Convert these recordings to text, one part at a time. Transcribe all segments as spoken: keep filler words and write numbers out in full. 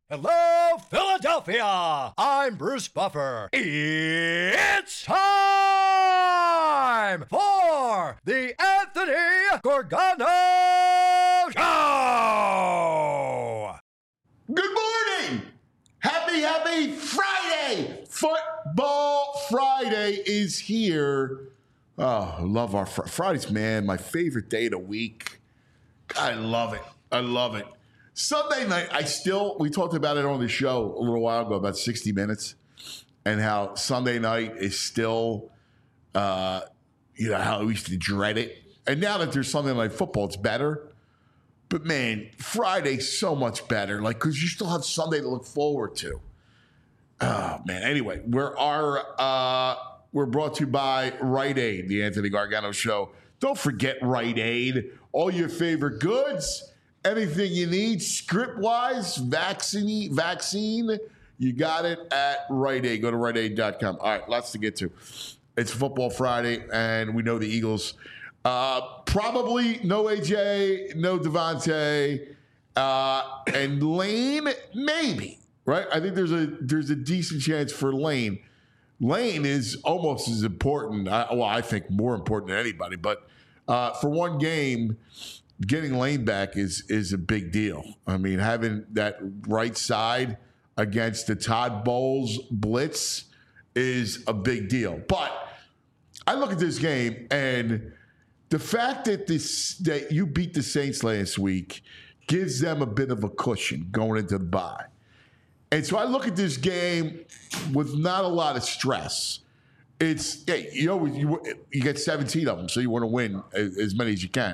Hello, Philadelphia! I'm Bruce Buffer. It's time for the Anthony Gorgano Show! Good morning! Happy, happy Friday! Football Friday is here. Oh, I love our fr- Fridays, man. My favorite day of the week. I love it. I love it. Sunday night, I still, we talked about it on the show a little while ago, about sixty minutes, and how Sunday night is still, uh, you know, how we used to dread it. And now that there's Sunday night football, it's better. But man, Friday's so much better, like, because you still have Sunday to look forward to. Oh, man. Anyway, we're, our, uh, we're brought to you by Rite Aid, the Anthony Gargano Show. Don't forget Rite Aid. All your favorite goods. Anything you need, script-wise, vaccine, vaccine, you got it at Rite Aid. Go to Rite Aid dot com. All right, lots to get to. It's Football Friday, and we know the Eagles. Uh, probably no A J, no Devontae, uh, and Lane, maybe, right? I think there's a there's a decent chance for Lane. Lane is almost as important, well, I think more important than anybody, but uh, for one game, getting Lane back is is a big deal. I mean, having that right side against the Todd Bowles blitz is a big deal. But I look at this game, and the fact that this that you beat the Saints last week gives them a bit of a cushion going into the bye. And so I look at this game with not a lot of stress. It's, hey, you know, you, you get seventeen of them, so you want to win as, as many as you can.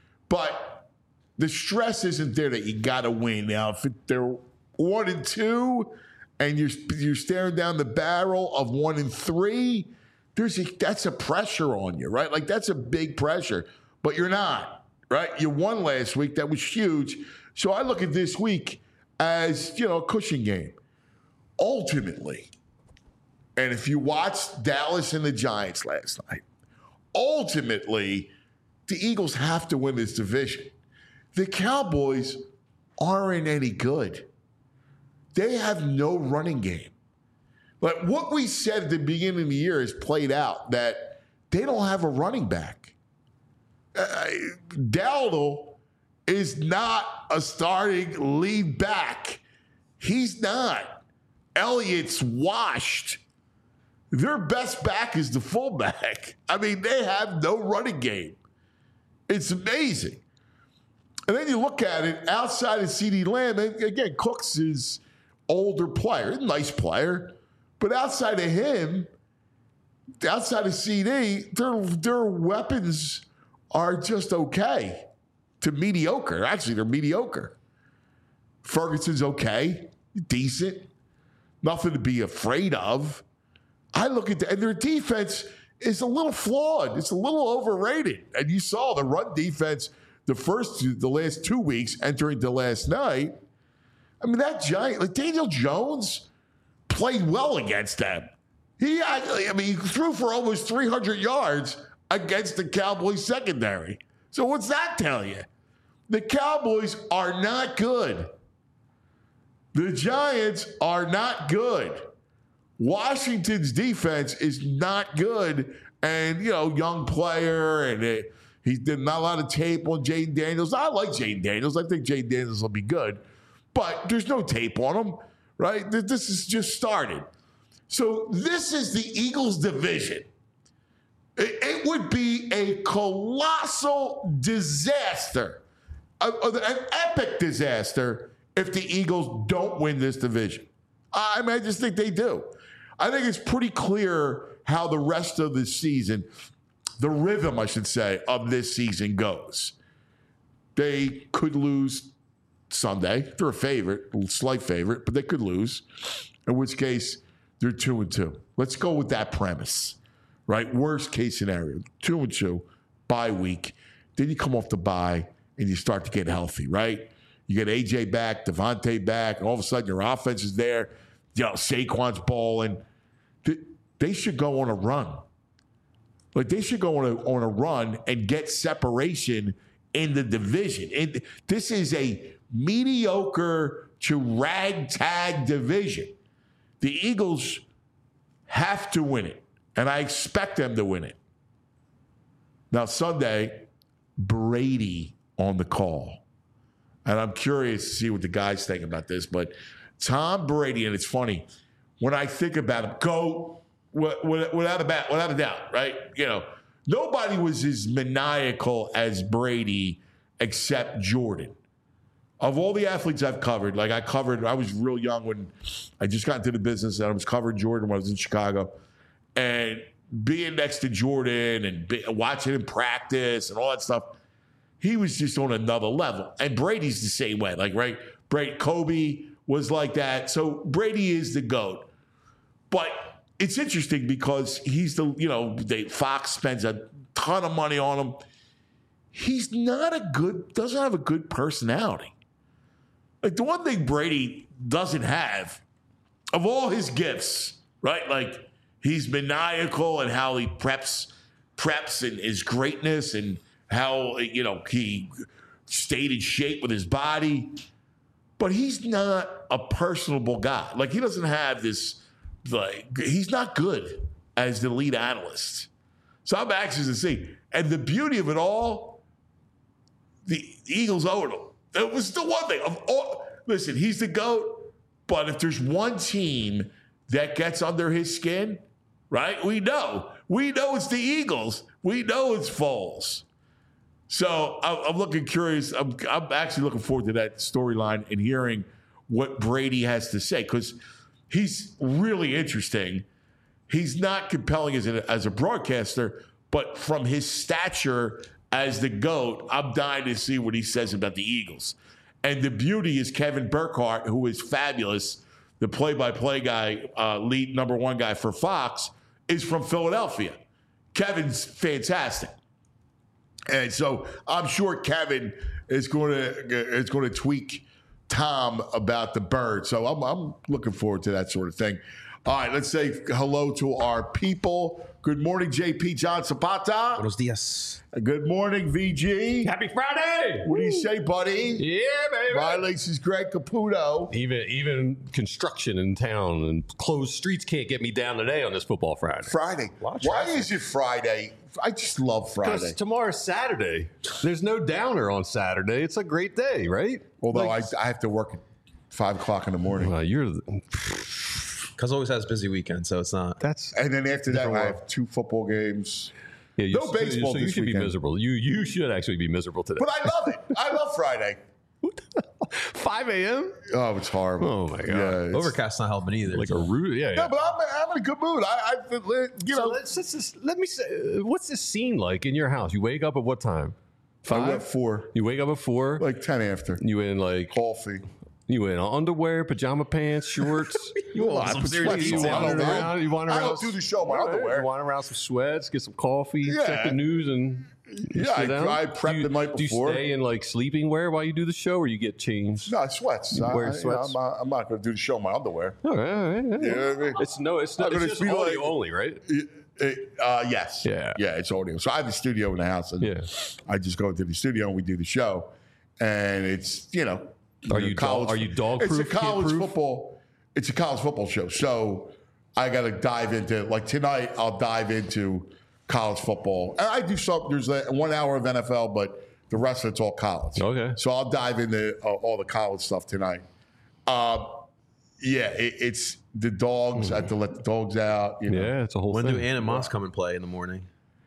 But the stress isn't there that you got to win. Now, if it, they're one and two, and you're you're staring down the barrel of one and three, there's a, that's a pressure on you, right? Like, that's a big pressure. But you're not, right? You won last week. That was huge. So I look at this week as, you know, a cushion game. Ultimately, and if you watched Dallas and the Giants last night, ultimately, the Eagles have to win this division. The Cowboys aren't any good. They have no running game. But what we said at the beginning of the year has played out, that they don't have a running back. Uh, Dowdle is not a starting lead back. He's not. Elliott's washed. Their best back is the fullback. I mean, they have no running game. It's amazing. And then you look at it, outside of CeeDee Lamb, and again, Cooks is older player, nice player, but outside of him, outside of C D, their, their weapons are just okay to mediocre. Actually, they're mediocre. Ferguson's okay, decent, nothing to be afraid of. I look at that, and their defense is a little flawed. It's a little overrated. And you saw the run defense the first two, the last two weeks entering the last night. I mean, that giant, like Daniel Jones played well against them. He actually, I mean, he threw for almost three hundred yards against the Cowboys secondary. So what's that tell you? The Cowboys are not good. The Giants are not good. Washington's defense is not good, and, you know, young player, and it, he did not a lot of tape on Jayden Daniels. I like Jayden Daniels. I think Jayden Daniels will be good, but there's no tape on him, right? This is just started. So this is the Eagles' division. It, it would be a colossal disaster, a, an epic disaster, if the Eagles don't win this division. I mean, I just think they do. I think it's pretty clear how the rest of the season, the rhythm, I should say, of this season goes. They could lose Sunday. They're a favorite, a slight favorite, but they could lose, in which case they're two and two. Let's go with that premise, right? Worst case scenario, two and two, bye week. Then you come off the bye and you start to get healthy, right? You get A J back, Devontae back, and all of a sudden your offense is there. You know, Saquon's balling. They should go on a run. Like, they should go on a, on a run and get separation in the division. And this is a mediocre to ragtag division. The Eagles have to win it, and I expect them to win it. Now, Sunday, Brady on the call. And I'm curious to see what the guys think about this, but Tom Brady, and it's funny, when I think about him, go without a, bat, without a doubt, right? You know, nobody was as maniacal as Brady except Jordan. Of all the athletes I've covered, like I covered, I was real young when I just got into the business, and I was covering Jordan when I was in Chicago. And being next to Jordan and be, watching him practice and all that stuff, he was just on another level. And Brady's the same way. Like, right? Brady, Kobe was like that. So Brady is the GOAT. But it's interesting because he's the, you know, they, Fox spends a ton of money on him. He's not a good, doesn't have a good personality. Like, the one thing Brady doesn't have, of all his gifts, right? Like, he's maniacal in how he preps, preps and his greatness and how, you know, he stayed in shape with his body. But he's not a personable guy. Like, he doesn't have this, like, he's not good as the lead analyst. So I'm anxious to see. And the beauty of it all, the Eagles owed him. It was the one thing. Of all, listen, he's the GOAT, but if there's one team that gets under his skin, right, we know. We know it's the Eagles. We know it's Foles. So I'm looking curious. I'm, I'm actually looking forward to that storyline and hearing what Brady has to say, because he's really interesting. He's not compelling as a, as a broadcaster, but from his stature as the GOAT, I'm dying to see what he says about the Eagles. And the beauty is Kevin Burkhardt, who is fabulous, the play-by-play guy, uh, lead number one guy for Fox, is from Philadelphia. Kevin's fantastic. And so I'm sure Kevin is going to is going to tweak Tom about the bird. So I'm, I'm looking forward to that sort of thing. All right, let's say hello to our people. Good morning, J P John Zapata. Buenos dias. Good morning, V G. Happy Friday! What do you say, buddy? Yeah, baby. My links is Greg Caputo. Even even construction in town and closed streets can't get me down today on this football Friday. Friday. Why is it Friday? I just love Friday. Because tomorrow's Saturday. There's no downer on Saturday. It's a great day, right? Although like, I, I have to work at five o'clock in the morning. Uh, you're the, Cuz always has busy weekend, so it's not. That's and then after that, world. I have two football games. Yeah, you, no baseball so, so you this should weekend. be miserable. You you should actually be miserable today. But I love it. I love Friday. five a.m. Oh, it's horrible. Oh my god. Yeah, it's- Overcast not helping either. Like a root. Yeah, yeah. No, but I'm, I'm in a good mood. I, I you So know, let's, let's just, let me say, what's this scene like in your house? You wake up at what time? I Five. went four, You wake up at four. like ten after. You in like Coffee. you in underwear, pajama pants, shorts. You want some serious sweats You on. detail. I wander don't know. around. You wander I around. don't do the show in my All right, underwear. You wander around some sweats, get some coffee, Yeah. check the news, and you Yeah, sit I- down. I prep do you, the night before. Do you stay in like sleeping wear while you do the show, or you get changed? No, sweats. You I, wear I- you know, sweats? I'm not, I'm not going to do the show in my underwear. All right, all right, all right. You know what I mean? It's no, it's I'm not. It's gonna just feel audio like- only, right? It- it- uh, yes. Yeah. Yeah, it's audio. So I have a studio in the house, and Yeah. I just go into the studio and we do the show. And it's, you know, Are you dog- are you dog It's a proof, kid college proof? football. It's a college football show. So I got to dive into, like tonight, I'll dive into college football. And I do some, there's a one hour of N F L, but the rest of it's all college. Okay. So I'll dive into uh, all the college stuff tonight. Um, yeah, it, it's the dogs. I have to let the dogs out. You know? Yeah, it's a whole When thing. do Ann and Moss come and play in the morning?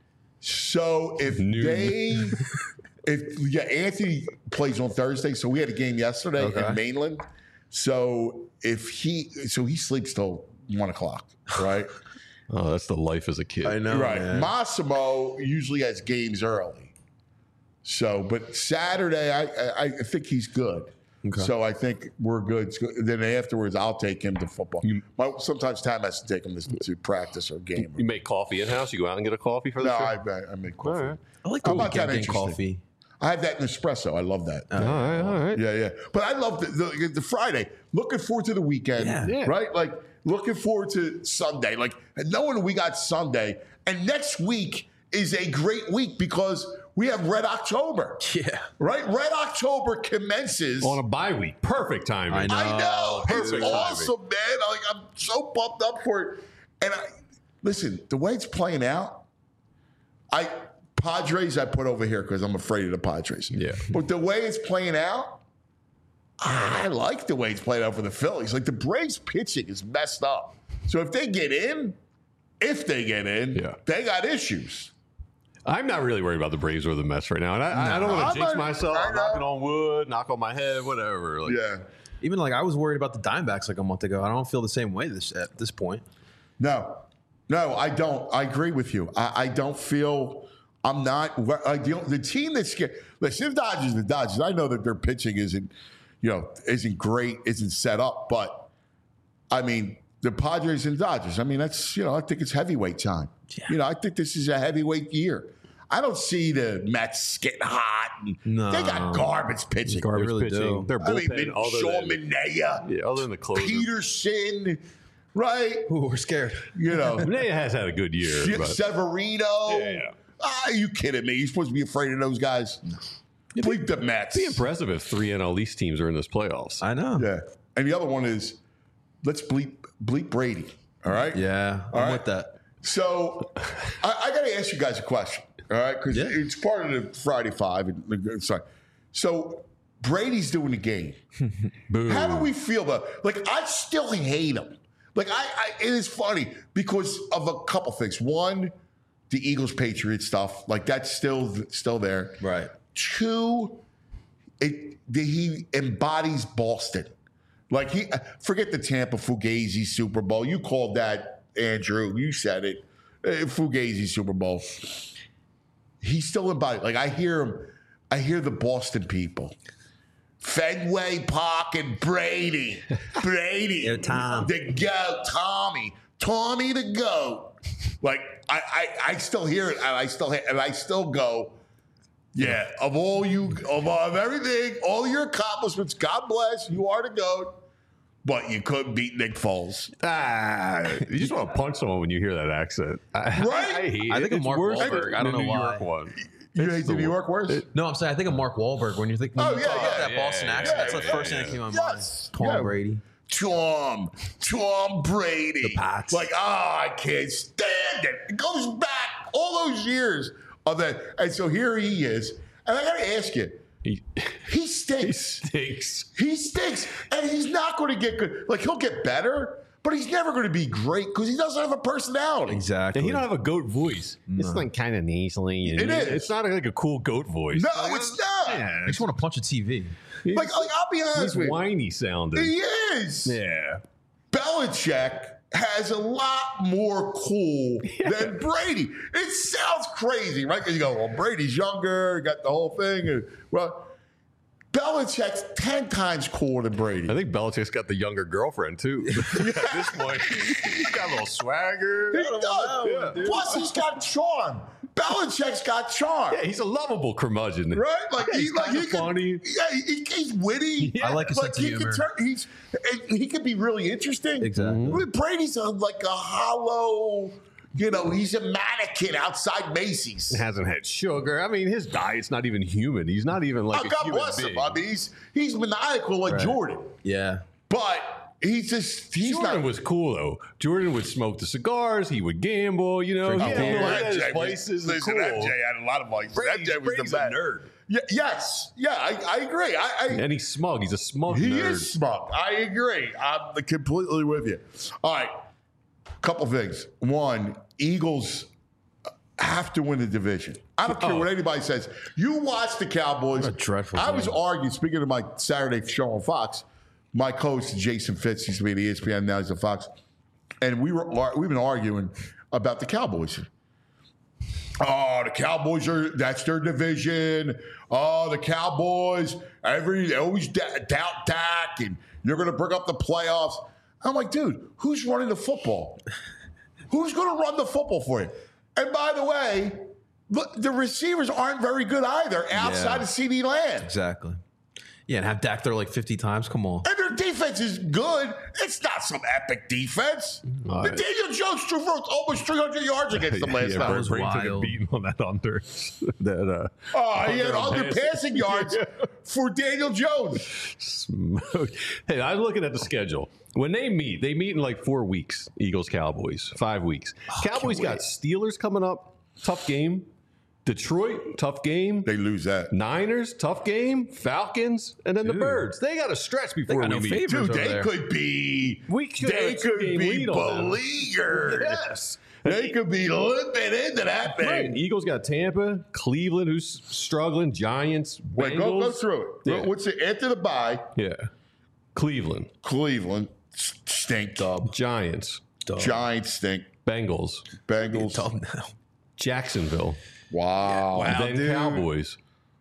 So if Noon. they, if yeah, Anthony plays on Thursday. So we had a game yesterday Okay. in Mainland. So if he, so he sleeps till one o'clock, right? Oh, that's the life as a kid. I know, right. man. Massimo usually has games early. So, but Saturday, I I, I think he's good. Okay. So I think we're good. It's good. Then afterwards, I'll take him to football. My, sometimes Tam has to take him to, to practice or game. You make coffee in house. You go out and get a coffee for the No, show. I, I, I make coffee. All right. I like the I'm not that weekend getting interesting. coffee. I have that in espresso. I love that. All right, all right. Yeah, yeah. But I love the, the, the Friday. Looking forward to the weekend. Yeah. Yeah. Right? Like, looking forward to Sunday. Like, knowing we got Sunday. And next week is a great week because we have Red October. Yeah. Right? Red October commences. On a bye week. Perfect timing. I know. I know. It's Perfect awesome, man. Like, I'm so pumped up for it. And I, listen, the way it's playing out, I Padres I put over here because I'm afraid of the Padres. Yeah. But the way it's playing out, I like the way it's playing out for the Phillies. Like the Braves pitching is messed up. So if they get in, if they get in, Yeah. they got issues. I'm not really worried about the Braves or the Mets right now. And I, I don't I'm want to jinx not- myself. I I'm know. knocking on wood, knock on my head, whatever. Like, Yeah. Even like I was worried about the Diamondbacks like a month ago. I don't feel the same way this at this point. No, no, I don't. I agree with you. I, I don't feel. I'm not. I, the, the team that's scared. Listen, the Dodgers, the Dodgers. I know that their pitching isn't, you know, isn't great, isn't set up, but I mean, the Padres and Dodgers. I mean, that's you know, I think it's heavyweight time. Yeah. You know, I think this is a heavyweight year. I don't see the Mets getting hot. And No. They got garbage pitching. Garbage really pitching. do. Their I mean, bullpen, other Sean than, Manaea, yeah, other than the closer. Peterson, right? Ooh, we're scared. You know. Manea has had a good year. But Severino. Yeah, yeah. Ah, are you kidding me? You're supposed to be afraid of those guys. Bleep the Mets. it'd be impressive if three N L East teams are in this playoffs. I know. Yeah. And the other one is let's bleep bleep Brady. All right. Yeah, I'm All right. with that. So I, I got to ask you guys a question. All right, because Yeah. it's part of the Friday Five. And, sorry. So Brady's doing the game. Boo. How do we feel about? Like, I still hate him. Like, I, I it is funny because of a couple things. One, the Eagles Patriots stuff. Like, that's still still there. Right. Two, it the, he embodies Boston. Like he forget the Tampa Fugazi Super Bowl. You called that, Andrew. You said it. Uh, Fugazi Super Bowl. He's still embodied. Like I hear him. I hear the Boston people. Fenway Park and Brady. Brady. Yeah, Tom. The goat. Tommy. Tommy the goat. Like I, I, I still hear it, and I still, and I still go. Yeah, of all you, of, of everything, all your accomplishments, God bless, you are the GOAT, but you couldn't beat Nick Foles. Ah, you just want to punch someone when you hear that accent. I, Right? I, hate I it. think of It's Mark worse Wahlberg. than I don't the know New why. York one. You It's hate the the New wor- York worse? No, I'm saying I think of Mark Wahlberg when you think when Oh, you yeah, talk about yeah, that yeah, Boston yeah, accent. yeah, That's the yeah, first yeah, thing that came to my yes, mind. Tom yeah. Brady. Tom, Tom Brady. The Pats. Like, oh, I can't stand it. It goes back all those years of that. And so here he is. And I got to ask you, He, he he stinks. stinks. He stinks, and he's not going to get good. Like he'll get better, but he's never going to be great because he doesn't have a personality. Exactly. And he don't have a goat voice. It's like kind of nasally. And It is. It's not like a cool goat voice. No, it's not. Yeah, I just want to punch a T V. he's, Like, like I'll be honest he's with you, whiny sounding. he is. Yeah. Belichick has a lot more cool than Brady. It sounds crazy, right? Because you go, well, Brady's younger, got the whole thing. And, well, Belichick's ten times cooler than Brady. I think Belichick's got the younger girlfriend, too. At this point, he's got a little swagger. He does. Yeah. Plus, he's got charm. Belichick's got charm. Yeah, he's a lovable curmudgeon. Right? Like Yeah, he, he's like kinda he can, funny. Yeah, he, he's witty. I like his like sense of he can humor. turn. He's he can be really interesting. Exactly. I mean, Brady's a, like a hollow. You know, he's a mannequin outside Macy's. Hasn't had sugar. I mean, his diet's not even human. He's not even like Oh, a God human bless being. him. I mean, he's he's maniacal like Right. Jordan, Yeah. but he's just he's Jordan not. was cool though. Jordan would smoke the cigars. He would gamble. You know, Drink he beer. had, Well, he had his M J was- vices. Listen, cool. M J had a lot of vices. Brady's, M J was Brady's the a best. nerd, Yeah, yes, yeah, I, I agree. I, I and he's smug. He's a smug He nerd. is smug. I agree. I'm completely with you. All right. Couple things. One, Eagles have to win the division. I don't care Oh. what anybody says. You watch the Cowboys. What a dreadful I was game. arguing, speaking of my Saturday show on Fox, my coach, Jason Fitz, used to be at E S P N, now he's at Fox. And we were we've been arguing about the Cowboys. Oh, the Cowboys are, that's their division. Oh, the Cowboys, every, they always da- doubt Dak, and you're going to bring up the playoffs. I'm like, dude, who's running the football? Who's going to run the football for you? And by the way, look, the receivers aren't very good either outside Yeah. of CeeDee Lamb. Exactly. Yeah, and have Dak throw like fifty times. Come on. And their defense is good. It's not some epic defense. All The right. Daniel Jones threw for almost three hundred yards against them last yeah, time. was Brady took a wild. beating on that under. that uh, Oh, he had under under passing yards for Daniel Jones. smoke. Hey, I'm looking at the schedule. When they meet, they meet in like four weeks. Eagles, Cowboys, five weeks. Cowboys got Steelers coming up, tough game. Detroit, tough game. They lose that. Niners, tough game. Falcons, and then the Dude. Birds. They got a stretch before got we no meet. favorites. Dude, over they there. could be. We could they have a could two-game be lead on them. beleaguered. Yes. They could be limping into that thing. Right. Eagles got Tampa, Cleveland, who's struggling, Giants, Wait, go, go Bengals. through it. Yeah. What's it? After the bye, Yeah. Cleveland, Cleveland s- stink. Dub. Giants, Dub. Giants stink. Bengals, Bengals. Dub now. Jacksonville, Wow. and then dude. Cowboys.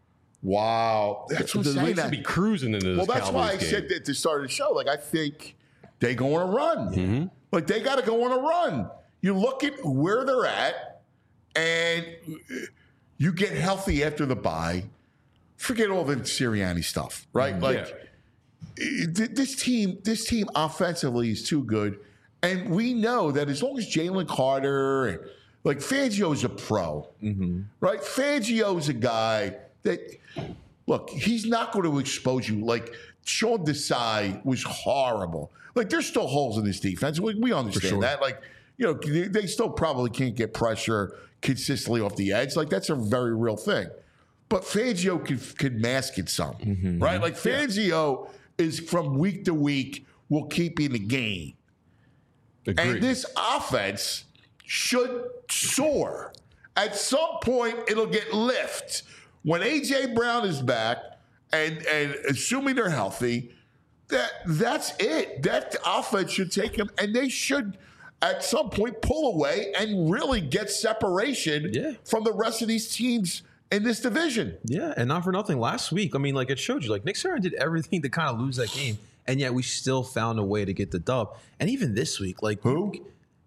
Wow. That's what The I'm saying. Leafs That. should be cruising into this Well, that's Cowboys why I game. said that at the start of the show. Like, I think they go on a run. Mm-hmm. Like, they got to go on a run. You look at where they're at, and you get healthy after the bye. Forget all the Sirianni stuff, right? Like, Yeah. th- this team, this team offensively is too good, and we know that as long as Jalen Carter and like Fangio's a pro, right? Fangio's a guy that look, he's not going to expose you. Like Sean Desai was horrible. Like there's still holes in this defense. We, we understand sure. that. Like you know, they, they still probably can't get pressure consistently off the edge. Like that's a very real thing. But Fangio could, could mask it some, right? Like Fangio is from week to week will keep you in the game. Agreed. And this offense should soar. At some point, it'll get lift. When A J Brown is back, and and assuming they're healthy, that that's it. That offense should take them, and they should at some point pull away and really get separation Yeah. from the rest of these teams in this division. Yeah, and not for nothing. Last week, I mean, like it showed you, like Nick Sirianni did everything to kind of lose that game, and yet we still found a way to get the dub. And even this week, like Who?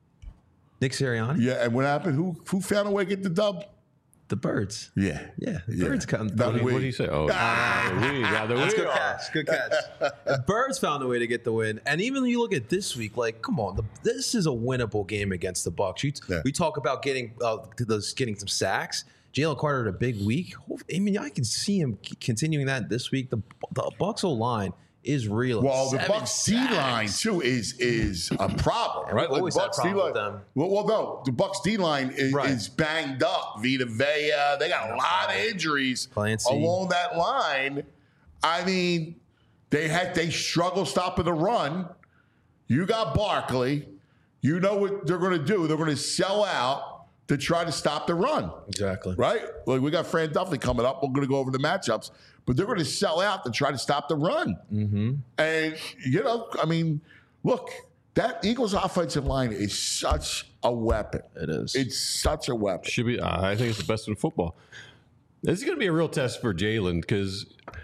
Nick Sirianni, Yeah, and what happened? Who who found a way to get the dub? the Birds. Yeah, Yeah, the Yeah. Birds come. That What did, we- what did he say? Oh, Ah. we got the That's we good are. catch. Good catch. The Birds found a way to get the win, and even when you look at this week, like, come on, the, this is a winnable game against the Bucs. You, Yeah. We talk about getting uh, those getting some sacks. Jalen Carter had a big week. I mean, I can see him c- continuing that this week. The the Bucs O line is real. Well, the Seven Bucks D line sacks. too is is a problem, right? always the had Bucks problems D-line- with them. Well, well, no, the Bucks D line is, Right. is banged up. Vita Vea, they got a lot of injuries Clancy. along that line. I mean, they had they struggle stopping the run. You got Barkley. You know what they're going to do? They're going to sell out to try to stop the run. Exactly. Right? Like we got Fran Duffy coming up. We're going to go over the matchups, but they're going to sell out to try to stop the run. Mm-hmm. And, you know, I mean, look, that Eagles offensive line is such a weapon. It is. It's such a weapon. Should be. I think it's the best in football. This is going to be a real test for Jalen because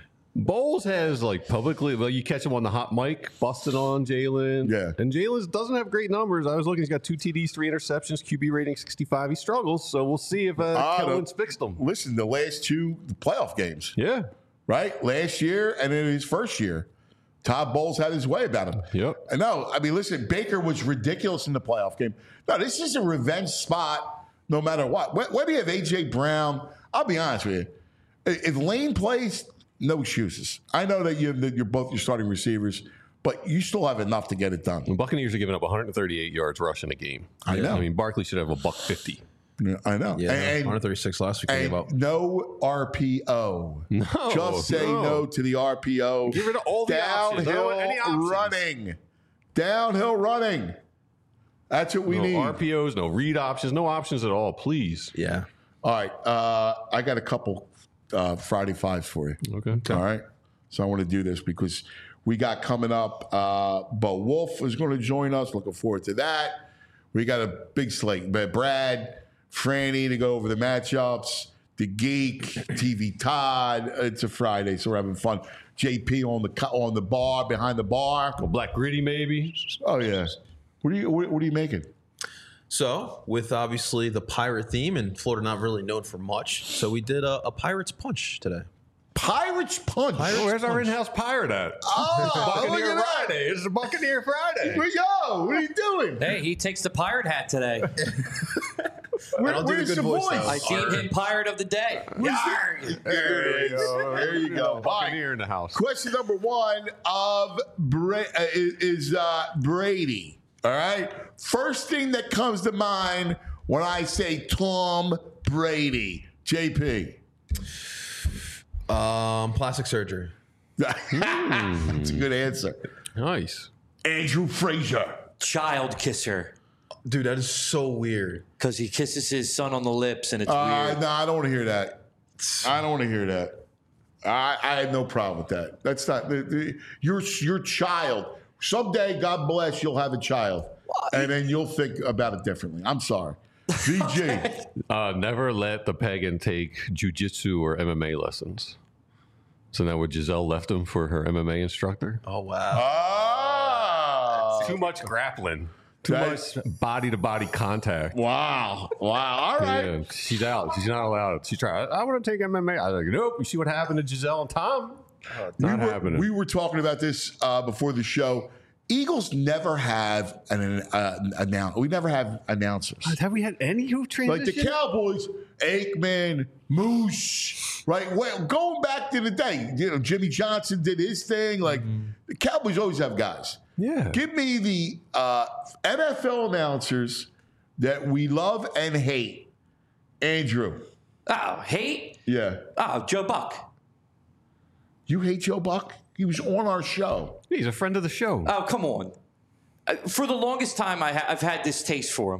Bowles has like publicly. Well, you catch him on the hot mic, busting on Jalen. Yeah. and Jalen doesn't have great numbers. I was looking; he's got two T Ds, three interceptions, Q B rating sixty-five. He struggles, so we'll see if uh, Ah, Kellen's the- fixed him. Listen, the last two playoff games, Yeah, right? Last year and then his first year, Todd Bowles had his way about him. Yep. And no, I mean, listen, Baker was ridiculous in the playoff game. No, this is a revenge spot no matter what. When, when do you have A J Brown? I'll be honest with you. If Lane plays, no excuses. I know that you that you're both your starting receivers, but you still have enough to get it done. the Buccaneers are giving up one hundred thirty-eight yards rushing a game. I know. I mean, Barkley should have a buck fifty. Yeah, I know. Yeah, and, one thirty-six last week. They gave up. and no R P O. No, Just say no. no. to the R P O. Get rid of all the options. I don't Downhill want any options. running. Downhill running. That's what we No need. R P Os, no read options, no options at all. Please. Yeah. All right. Uh, I got a couple uh, Friday fives for you. Okay. All right. So I want to do this because we got coming up. Uh, Bo Wolf is going to join us. Looking forward to that. We got a big slate. But Brad, Franny to go over the matchups. The Geek, T V Todd. It's a Friday, so we're having fun. J P on the co- on the bar behind the bar. Well, Black Gritty, maybe. Oh yeah. What are you what, what are you making? So, with obviously the pirate theme, and Florida not really known for much, so we did a, a Pirates Punch today. Pirates punch. Oh, where's our in-house pirate at? Oh, look Buccaneer at that. Friday. It's a Buccaneer Friday. Where yo? What are you doing? Hey, he takes the pirate hat today. Where, I'll do the where's good the voice, voice? though. I deemed him pirate of the day. Yarg. There it is. There you go. All right. Buccaneer in the house. Question number one of Bra- uh, is, is uh, Brady. All right. First thing that comes to mind when I say Tom Brady. J P. Um, plastic surgery. That's a good answer. Nice. Andrew Frazier. Child kisser. Dude, that is so weird. Because he kisses his son on the lips and it's Uh, weird. no, I don't want to hear that. I don't want to hear that. I, I have no problem with that. That's not the, the, your your child. Someday, God bless, you'll have a child, and then you'll think about it differently. I'm sorry, V G. Uh, never let the pagan take jujitsu or M M A lessons. So now would Giselle left him for her M M A instructor? Oh, wow. Oh, Too much grappling. Too That's- much body-to-body contact. wow, wow. All right. Yeah, she's out. She's not allowed. She tried. I want to take M M A. I was like, nope. You see what happened to Giselle and Tom? Not we were, happening. we were talking about this uh, before the show. Eagles never have an uh, announce. We never have announcers. Have we had any who Like transitioned? the Cowboys, Aikman, Moose, right? Well, going back to the day, you know, Jimmy Johnson did his thing. Like the Cowboys always have guys. Yeah. Give me the uh, N F L announcers that we love and hate. Andrew. Oh, hate? Yeah. Oh, Joe Buck. You hate Joe Buck? He was on our show. He's a friend of the show. Oh, come on. Uh, For the longest time, I ha- I've had this taste for him.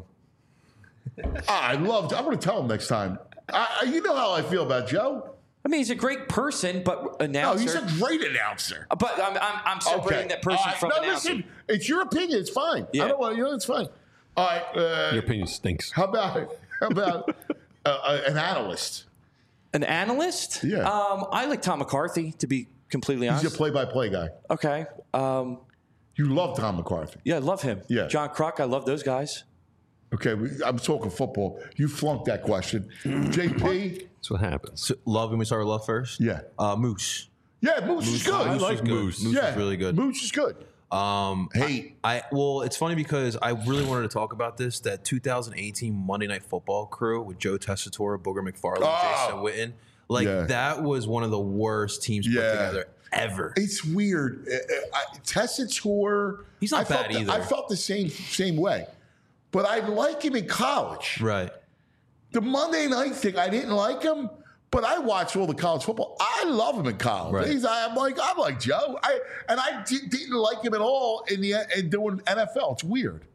Ah, I loved. I'm going to tell him next time. I, I- you know how I feel about Joe. I mean, he's a great person, but No, announcer. he's a great announcer. but I'm, I'm, I'm separating that person All right. from no, announcer. listen, it's your opinion. It's fine. Yeah. I don't want you know. It's fine. All right. Uh, Your opinion stinks. how about how about uh, uh, an analyst? An analyst? Yeah. Um, I like Tom McCarthy, to be completely He's honest. a play-by-play guy. okay. Um, You love Tom McCarthy. yeah, I love him. Yeah. John Kruk, I love those guys. Okay, we, I'm talking football. You flunked that question. J P. That's what happens. So, love, and we start with love first? Yeah. Uh, Moose. Yeah, Moose, is good. I like was good. Moose. Moose yeah, is really good. Moose is good. Um, Hate. I well, it's funny because I really wanted to talk about this. That two thousand eighteen Monday Night Football crew with Joe Tessitore, Booger McFarland, Oh. Jason Witten, like Yeah. that was one of the worst teams Yeah. put together ever. It's weird. Uh, uh, I- Tessitore. He's not I felt bad the- either. I felt the same same way, but I like him in college. Right. The Monday night thing, I didn't like him, but I watched all the college football. I love him in college. Right. He's, I'm like, I'm like Joe. I and I di- didn't like him at all in the in doing N F L. It's weird.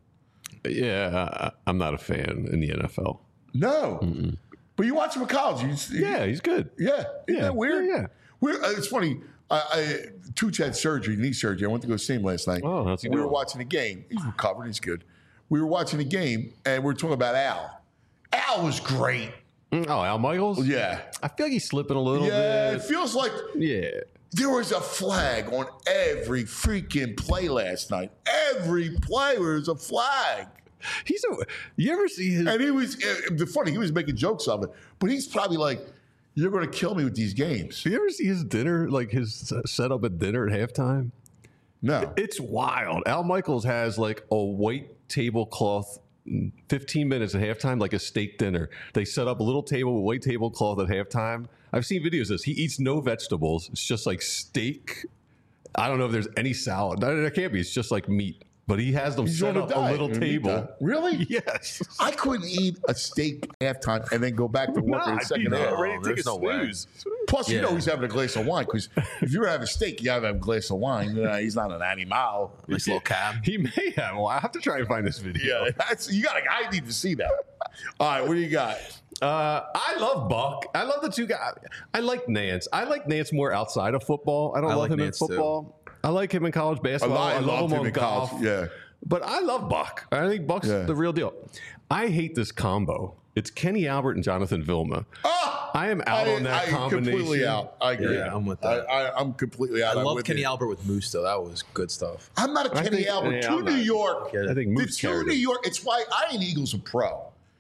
Yeah, I, I'm not a fan in the N F L. No, but you watch him in college. You, Yeah, he's good. yeah. Isn't Yeah. that weird? Yeah, yeah. We're, uh, it's funny. I, I, Tooch had surgery, knee surgery. I went to go see him last night. Oh, how's he we were doing? watching the game. He's recovered. He's good. We were watching the game, and we were talking about Al. Al was great. Mm, Oh, Al Michaels? Yeah. I feel like he's slipping a little Yeah, it bit. feels like Yeah. there was a flag on every freaking play last night. Every play there was a flag. He's a. You ever see his? And he was, uh, the funny, he was making jokes of it, but he's probably like, you're going to kill me with these games. Do you ever see his dinner, like his uh, setup at dinner at halftime? No. It's wild. Al Michaels has like a white tablecloth, mm, fifteen minutes at halftime, like a steak dinner. They set up a little table with white tablecloth at halftime. I've seen videos of this. He eats no vegetables. It's just like steak. I don't know if there's any salad. No, there can't be. It's just like meat. But he has them He's set on a up a diet. little You eat table. that. Really? Yes. I couldn't eat a steak halftime and then go back to work in the second no. half. ready to take there's a no way. snooze. Plus, you know Yeah. he's having a glass of wine because if you're having a steak, you gotta have a glass of wine. Uh, he's not an animal. Nice little cab. He may have. Well, I have to try and find this video. Yeah, that's you gotta. I need to see that. All right, what do you got? Uh, I love Buck. I love the two guys. I like Nance. I like Nance more outside of football. I don't I love like him Nance, in football. I like him in college basketball. I, I love loved him him on in golf. college. Yeah. But I love Buck. I think Buck's Yeah. the real deal. I hate this combo. It's Kenny Albert and Jonathan Vilma. Oh, I am out I, on that I combination. completely out. I agree. Yeah, I'm with I, that. I, I'm completely out. I I'm love with Kenny you. Albert with Moose though. That was good stuff. I'm not a I Kenny think- Albert. yeah, to I'm New not. York. Yeah. I think The Moose two carried New him. York. It's why I ain't Eagles a pro.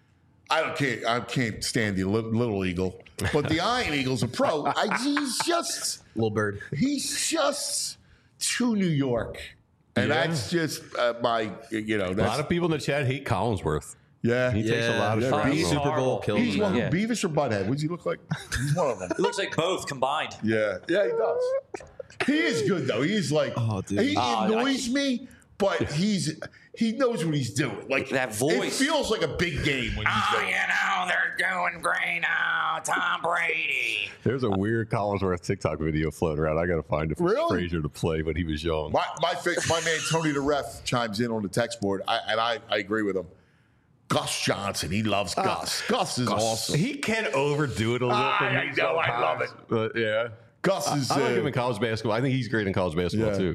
I don't can't I can't stand the li- little eagle, but the Iron Eagle's a pro. I, he's just Little bird. he's just too New York, and Yeah. that's just uh, my you know A that's lot of people in the chat hate Collinsworth. yeah. He takes a Yeah. lot of Yeah, crap. he's on. Super Bowl horrible. killed He's him. one who Yeah. Beavis or Butthead. What does he look like? He's one of them. It looks like both combined. Yeah, yeah, he does. He is good though. He's like, Oh, dude. he Uh, annoys me, but he's he knows what he's doing. Like That voice. it feels like a big game when he's doing. it. know, they're doing great now. Tom Brady. There's a weird Collinsworth TikTok video floating around. I got to find it for Really? Frazier to play when he was young. My my fa- my man Tony the Ref chimes in on the text board, I, and I, I agree with him. Gus Johnson, he loves Gus. Gus is awesome. He can overdo it a little I- for I me know, I love sometimes, But yeah. Gus is. I like uh, him in college basketball. I think he's great in college basketball, Yeah. too.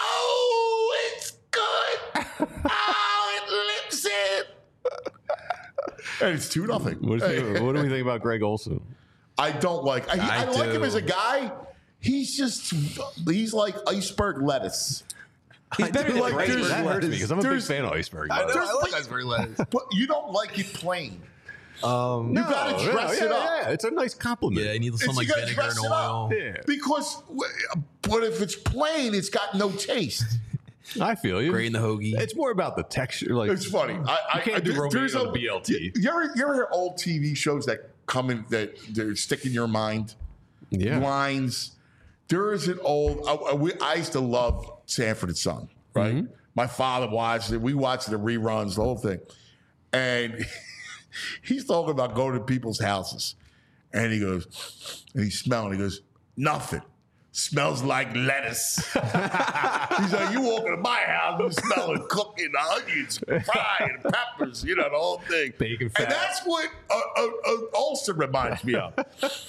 Oh, it's good. Oh, it lips it. And it's two nothing. What, is he, what do we think about Greg Olson? I don't like. I, I, I like him do. as a guy. He's just. He's like iceberg lettuce. He's better than like Brady. there's- That hurts me because I'm a big There's- fan of Iceberg. I know. but- I like Iceberg lettuce. But you don't like it plain. Um, You got to Oh, dress yeah, it yeah, up. yeah. It's a nice compliment. yeah, you need some It's- like you gotta vinegar dress and it up. oil. Yeah. Because, but if it's plain, it's got no taste. I feel you. Grain the hoagie. It's more about the texture. Like It's funny. I, I you can't I, do there- romaine there's on a- a B L T. You, you ever, you ever hear old T V shows that come in that they stick in your mind? Yeah. Lines. There is an old. I, I, we, I used to love Sanford and Son. Right. Mm-hmm. My father watched it. We watched the reruns, the whole thing, and he's talking about going to people's houses, and he goes, and he's smelling. He goes, nothing. Smells like lettuce. He's like, you walk into my house, you smelling cooking, onions, frying, peppers, you know, the whole thing. Bacon fat. And that's what uh, uh, uh, Olsen reminds me of.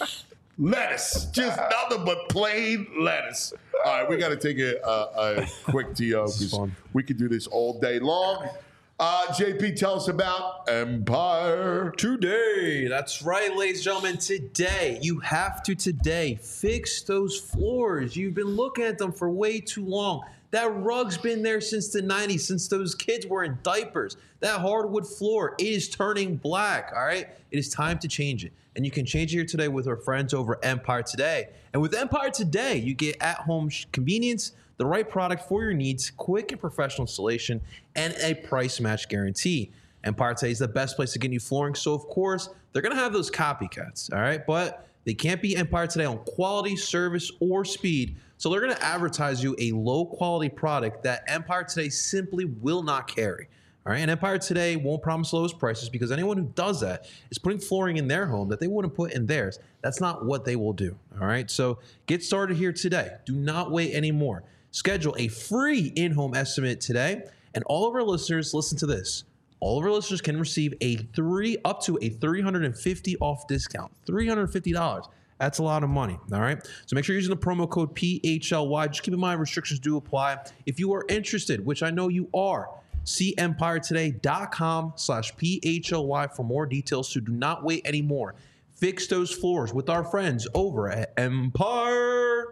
Lettuce. Just nothing but plain lettuce. All right, we got to take a, a, a quick T O because fun. we could do this all day long. Uh, J P, tell us about Empire. Today, that's right, ladies and gentlemen. Today, you have to today fix those floors. You've been looking at them for way too long. That rug's been there since the nineties, since those kids were in diapers. That hardwood floor is turning black, all right? It is time to change it. And you can change it here today with our friends over at Empire Today. And with Empire Today, you get at-home sh- convenience, the right product for your needs, quick and professional installation, and a price match guarantee. Empire Today is the best place to get new flooring. So, of course, they're going to have those copycats, all right? But they can't be Empire Today on quality, service, or speed. So they're going to advertise you a low-quality product that Empire Today simply will not carry. All right, and Empire Today won't promise lowest prices because anyone who does that is putting flooring in their home that they wouldn't put in theirs. That's not what they will do. All right, so get started here today. Do not wait anymore. Schedule a free in-home estimate today, and all of our listeners, listen to this. All of our listeners can receive a three up to a three hundred fifty dollars off discount. three hundred fifty dollars. That's a lot of money, all right? So make sure you're using the promo code P H L Y. Just keep in mind, restrictions do apply. If you are interested, which I know you are, see empiretoday.com slash P H L Y for more details. So do not wait anymore. Fix those floors with our friends over at Empire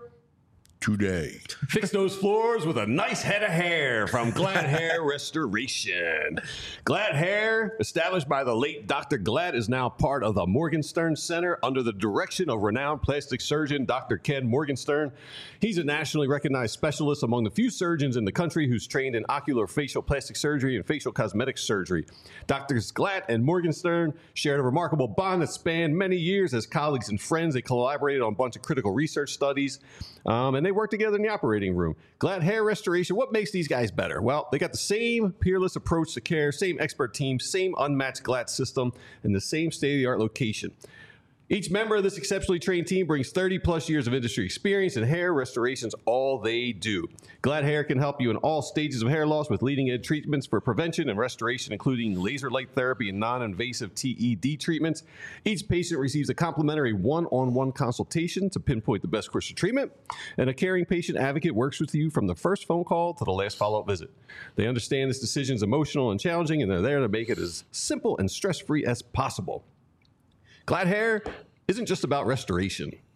Today. Fix those floors with a nice head of hair from Glad Hair Restoration. Glad Hair, established by the late Doctor Glad, is now part of the Morgenstern Center under the direction of renowned plastic surgeon Doctor Ken Morgenstern. He's a nationally recognized specialist among the few surgeons in the country who's trained in ocular facial plastic surgery and facial cosmetic surgery. Doctors Glad and Morgenstern shared a remarkable bond that spanned many years as colleagues and friends. They collaborated on a bunch of critical research studies, um, and they worked together in the operating room. Glad Hair Restoration, what makes these guys better? Well, they got the same peerless approach to care, same expert team, same unmatched Glad system, and the same state-of-the-art location. Each member of this exceptionally trained team brings thirty plus years of industry experience, and hair restoration's all they do. Glad Hair can help you in all stages of hair loss with leading-edge treatments for prevention and restoration, including laser light therapy and non-invasive T E D treatments. Each patient receives a complimentary one-on-one consultation to pinpoint the best course of treatment, and a caring patient advocate works with you from the first phone call to the last follow-up visit. They understand this decision is emotional and challenging, and they're there to make it as simple and stress-free as possible. Glad Hair isn't just about restoration.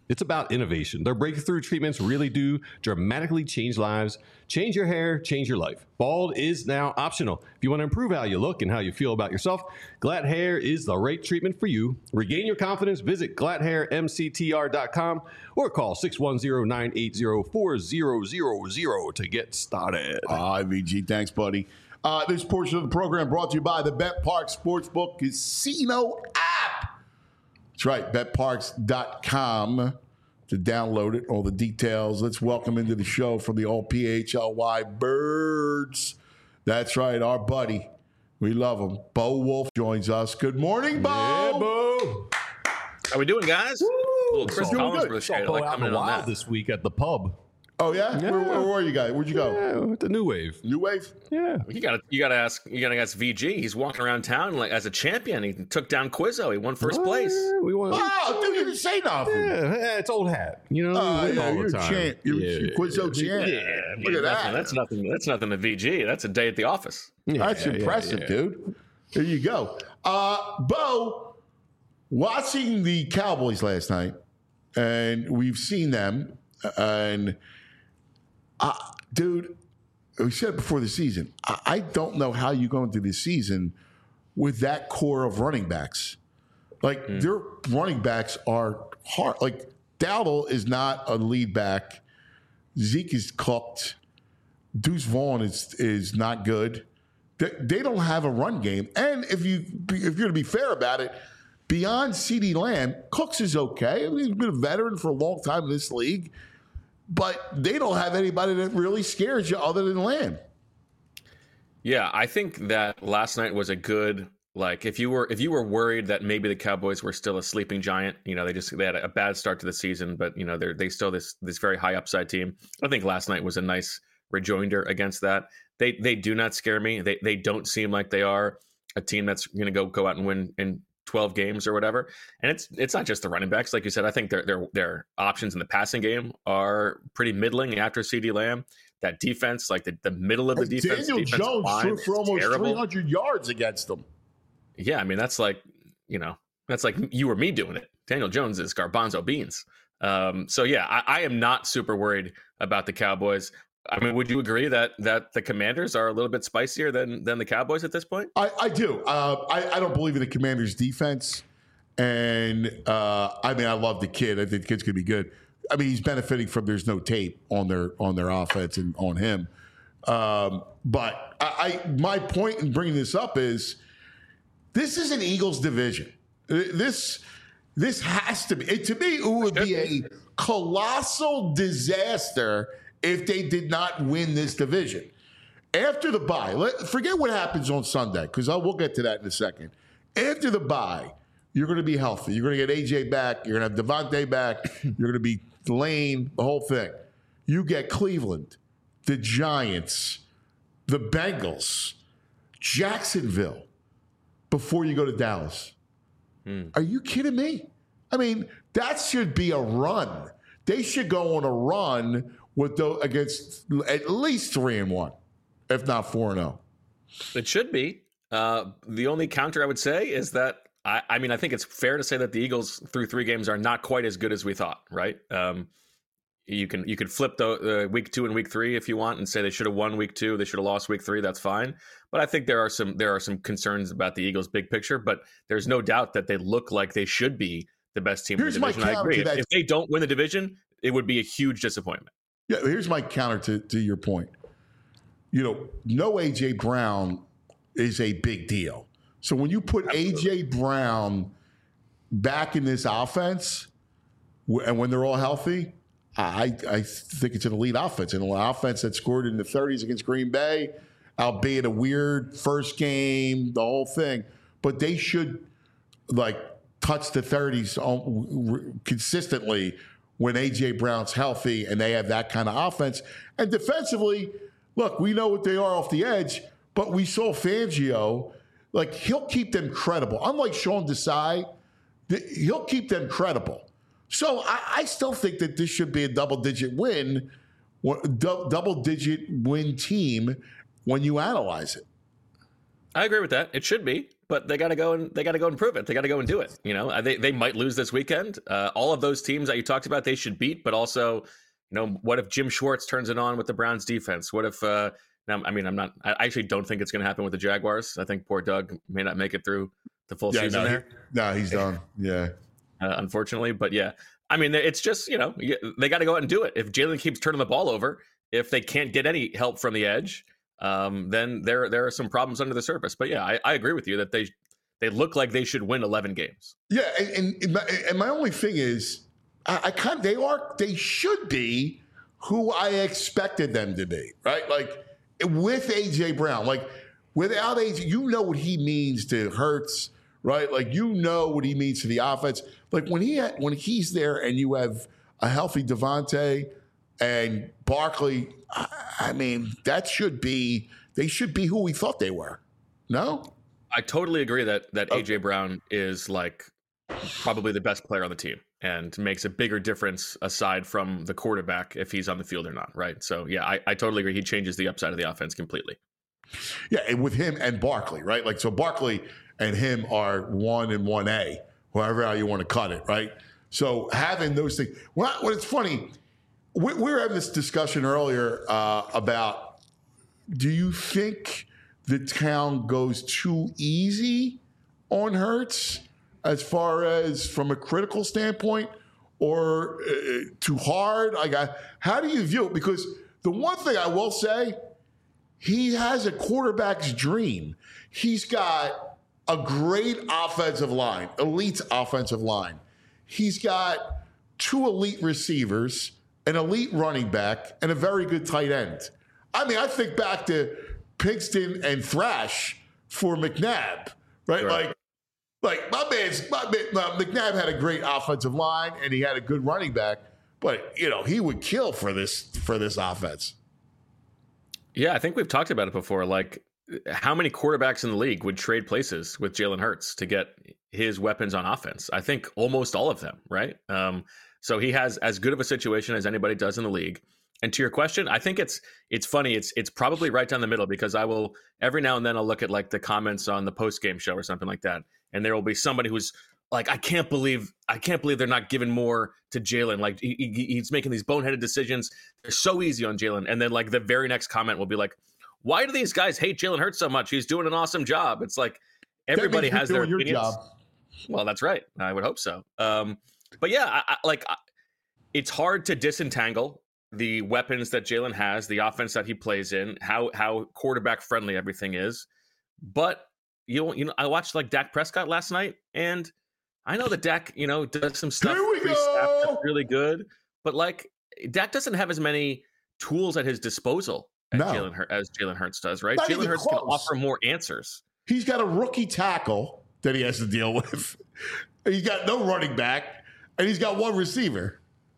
It's about innovation. Their breakthrough treatments really do dramatically change lives. Change your hair, change your life. Bald is now optional. If you want to improve how you look and how you feel about yourself, Glad Hair is the right treatment for you. Regain your confidence. Visit glad hair m c t r dot com or call six one zero, nine eight zero, four zero zero zero to get started. Ah, uh, V G, thanks, buddy. Uh, this portion of the program brought to you by the BetParx Sportsbook Casino app. That's right, bet parx dot com to download it, all the details. Let's welcome into the show from the all P H L Y Birds. That's right, our buddy. We love him. Bo Wolf joins us. Good morning, Bo. Yeah, Bo. How we doing, guys? Woo! A little Chris Doing Collins good. for the Saw show. Bo Like out coming in in the on wild that. this week at the pub. Oh, yeah? Yeah. Where, where were you guys? Where'd you go? Yeah, the New Wave. New Wave? Yeah. You got to you got to ask you got to ask V G. He's walking around town like as a champion. He took down Quizzo. He won first place. Uh, we won. Oh, dude, you didn't say nothing. Yeah, yeah, it's old hat. You know, Oh, we win yeah, all you're the a time. champ. You're yeah, a Quizzo champ. Yeah, I mean, Look at nothing- that. That's nothing. That's nothing to V G. That's a day at the office. yeah, That's yeah, impressive, yeah. dude. There you go. Uh, Bo, watching the Cowboys last night, and we've seen them, and uh, dude, we said it before the season, I, I don't know how you go into this season with that core of running backs. Like, Mm. their running backs are hard. Like, Dowdle is not a lead back. Zeke is cooked. Deuce Vaughn is is not good. They, they don't have a run game. And if you if you're going to be fair about it, beyond CeeDee Lamb, Cooks is okay. I mean, he's been a veteran for a long time in this league, but they don't have anybody that really scares you other than Lamb. Yeah, I think that last night was a good like if you were if you were worried that maybe the Cowboys were still a sleeping giant, you know, they just they had a bad start to the season, but you know, they're they still this this very high upside team. I think last night was a nice rejoinder against that. They they do not scare me. They they don't seem like they are a team that's going to go go out and win in twelve games or whatever. And it's it's not just the running backs, like you said. I think their their their options in the passing game are pretty middling after CeeDee Lamb. That defense, like the, the middle of the defense, Daniel defensive Jones line threw is for almost terrible. three hundred yards against them. Yeah, I mean that's like you know that's like you or me doing it. Daniel Jones is garbanzo beans. Um, so yeah, I, I am not super worried about the Cowboys. I mean, would you agree that that the Commanders are a little bit spicier than than the Cowboys at this point? I, I do. Uh, I, I don't believe in the Commanders' defense. And, uh, I mean, I love the kid. I think the kid's going to be good. I mean, he's benefiting from there's no tape on their on their offense and on him. Um, but I, I my point in bringing this up is this is an Eagles division. This this has to be. It, to me, it would be a colossal disaster if they did not win this division. After the bye, let, forget what happens on Sunday, because we'll get to that in a second. After the bye, you're going to be healthy. You're going to get A J back. You're going to have Devontae back. You're going to be Lane, the whole thing. You get Cleveland, the Giants, the Bengals, Jacksonville before you go to Dallas. Hmm. Are you kidding me? I mean, that should be a run. They should go on a run with the, against at least three and one, if not four and zero. It should be. Uh, the only counter I would say is that I, I mean I think it's fair to say that the Eagles through three games are not quite as good as we thought. Right? Um, you can you could flip the uh, week two and week three if you want and say they should have won week two, they should have lost week three. That's fine. But I think there are some there are some concerns about the Eagles' big picture. But there's no doubt that they look like they should be the best team Here's in the division. my I agree. counter to If, that. if they don't win the division, it would be a huge disappointment. Yeah, here's my counter to, to your point. You know, no A J Brown is a big deal. So when you put A J Brown back in this offense, and when they're all healthy, I I think it's an elite offense. An offense that scored in the thirties against Green Bay, albeit a weird first game, the whole thing. But they should, like, touch the thirties consistently when A J Brown's healthy and they have that kind of offense. And defensively, look, we know what they are off the edge, but we saw Fangio, like, he'll keep them credible. Unlike Sean Desai, he'll keep them credible. So I, I still think that this should be a double-digit win, double-digit win team when you analyze it. I agree with that. It should be, but they got to go and they got to go and prove it. They got to go and do it. You know, they they might lose this weekend. Uh, all of those teams that you talked about, they should beat. But also, you know, what if Jim Schwartz turns it on with the Browns defense? What if? Uh, now, I mean, I'm not. I actually don't think it's going to happen with the Jaguars. I think poor Doug may not make it through the full Yeah, season no, there. He, no, he's done. Yeah, uh, unfortunately. But yeah, I mean, it's just you know they got to go out and do it. If Jalen keeps turning the ball over, if they can't get any help from the edge. Um, then there there are some problems under the surface. But yeah, I, I agree with you that they they look like they should win eleven games. Yeah, and and my, and my only thing is, I, I kind of, they are they should be who I expected them to be, right? Like with A J Brown, like without A J, you know what he means to Hurts, right? Like you know what he means to the offense. Like when he had, when he's there and you have a healthy Devontae and Barkley, I, I mean, that should be, they should be who we thought they were. No? I totally agree that that Okay. A J Brown is like probably the best player on the team and makes a bigger difference aside from the quarterback if he's on the field or not, right? So yeah, I, I totally agree. He changes the upside of the offense completely. Yeah, and with him and Barkley, right? Like, so Barkley and him are one and one A, however how you want to cut it, right? So having those things, well, what it's funny, we, we were having this discussion earlier uh, about, do you think the town goes too easy on Hurts as far as from a critical standpoint, or uh, too hard? Like, I, how do you view it? Because the one thing I will say, he has a quarterback's dream. He's got a great offensive line, elite offensive line. He's got two elite receivers, an elite running back, and a very good tight end. I mean, I think back to Pinkston and Thrash for McNabb, right? Right. Like, like my man's my man, uh, McNabb had a great offensive line and he had a good running back, but you know he would kill for this for this offense. Yeah, I think we've talked about it before. Like, how many quarterbacks in the league would trade places with Jalen Hurts to get his weapons on offense? I think almost all of them, right? Um, so he has as good of a situation as anybody does in the league. And to your question, I think it's it's funny. It's it's probably right down the middle because I will every now and then I'll look at like the comments on the post game show or something like that, and there will be somebody who's like, I can't believe I can't believe they're not giving more to Jalen. Like he, he, he's making these boneheaded decisions. They're so easy on Jalen. And then like the very next comment will be like, why do these guys hate Jalen Hurts so much? He's doing an awesome job. It's like everybody That means has you're their doing your opinions. job. Well, that's right. I would hope so. Um, but yeah, I, I, like I, it's hard to disentangle the weapons that Jalen has, the offense that he plays in, how how quarterback friendly everything is. But you know, you know, I watched like Dak Prescott last night, and I know that Dak, you know, does some stuff Here we pre-snap go! that's really good, but like Dak doesn't have as many tools at his disposal as No. Jalen Hur- as Jalen Hurts does, right? Not Jalen even Hurts can close. offer more answers. He's got a rookie tackle that he has to deal with. He's got no running back, and he's got one receiver.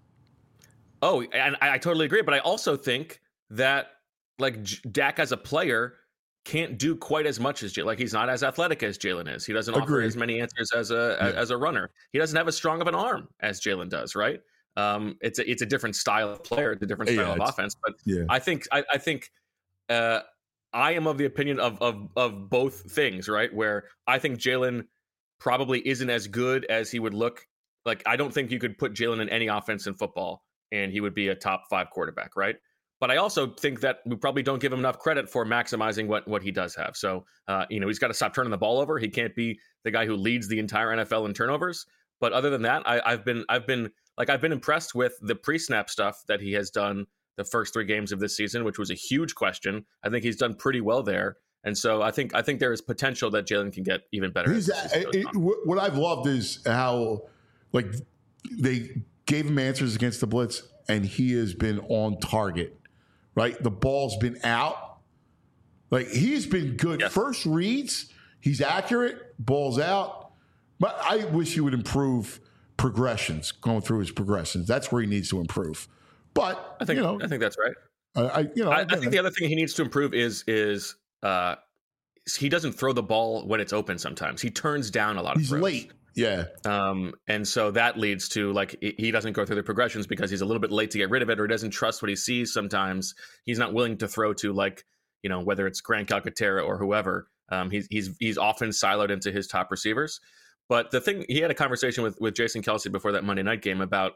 Oh, and I, I totally agree. But I also think that like J- Dak as a player can't do quite as much as Jalen. Like he's not as athletic as Jalen is. He doesn't offer Agreed. as many answers as a Yeah. as a runner. He doesn't have as strong of an arm as Jalen does. Right? Um, it's a, it's a different style of player, it's a different style Yeah, of it's- offense. But Yeah. I think I, I think uh, I am of the opinion of of of both things. Right? Where I think Jalen probably isn't as good as he would look. Like I don't think you could put Jalen in any offense in football and he would be a top five quarterback, right? But I also think that we probably don't give him enough credit for maximizing what what he does have. So, uh, you know, he's got to stop turning the ball over. He can't be the guy who leads the entire N F L in turnovers. But other than that, I, I've been I've been like I've been impressed with the pre-snap stuff that he has done the first three games of this season, which was a huge question. I think he's done pretty well there. And so I think I think there is potential that Jalen can get even better. He's, as the season goes it, on. what what I've loved is how, like, they gave him answers against the blitz, and he has been on target. Right, the ball's been out. Like he's been good. Yes. First reads, he's accurate. Ball's out. But I wish he would improve progressions, going through his progressions. That's where he needs to improve. But I think you know, I think that's right. I, I you know, I, I again, think the other thing he needs to improve is is uh, he doesn't throw the ball when it's open. Sometimes he turns down a lot of he's throws. late. Yeah, Um, and so that leads to like he he doesn't go through the progressions because he's a little bit late to get rid of it, or he doesn't trust what he sees. Sometimes he's not willing to throw to like you know whether it's Grant Calcaterra or whoever Um, he's he's he's often siloed into his top receivers. But the thing, he had a conversation with with Jason Kelce before that Monday night game about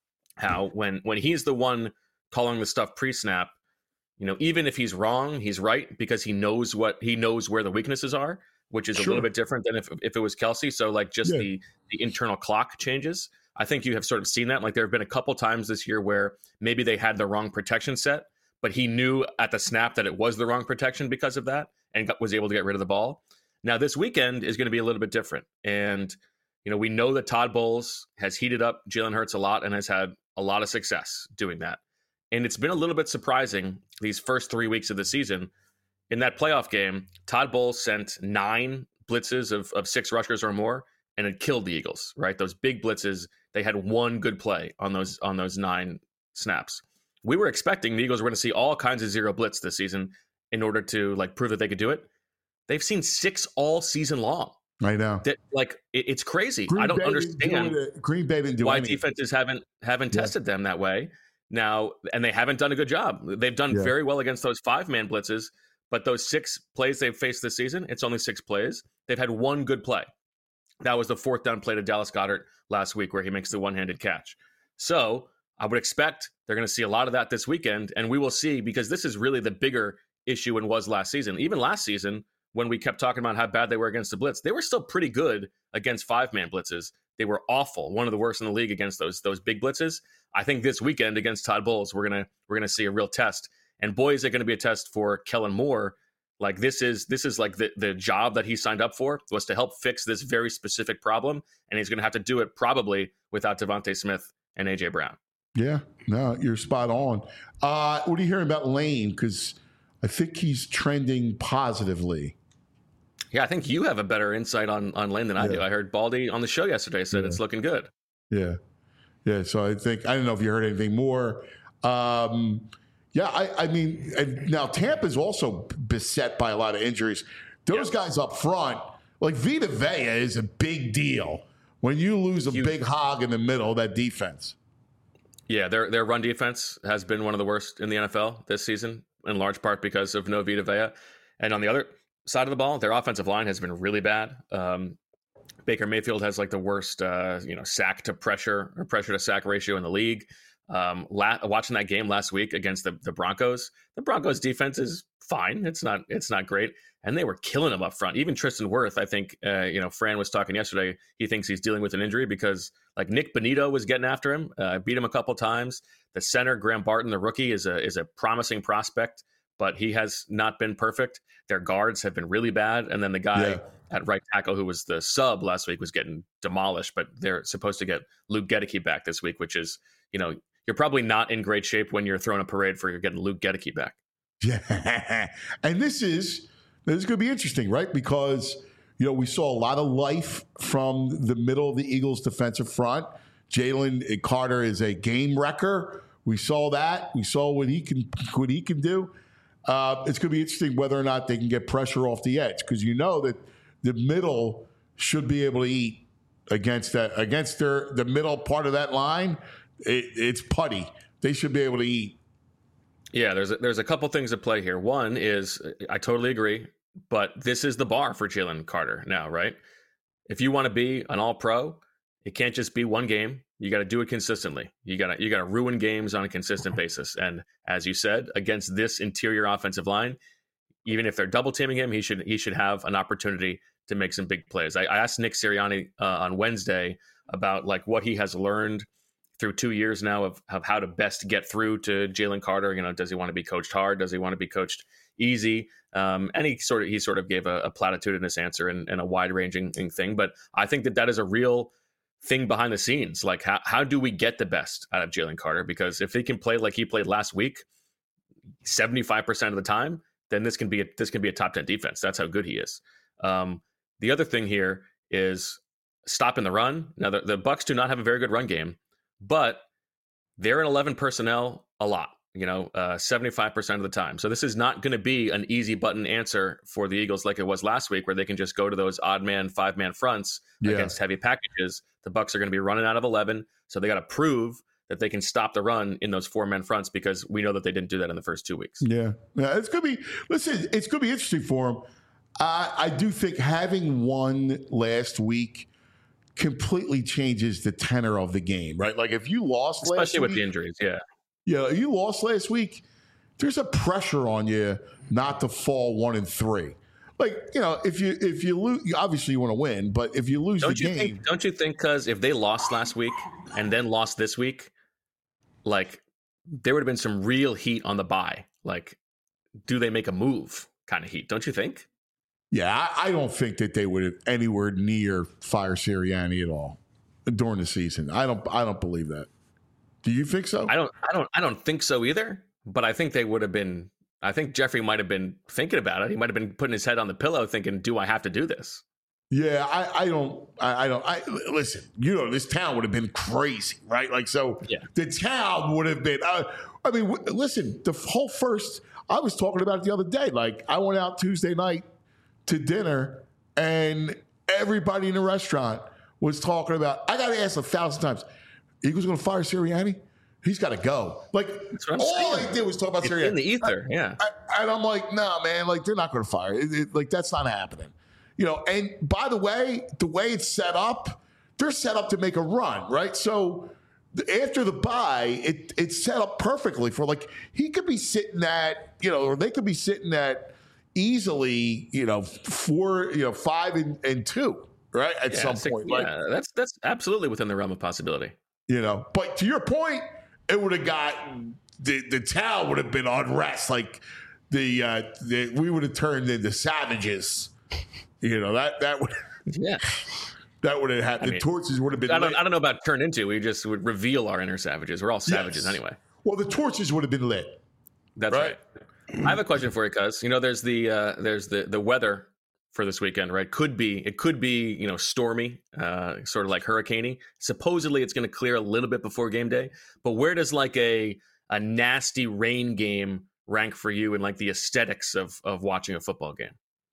how when when he's the one calling the stuff pre-snap, you know, even if he's wrong, he's right because he knows what he knows where the weaknesses are, which is sure. a little bit different than if if it was Kelce. So like just yeah. the the internal clock changes. I think you have sort of seen that. Like there have been a couple times this year where maybe they had the wrong protection set, but he knew at the snap that it was the wrong protection because of that and got, was able to get rid of the ball. Now, this weekend is going to be a little bit different. And, you know, we know that Todd Bowles has heated up Jalen Hurts a lot and has had a lot of success doing that. And it's been a little bit surprising these first three weeks of the season. In that playoff game, Todd Bowles sent nine blitzes of, of six rushers or more, and it killed the Eagles, right? Those big blitzes, they had one good play on those on those nine snaps. We were expecting the Eagles were going to see all kinds of zero blitz this season in order to like prove that they could do it. They've seen six all season long. I know. That, like it, it's crazy. Green I don't Bay understand do Green Bay didn't do why anything. defenses haven't haven't yeah. tested them that way now, and they haven't done a good job. They've done yeah. very well against those five man blitzes, but those six plays they've faced this season, it's only six plays. They've had one good play. That was the fourth down play to Dallas Goedert last week, where he makes the one handed catch. So I would expect they're going to see a lot of that this weekend, and we will see because this is really the bigger issue and was last season. Even last season, when we kept talking about how bad they were against the blitz, they were still pretty good against five-man blitzes. They were awful, one of the worst in the league against those those big blitzes. I think this weekend against Todd Bowles, we're gonna we're gonna see a real test. And boy, is it going to be a test for Kellen Moore. Like this is this is like the the job that he signed up for was to help fix this very specific problem, and he's going to have to do it probably without Devontae Smith and A J Brown. Yeah, no, you're spot on. Uh, what are you hearing about Lane? Because I think he's trending positively. Yeah, I think you have a better insight on, on Lane than I yeah. do. I heard Baldy on the show yesterday said yeah. it's looking good. Yeah. Yeah. So I think, I don't know if you heard anything more. Um, yeah, I, I mean, now Tampa's also beset by a lot of injuries. Those yeah. guys up front, like Vita Vea is a big deal when you lose a Huge. big hog in the middle of that defense. Yeah, their their run defense has been one of the worst in the N F L this season, in large part because of no Vita Vea. And on the other side of the ball, their offensive line has been really bad. Um, Baker Mayfield has like the worst, uh, you know, sack to pressure or pressure to sack ratio in the league. Um, la- watching that game last week against the, the Broncos, the Broncos defense is fine. It's not, it's not great. And they were killing him up front. Even Tristan Wirth, I think, uh, you know, Fran was talking yesterday. He thinks he's dealing with an injury because like Nick Bonito was getting after him, uh, beat him a couple times. The center, Graham Barton, the rookie, is a is a promising prospect, but he has not been perfect. Their guards have been really bad. And then the guy yeah. at right tackle who was the sub last week was getting demolished, but they're supposed to get Luke Gedeke back this week, which is, you know, you're probably not in great shape when you're throwing a parade for you're getting Luke Gedeke back. Yeah. And this is, this is going to be interesting, right? Because, you know, we saw a lot of life from the middle of the Eagles defensive front. Jalen Carter is a game wrecker. We saw that. We saw what he can, what he can do. Uh, it's going to be interesting whether or not they can get pressure off the edge, because you know that the middle should be able to eat against that against their the middle part of that line. It, it's putty. They should be able to eat. Yeah, there's a, there's a couple things at play here. One is I totally agree, but this is the bar for Jalen Carter now, right? If you want to be an All-Pro, it can't just be one game. You got to do it consistently. You got to you got to ruin games on a consistent basis. And as you said, against this interior offensive line, even if they're double teaming him, he should he should have an opportunity to make some big plays. I, I asked Nick Sirianni uh, on Wednesday about like what he has learned through two years now of, of how to best get through to Jalen Carter. You know, does he want to be coached hard? Does he want to be coached easy? Um, and he sort of he sort of gave a, a platitudinous answer and, and a wide ranging thing. But I think that that is a real thing behind the scenes. Like how, how do we get the best out of Jalen Carter? Because if he can play like he played last week, seventy-five percent of the time, then this can be a, this can be a top ten defense. That's how good he is. Um, the other thing here is stopping the run. Now the, the Bucs do not have a very good run game, but they're in eleven personnel a lot, you know, uh, seventy-five percent of the time. So this is not going to be an easy button answer for the Eagles like it was last week, where they can just go to those odd man, five man fronts yeah. against heavy packages. The Bucs are going to be running out of eleven. So they got to prove that they can stop the run in those four man fronts, because we know that they didn't do that in the first two weeks. Yeah. Yeah. It's going to be, listen, it's going to be interesting for them. I, I do think having won last week completely changes the tenor of the game, right? Like if you lost especially last with week, the injuries, yeah. Yeah, if you lost last week, there's a pressure on you not to fall one and three. Like, you know, if you if you lose, obviously you want to win, but if you lose Don't the you game, think? Don't you think? Because if they lost last week and then lost this week, like there would have been some real heat on the bye. Like, do they make a move? Kind of heat, don't you think? yeah, I, I don't think that they would have anywhere near fire Sirianni at all during the season. I don't. I don't believe that. Do you think so? I don't. I don't. I don't think so either. But I think they would have been. I think Jeffrey might have been thinking about it. He might have been putting his head on the pillow, thinking, "Do I have to do this?" Yeah, I, I don't. I, I don't. I listen. You know, this town would have been crazy, right? Like, so Yeah. the town would have been. Uh, I mean, w- listen. The whole first. I was talking about it the other day. Like, I went out Tuesday night to dinner, and everybody in the restaurant was talking about. I got to ask a thousand times. Eagles going to fire Sirianni? He's got to go. Like, what I'm all saying. they did was talk about It's Sirianni in the ether, yeah. I, and I'm like, nah, man, like they're not going to fire. It, it, like that's not happening, you know. And by the way, the way it's set up, they're set up to make a run, right? So th- after the bye, it it's set up perfectly for like he could be sitting at, you know, or they could be sitting at easily, you know, four, you know, five and, and two, right? At Yeah, some six- point, like, yeah, that's that's absolutely within the realm of possibility. you know. But to your point, it would have got the the town would have been unrest. Like the, uh, the we would have turned into savages. You know that that would Yeah, that would have had the mean, torches would have been. I don't. lit. I don't know about turn into. We just would reveal our inner savages. We're all savages Yes. anyway. Well, the torches would have been lit. That's Right. right. I have a question for you, cuz you know, there's the uh, there's the the weather for this weekend, right? Could be it could be you know stormy, uh, sort of like hurricaney. Supposedly, it's going to clear a little bit before game day. But where does like a a nasty rain game rank for you in like the aesthetics of of watching a football game?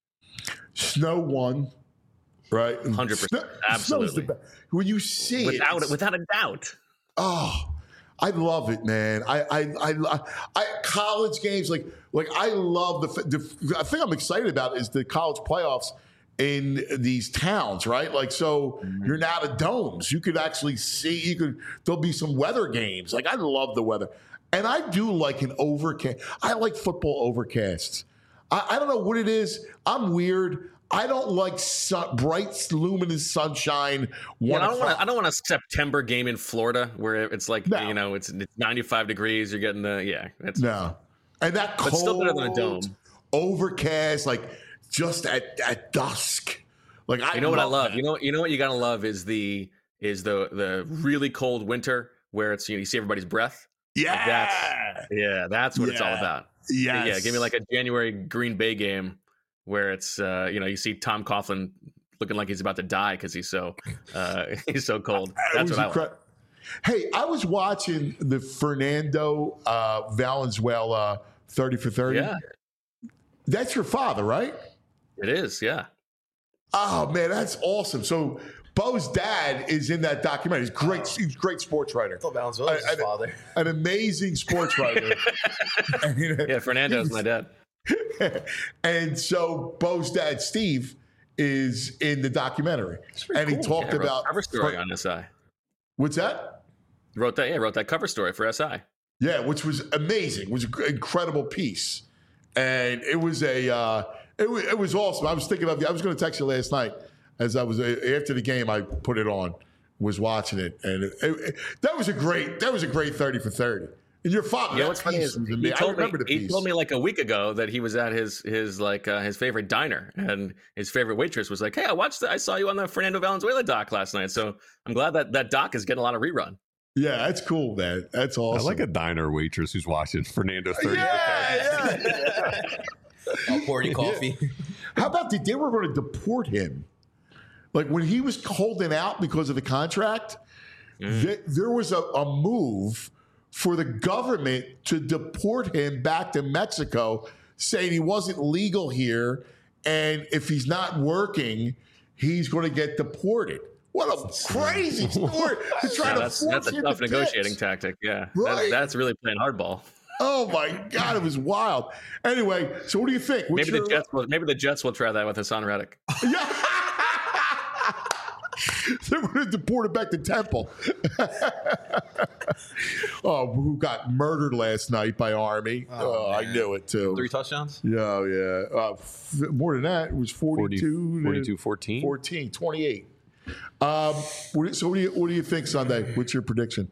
Snow one, right? one hundred percent. Snow- snow's the Absolutely. best. When you see Without it, without a doubt. oh, I love it, man. I, I, I, I, college games, like, like I love the, the. I think I'm excited about is the college playoffs in these towns, right? Like, so you're now to domes. You could actually see. You could. There'll be some weather games. Like, I love the weather, and I do like an overcast. I like football overcasts. I, I don't know what it is. I'm weird. I don't like sun, bright, luminous sunshine. Yeah, One I don't want o'clock. to. I don't want a September game in Florida where it's like No. you know it's, it's ninety-five degrees. You're getting the yeah. That's, No, and that But cold, still better than a dome. overcast, like just at, at dusk. Like I, You know what I love? that. You know you know what you gotta love is the is the the really cold winter where it's you, know, you see everybody's breath. Yeah, Like that's yeah, that's what it's all Yeah. about. yes. Yeah, give me like a January Green Bay game where it's uh, you know you see Tom Coughlin looking like he's about to die because he's so uh, he's so cold. It That's was what I incre- like. Hey, I was watching the Fernando uh, Valenzuela thirty for thirty. Yeah, That's your father, right? it is. Yeah. Oh man, that's awesome. So Bo's dad is in that documentary. He's great. He's a great sports writer. Phil Valenzuela was I- his I- father. An amazing sports writer. And, you know, Yeah, Fernando's my dad. and so Bo's dad, Steve, is in the documentary. And he talked Yeah, wrote about a cover story on S I. what's that? Wrote that, yeah, wrote that cover story for S I. Yeah, which was amazing. It was an incredible piece. And it was a uh, it, was, it was awesome. I was thinking of you. I was going to text you last night as I was after the game. I put it on, was watching it, and it, it, that was a great that was a great thirty for thirty. And your father, Yeah, that what's funny piece is was he amazing. I told, me, remember the he piece. told me like a week ago that he was at his his like uh, his favorite diner, and his favorite waitress was like, "Hey, I watched, the, I saw you on the Fernando Valenzuela doc last night, so I'm glad that that doc is getting a lot of rerun." Yeah, that's cool, man. That's I awesome. like a diner waitress who's watching Fernando thirty. Yeah, yeah. I'll pour you coffee. How about the, they were going to deport him? Like when he was holding out because of the contract, th- there was a, a move for the government to deport him back to Mexico, saying he wasn't legal here, and if he's not working, he's going to get deported. What a crazy story to try Yeah, to that's force that's a him tough to negotiating pitch. tactic. Yeah, Right. that, that's really playing hardball. Oh my God, it was wild. Anyway, so what do you think? What's Maybe your, the Jets will. Maybe the Jets will try that with Hassan Reddick. Yeah. They're going to deport him back to Temple. Oh, who got murdered last night by Army? Oh, oh I knew it too. Three touchdowns? Yeah, yeah. Uh, f- more than that, it was forty-two, forty-two fourteen. fourteen, twenty-eight. Um, what do- so what do you what do you think Sunday? What's your prediction?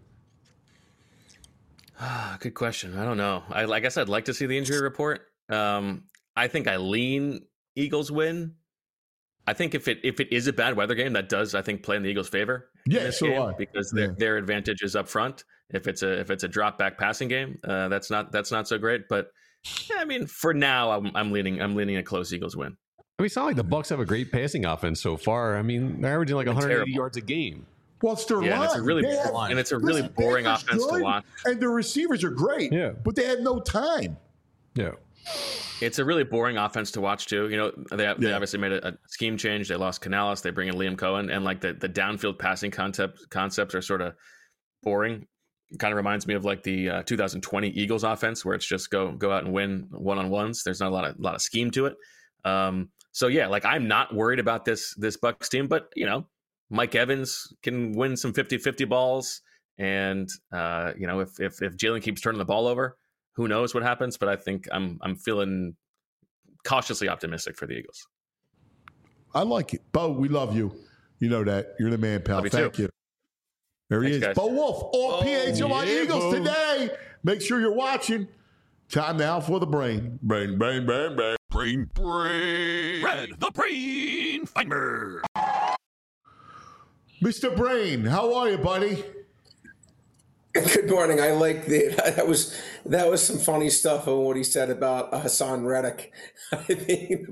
Good question. I don't know. I, I guess I'd like to see the injury report. Um, I think I lean Eagles win. I think if it if it is a bad weather game, that does I think play in the Eagles' favor. Yeah, so do I. Because their Yeah. their advantage is up front. If it's a if it's a drop back passing game, uh, that's not that's not so great. But yeah, I mean, for now, I'm I'm leaning I'm leaning a close Eagles win. I mean, it's not like the Bucs have a great passing offense so far. I mean, they're averaging like They're one hundred eighty terrible. yards a game. Well, it's their Yeah, and line. it's a really They have- and it's a really listen, boring Baker's offense good, to watch. and the receivers are great. Yeah. but they had no time. Yeah. It's a really boring offense to watch too. You know, they, they Yeah. obviously made a, a scheme change. They lost Canales. They bring in Liam Cohen, and like the, the downfield passing concept concepts are sort of boring. It kind of reminds me of like the uh, two thousand twenty Eagles offense, where it's just go go out and win one on ones. There's not a lot of lot of scheme to it. Um, so yeah, like I'm not worried about this this Bucs team, but you know, Mike Evans can win some fifty-fifty balls, and uh, you know, if if if Jalen keeps turning the ball over, who knows what happens, but I think I'm I'm feeling cautiously optimistic for the Eagles. I like it. Bo, we love you. You know that. You're the man, pal. Love you Thank too. you. There he Thanks, is. guys. Bo Wolf, all P H L I yeah, Eagles Bo. today. Make sure you're watching. Time now for the brain. Brain, brain, brain, brain. Brain, brain. Red, the brain finder. Mister Brain, how are you, buddy? Good morning. I like the that was that was some funny stuff on what he said about Hassan Reddick. I think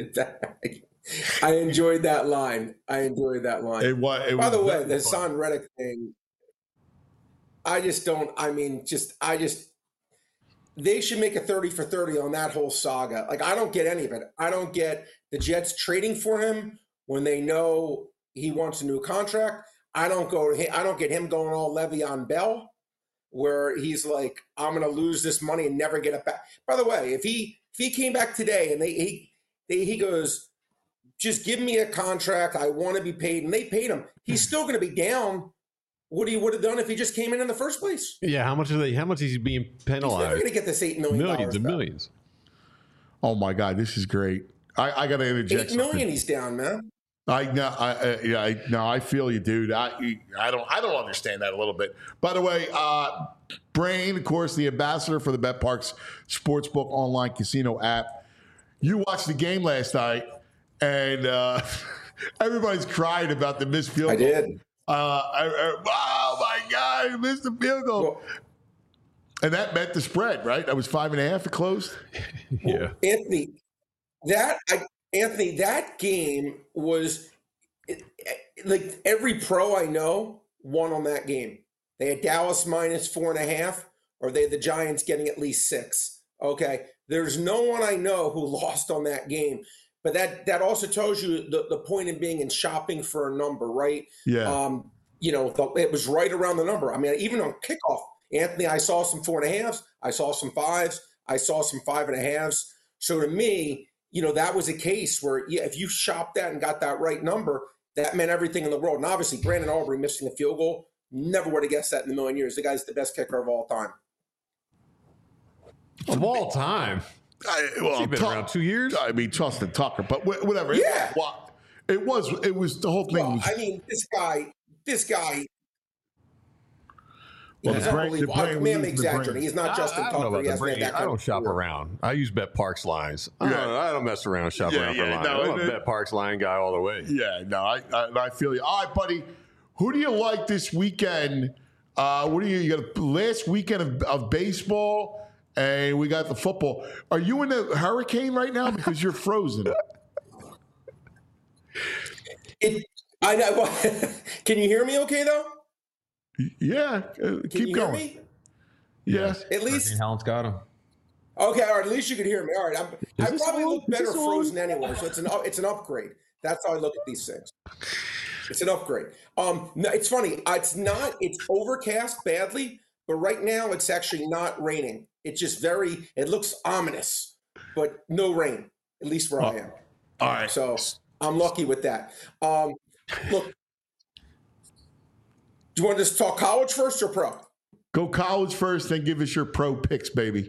I enjoyed that line. I enjoyed that line. It was, it By was the way, very the fun. Hassan Reddick thing, I just don't. I mean, just I just they should make a thirty for thirty on that whole saga. Like I don't get any of it. I don't get the Jets trading for him when they know he wants a new contract. I don't go to him, I don't get him going all Le'Veon Bell, where he's like, I'm going to lose this money and never get it back. By the way, if he if he came back today and they he they, he goes, just give me a contract, I want to be paid, and they paid him, he's still going to be down what he would have done if he just came in in the first place. Yeah. How much are they? How much is he being He's never penalized? going to get this eight million dollars. Millions and back. millions. Oh my God, this is great. I, I got to interject. Eight million, something. he's down, man. I no, I uh, yeah, I, no, I feel you, dude. I I don't I don't understand that a little bit. By the way, uh, Brain, of course, the ambassador for the BetParx Sportsbook online casino app. You watched the game last night, and uh, everybody's crying about the missed field I goal. did. Uh, I, I, oh my God, he missed the field goal, Well, and that meant the spread, right? That was five and a half. It closed. Yeah. Anthony, that I, Anthony, that game was it, it, like every pro I know won on that game. They had Dallas minus four and a half, or they had the Giants getting at least six. Okay, there's no one I know who lost on that game. But that that also tells you the, the point in being in shopping for a number, right? Yeah. Um, you know, the, it was right around the number. I mean, even on kickoff, Anthony, I saw some four and a halves, I saw some fives, I saw some five and a halves. So to me, you know, that was a case where, yeah, if you shopped that and got that right number, that meant everything in the world. And obviously, Brandon Aubrey missing a field goal, never would have guessed that in a million years. The guy's the best kicker of all time. Of all time. I, well, He's been Tu- around two years. I mean, Justin Tucker, but wh- whatever. Yeah. It, wa- it was. It was the whole thing. Well, was, I mean, this guy, this guy. Well, He's the brain- the unbelievable. brain I- was man, I'm the exaggerating. brain. He's not Justin I, I Tucker. don't know He about the hasn't had brain. that I kind don't of shop career. around. I use BetParx lines. I Yeah. don't, I don't mess around and shop Yeah, around yeah, for lines. no, I'm a it- BetParx line guy all the way. Yeah, no, I, I I feel you. All right, buddy. Who do you like this weekend? Uh, what do you? You got a last weekend of, of baseball, and we got the football. Are you in a hurricane right now because you're frozen? It, I know. Can you hear me? Okay, though. Yeah, uh, Can keep you going. hear me? Yeah. At least. Helen's got him. Okay, all right. At least you can hear me. All right. I'm, I this probably on? look Is better this on? frozen anyway, so it's an up- it's an upgrade. That's how I look at these things. It's an upgrade. Um, no, it's funny. It's not. It's overcast badly, but right now it's actually not raining. It's just very, it looks ominous, but no rain, at least where I am. All right. So I'm lucky with that. Um, look, do you want to just talk college first or pro? Go college first, then give us your pro picks, baby.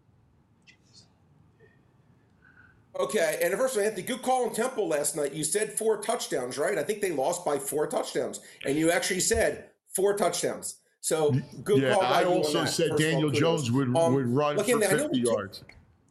Okay, and first of all, Anthony, good call on Temple last night. You said four touchdowns, right? I think they lost by four touchdowns, and you actually said four touchdowns. So good Yeah, call by I you on also that. said First of all, Daniel kudos. Jones would, Um, would run look, for Anthony, I know fifty we- yards.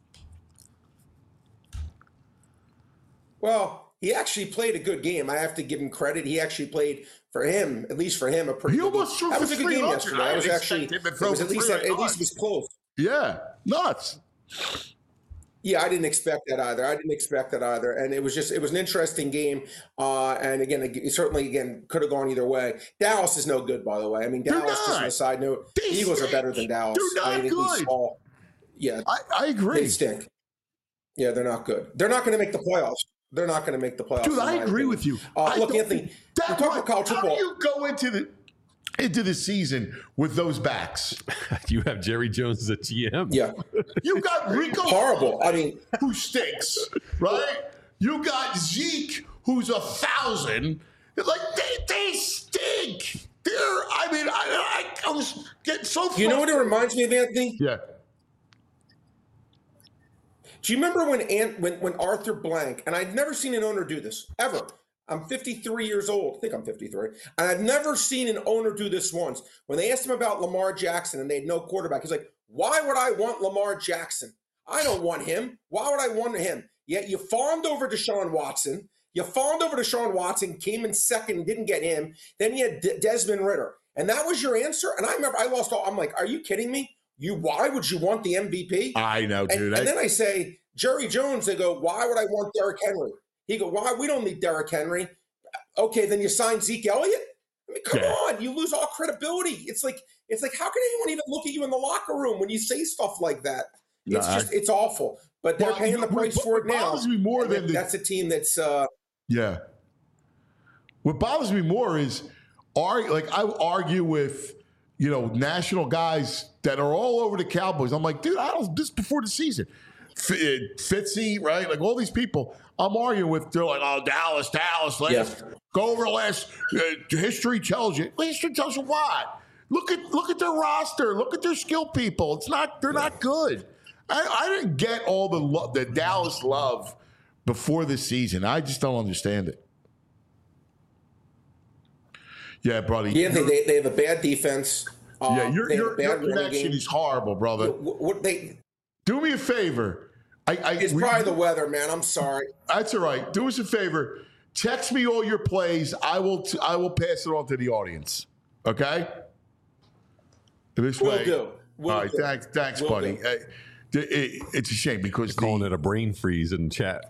Well, he actually played a good game. I have to give him credit. He actually played, for him, at least for him, a pretty He good almost game. threw That for was a good game three hundred. yesterday. I That was didn't actually, expect him to it throw was for at least, three at hundred least it was close. Yeah, nuts. Yeah, I didn't expect that either. I didn't expect that either, and it was just it was an interesting game. Uh, and again, it certainly again could have gone either way. Dallas is no good, by the way. I mean, They're Dallas. Just on not. a side note, They the Eagles stink. are better than Dallas. They're not I think we good. saw- yeah, I, I they agree. stink. Yeah, they're not good. They're not going to make the playoffs. They're not going to make the playoffs. Dude, in I my agree opinion. with you. Uh, I look, don't- Anthony, that we're talking one- about college how football. do you go into the into the season with those backs? You have Jerry Jones as a G M. Yeah, You got Rico horrible. I mean, who stinks, right? You got Zeke, who's a thousand. Like they, they stink. They're. I mean, I, I, I was getting so. you know what it reminds me of, Anthony? Yeah. Do you remember when Ant, when when Arthur Blank, and I'd never seen an owner do this ever. I'm fifty-three years old. I think I'm fifty-three. And I've never seen an owner do this once. When they asked him about Lamar Jackson and they had no quarterback, he's like, why would I want Lamar Jackson? I don't want him. Why would I want him? Yet you fawned over Deshaun Watson. You fawned over Deshaun Watson, came in second, didn't get him. Then you had De- Desmond Ritter. And that was your answer? And I remember I lost all. I'm like, are you kidding me? You, why would you want the M V P? I know, And, dude. and I, then I say, Jerry Jones, they go, why would I want Derrick Henry? He go, why? We don't need Derrick Henry. Okay, then you sign Zeke Elliott? I mean, come Yeah. on. You lose all credibility. It's like, it's like, how can anyone even look at you in the locker room when you say stuff like that? It's Nah, just, it's awful. But they're Well, paying the what- price what for it now. bothers me more And than the- that's a team that's, uh, yeah. What bothers me more is, are like I argue with, you know, national guys that are all over the Cowboys. I'm like, dude, I don't. This is before the season. F- uh, Fitzy, right? Like all these people, I'm arguing with. They're like, oh, Dallas, Dallas. Last, Yeah. Go over the last. Uh, history tells you. History tells you what? Look at look at their roster. Look at their skill people. It's not. They're not good. I, I didn't get all the lo- the Dallas love before this season. I just don't understand it. Yeah, brother. yeah, they, Your- they, they have a bad defense. Uh, yeah, your, they have a your, bad your running connection game. is horrible, brother. What, what they, Do me a favor. I, I, it's we- probably the weather, man. I'm sorry. That's all right. Do us a favor. Text me all your plays. I will. T- I will pass it on to the audience. Okay. This Will way. do. Will all right. do. Thanks, thanks, Will buddy. do. Uh, it- it- it's a shame because Calling the, it a brain freeze in chat.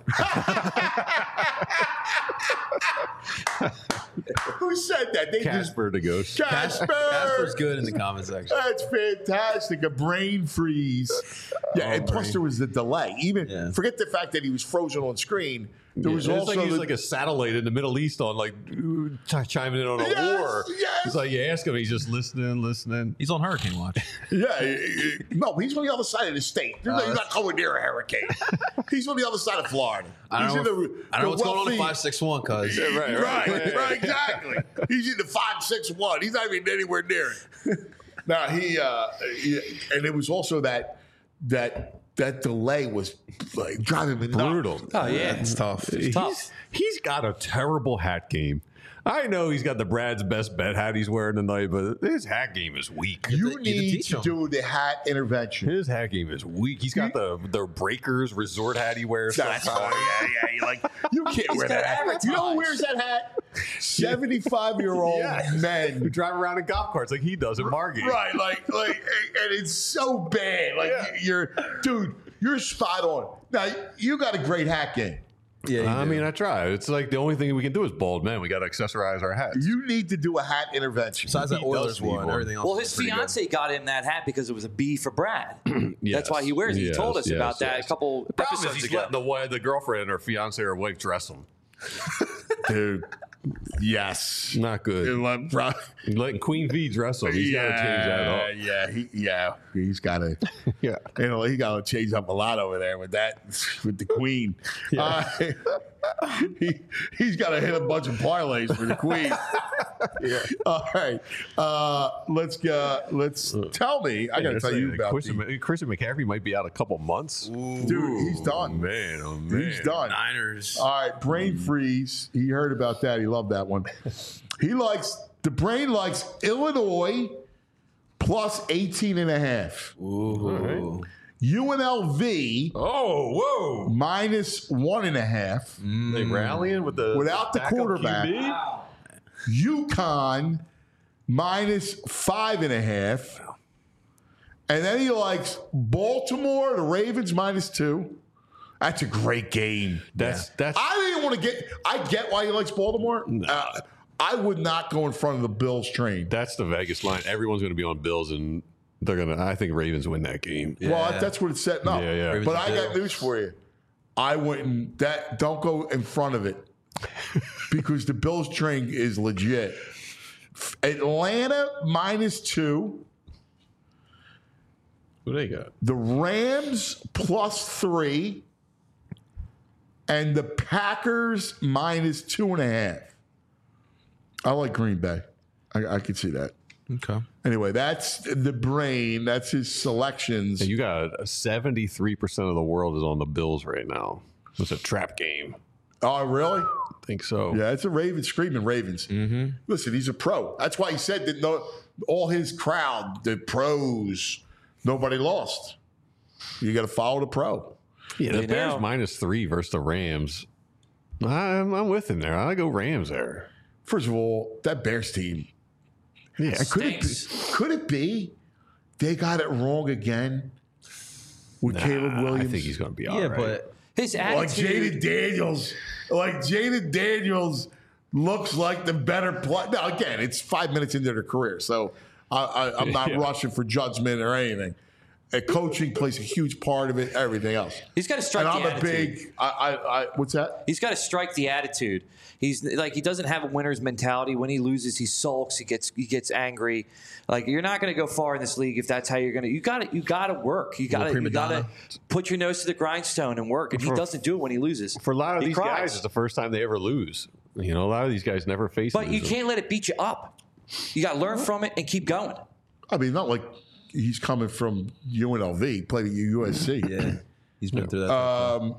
who said that? They Casper the ghost. just Casper. Casper's good in the comment section. That's fantastic. A brain freeze. Yeah, and plus there was the delay. Even Yeah. forget the fact that he was frozen on screen. There was it's also like he's the, like a satellite in the Middle East on like ch- chiming in on a Yes, war. yes. It's like you ask him, he's just listening, listening. He's on Hurricane Watch. yeah. eh, eh, No, he's on the other side of the state. He's not- he's not coming near a hurricane. He's on the other side of Florida. I don't he's know. in If, the- I don't know the what's going on in wealthy- five six one, cuz. right, Right, right, right, exactly. He's in the five six one. He's not even anywhere near it. Now he, uh, he, and it was also that that that delay was like driving me nuts. Brutal. Oh yeah, It's tough. It's tough. He's, he's got a terrible hat game. I know he's got the Brad's best bet hat he's wearing tonight, but his hat game is weak. You You have to need teach to him. do the hat intervention. His hat game is weak. He's got the the breakers resort hat he wears. That's sometimes. yeah, yeah. You're like, you can't wear gotta that hat. advertise. You know who wears that hat? seventy-five year old Yeah. Who men. drive around in golf carts like he does in Margate. Right, like, like, and it's so bad. Like, Yeah. you're, dude, you're spot on. Now, you got a great hat game. Yeah, I mean, I try. It's like the only thing we can do is bald men. We got to accessorize our hats. You need to do a hat intervention. besides that he Oilers does need one, one. everything else. Well, was his pretty good. fiance got him that hat because it was a B for Brad. Yes. That's why he wears it. He Yes, told us yes, about that yes. a couple The problem is episodes he's ago. letting the, wife, the girlfriend or fiance or wife dress him. Dude. Yes. Not good. And let- bro- Letting Queen V dress him. He's got to change that up. Yeah, he, yeah, he's got to. Yeah. You know, he got to change up a lot over there with that, with the Queen. Uh, he he's got to hit a bunch of parlays for the Queen. Yeah. All right, uh, let's go. Let's tell me. I got to Yeah, tell you like about Christian, the, Christian McCaffrey might be out a couple months. dude. He's done. Man, oh man. He's done. Niners. All right, brain freeze. He heard about that. He loved that one. He likes the brain likes Illinois plus eighteen and a half. Ooh. U N L V Oh, whoa. minus one and a half. They rallying with the Without the backup quarterback. Q B? UConn minus five and a half. And then he likes Baltimore, the Ravens minus two. That's a great game. That's that's I didn't want to get. I get why he likes Baltimore. Uh, I would not go in front of the Bills train. that's the Vegas line. Everyone's going to be on Bills, and they're gonna. I think Ravens win that game. Well, Yeah. that's what it's setting up. Yeah, yeah. Ravens But and I got Bills. news for you. I wouldn't. That don't go in front of it because the Bills train is legit. Atlanta minus two. Who they got? The Rams plus three, and the Packers minus two and a half. I like Green Bay. I, I could see that. Okay. Anyway, that's the brain. That's his selections. And you got seventy-three percent of the world is on the Bills right now. It's a trap game. Oh, really? I think so. Yeah, it's a Ravens screaming Ravens. Mm-hmm. Listen, he's a pro. That's why he said that no, all his crowd, the pros, nobody lost. You got to follow the pro. Yeah, the You Bears know. minus three versus the Rams. I'm, I'm with him there. I go Rams there. First of all, that Bears team. Yeah, Could it, be, could it be they got it wrong again with Caleb Williams? I think he's going to be all Yeah, right. but His like attitude. Jaden Daniels. Like Jaden Daniels looks like the better player. Now, again, it's five minutes into their career, so I, I, I'm not Yeah. rushing for judgment or anything. Uh, coaching plays a huge part of it, everything else. He's got to strike And the I'm a attitude. big, I, I, I, what's that? He's got to strike the attitude. He's like he doesn't have a winner's mentality. When he loses, he sulks. He gets he gets angry. Like you're not going to go far in this league if that's how you're going to. You got to you got to work. You got to prima you got to donna. put your nose to the grindstone and work. And he For- doesn't do it when he loses. For a lot of He these cries. guys, it's the first time they ever lose. You know, a lot of these guys never face But you losing. can't let it beat you up. You got to learn from it and keep going. I mean, not like he's coming from U N L V, played at U S C. yeah, he's been through that. Um,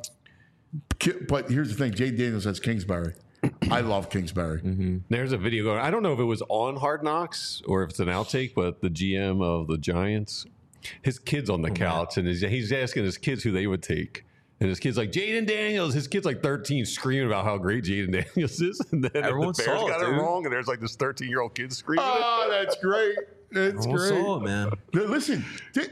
Ki- but here's the thing: Jay Daniels has Kingsbury. I love Kingsbury. There's a video going. I don't know if it was on Hard Knocks or if it's an outtake, but the G M of the Giants, his kid's on the couch and he's, he's asking his kids who they would take. And his kid's like, Jaden Daniels. His kid's like thirteen, screaming about how great Jaden Daniels is. And then Everyone the Bears saw it, got it dude. wrong, and there's like this thirteen year old kid screaming. Oh, that's great. That's Everyone great. saw it, man. Now, listen, th-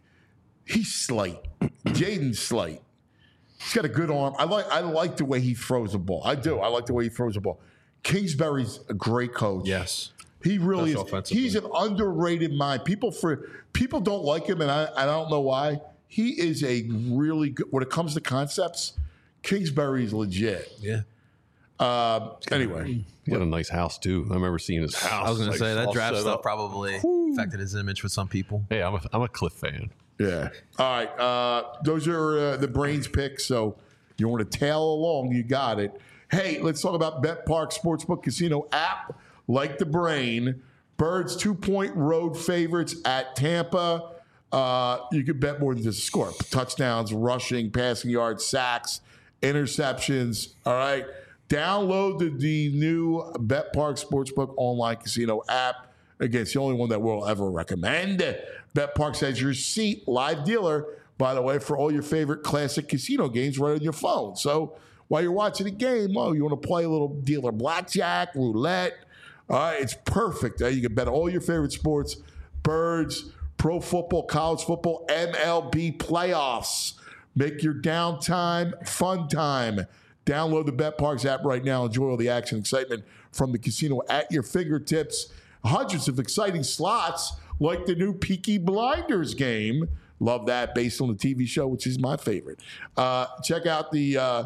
he's slight. Jaden's slight. He's got a good arm. I like. I like the way he throws the ball. I do. I like the way he throws the ball. Kingsbury's a great coach. Yes. He really That's is. offensively. He's an underrated mind. People for people don't like him, and I, I don't know why. He is a really good. When it comes to concepts, Kingsbury's legit. Yeah. Uh, anyway, He got a nice house too. I remember seeing his house. I was going like, to say that all draft set stuff up. probably affected his image with some people. Hey, I'm a, I'm a Cliff fan. yeah. All right. Uh, those are uh, the brains picks. So you want to tail along, you got it. Hey, let's talk about Bet Park Sportsbook Casino app. Like the brain, Birds two point road favorites at Tampa. Uh, you could bet more than just a score. Touchdowns, rushing, passing yards, sacks, interceptions. All right. Download the, the new Bet Park Sportsbook online casino app. Again, it's the only one that we'll ever recommend. Bet Park has your seat live dealer, by the way, for all your favorite classic casino games right on your phone. So while you're watching the game, oh, you want to play a little dealer blackjack, roulette. All right, it's perfect. Uh, you can bet all your favorite sports, birds, pro football, college football, M L B playoffs. Make your downtime fun time. Download the BetParks app right now. Enjoy all the action and excitement from the casino at your fingertips. Hundreds of exciting slots like the new Peaky Blinders game. Love that, based on the T V show, which is my favorite. Uh, check out the uh,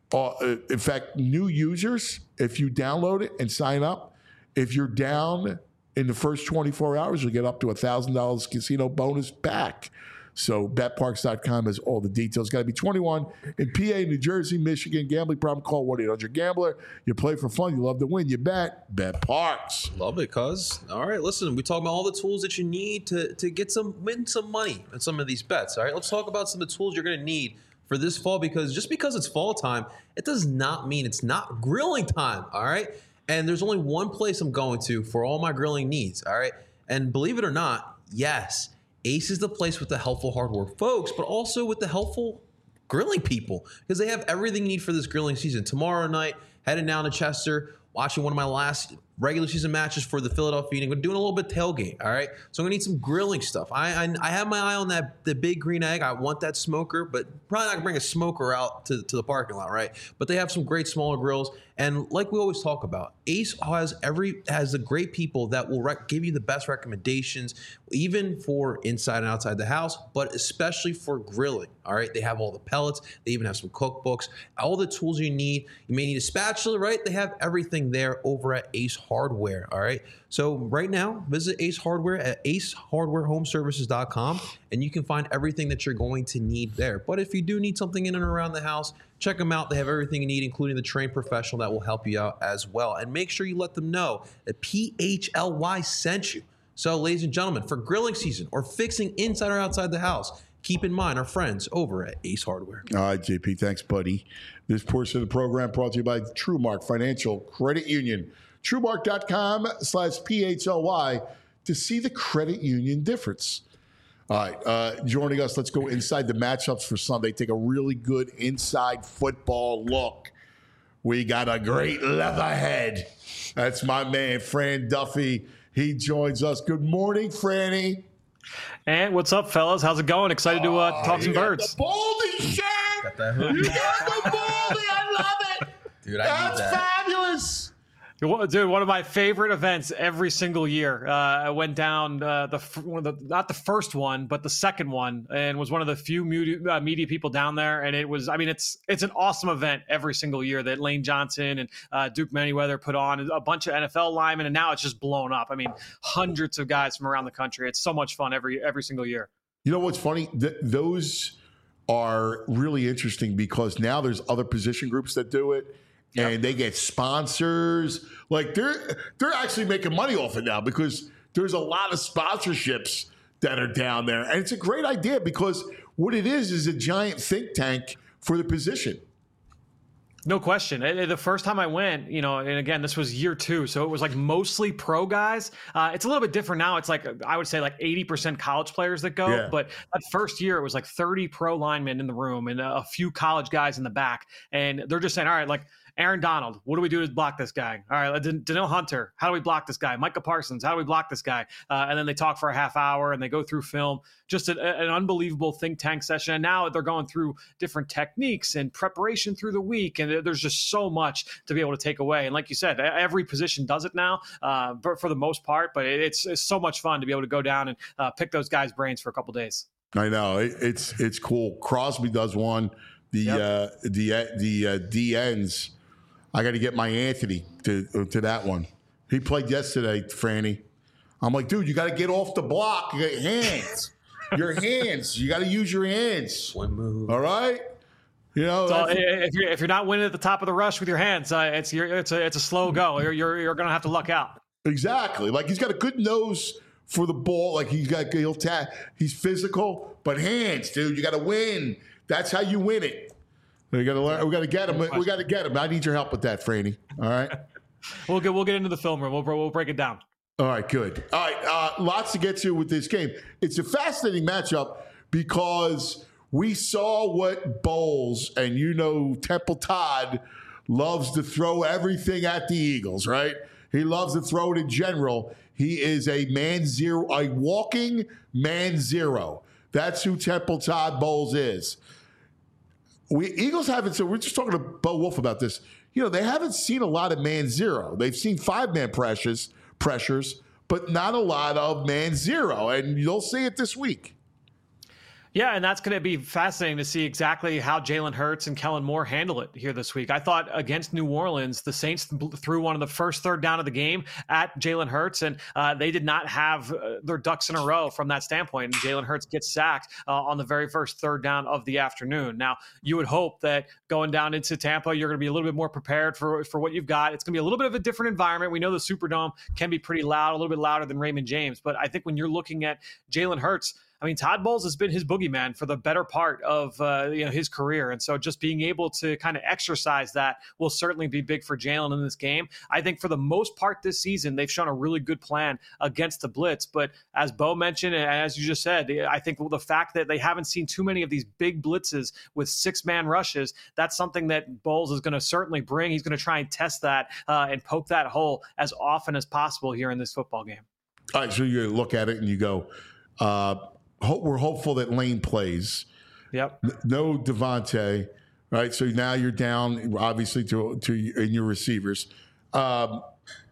Uh, in fact, new users, if you download it and sign up, if you're down in the first twenty-four hours, you'll get up to one thousand dollars casino bonus back. So bet parks dot com has all the details. Got to be twenty-one in P A, New Jersey, Michigan. Gambling problem, call one eight hundred gambler. You play for fun. You love to win. You bet. Bet Parks. Love it, cuz. All right, listen, we talk about all the tools that you need to, to get some win some money in some of these bets. All right, let's talk about some of the tools you're going to need for this fall, because just because it's fall time, it does not mean it's not grilling time. All right, and there's only one place I'm going to for all my grilling needs. All right, and believe it or not, yes, Ace is the place with the helpful hardware folks, but also with the helpful grilling people, because they have everything you need for this grilling season. Tomorrow night, heading down to Chester, watching one of my last regular season matches for the Philadelphia Union. We're doing a little bit of tailgate, all right? So I'm going to need some grilling stuff. I, I I have my eye on that the big green egg. I want that smoker, but probably not going to bring a smoker out to, to the parking lot, right? But they have some great smaller grills. And like we always talk about, Ace has every has the great people that will rec- give you the best recommendations, even for inside and outside the house, but especially for grilling, all right? They have all the pellets. They even have some cookbooks, all the tools you need. You may need a spatula, right? They have everything there over at Ace Hardware, all right? So right now, visit Ace Hardware at ace hardware home services dot com, and you can find everything that you're going to need there. But if you do need something in and around the house, check them out. They have everything you need, including the trained professional that will help you out as well. And make sure you let them know that P H L Y sent you. So, ladies and gentlemen, for grilling season or fixing inside or outside the house, keep in mind our friends over at Ace Hardware. All right, J P, thanks, buddy. This portion of the program brought to you by TrueMark Financial Credit Union. TrueMark dot com slash P H L Y to see the credit union difference. All right, uh, joining us, let's go inside the matchups for Sunday. Take a really good inside football look. We got a great leatherhead. That's my man, Fran Duffy. He joins us. Good morning, Franny. And what's up, fellas? How's it going? Excited to uh, talk Oh, some you got birds. the Baldy shirt. Got that hoodie. You got the Baldy. I love it. Dude, I That's need that. fabulous. Dude, one of my favorite events every single year. Uh, I went down uh, the one of the not the first one, but the second one, and was one of the few media, uh, media people down there. And it was, I mean, it's it's an awesome event every single year that Lane Johnson and uh, Duke Manyweather put on. A bunch of N F L linemen, and now it's just blown up. I mean, hundreds of guys from around the country. It's so much fun every every single year. You know what's funny? Th- those are really interesting because now there's other position groups that do it. Yep. And they get sponsors. Like they're they're actually making money off it now because there's a lot of sponsorships that are down there. And it's a great idea because what it is is a giant think tank for the position. No question. The first time I went, you know, and again, this was year two, so it was like mostly pro guys. Uh, it's a little bit different now. It's like, I would say like eighty percent college players that go. Yeah. But that first year, it was like thirty pro linemen in the room and a few college guys in the back. And they're just saying, all right, like, Aaron Donald, what do we do to block this guy? All right, Dan- Danielle Hunter, how do we block this guy? Micah Parsons, how do we block this guy? Uh, and then they talk for a half hour and they go through film. Just a, an unbelievable think tank session. And now they're going through different techniques and preparation through the week. And there's just so much to be able to take away. And like you said, every position does it now uh, for, for the most part. But it's, it's so much fun to be able to go down and uh, pick those guys' brains for a couple days. I know. It, it's it's cool. Crosby does one. The, Yep. uh, the, the uh, D Ns. I got to get my Anthony to to that one. He played yesterday, Franny. I'm like, dude, you got to get off the block. You got hands. Your hands. You got to use your hands. Swim move. All right. You know, So that's- if you're if you're not winning at the top of the rush with your hands, uh, it's you're, it's a it's a slow go. You're you're, you're going to have to luck out. exactly. Like he's got a good nose for the ball. Like he's got he'll tap. He's physical, but hands, dude. You got to win. That's how you win it. We got to learn. We got to get him. We got to get him. I need your help with that, Franny. All right. We'll get we'll get into the film room. We'll we'll break it down. All right, good. All right, uh, lots to get to with this game. It's a fascinating matchup because we saw what Bowles, and you know Temple Todd loves to throw everything at the Eagles, right? He loves to throw it in general. He is a man zero, a walking man zero. That's who Temple Todd Bowles is. We Eagles haven't, so we're just talking to Bo Wolf about this. You know, they haven't seen a lot of man zero. They've seen five-man pressures, pressures, but not a lot of man zero. And you'll see it this week. Yeah, and that's going to be fascinating to see exactly how Jalen Hurts and Kellen Moore handle it here this week. I thought against New Orleans, the Saints threw one of the first third down of the game at Jalen Hurts, and uh, they did not have uh, their ducks in a row from that standpoint. And Jalen Hurts gets sacked uh, on the very first third down of the afternoon. Now, you would hope that going down into Tampa, you're going to be a little bit more prepared for, for what you've got. It's going to be a little bit of a different environment. We know the Superdome can be pretty loud, a little bit louder than Raymond James, but I think when you're looking at Jalen Hurts, I mean, Todd Bowles has been his boogeyman for the better part of uh, you know his career. And so just being able to kind of exercise that will certainly be big for Jalen in this game. I think for the most part this season, they've shown a really good plan against the blitz. But as Bo mentioned, and as you just said, I think the fact that they haven't seen too many of these big blitzes with six-man rushes, that's something that Bowles is going to certainly bring. He's going to try and test that uh, and poke that hole as often as possible here in this football game. All right, so you look at it and you go, uh, Hope, we're hopeful that Lane plays. Yep. No Devontae, right? So now you're down, obviously, to to in your receivers. Um,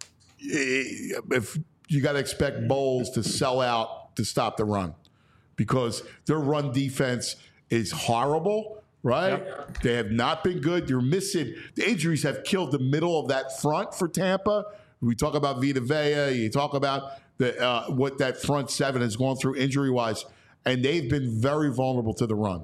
if you got to expect Bowles to sell out to stop the run, because their run defense is horrible, right? Yep. They have not been good. You're missing the injuries have killed the middle of that front for Tampa. We talk about Vita Vea. You talk about the uh, what that front seven has gone through injury wise. And they've been very vulnerable to the run.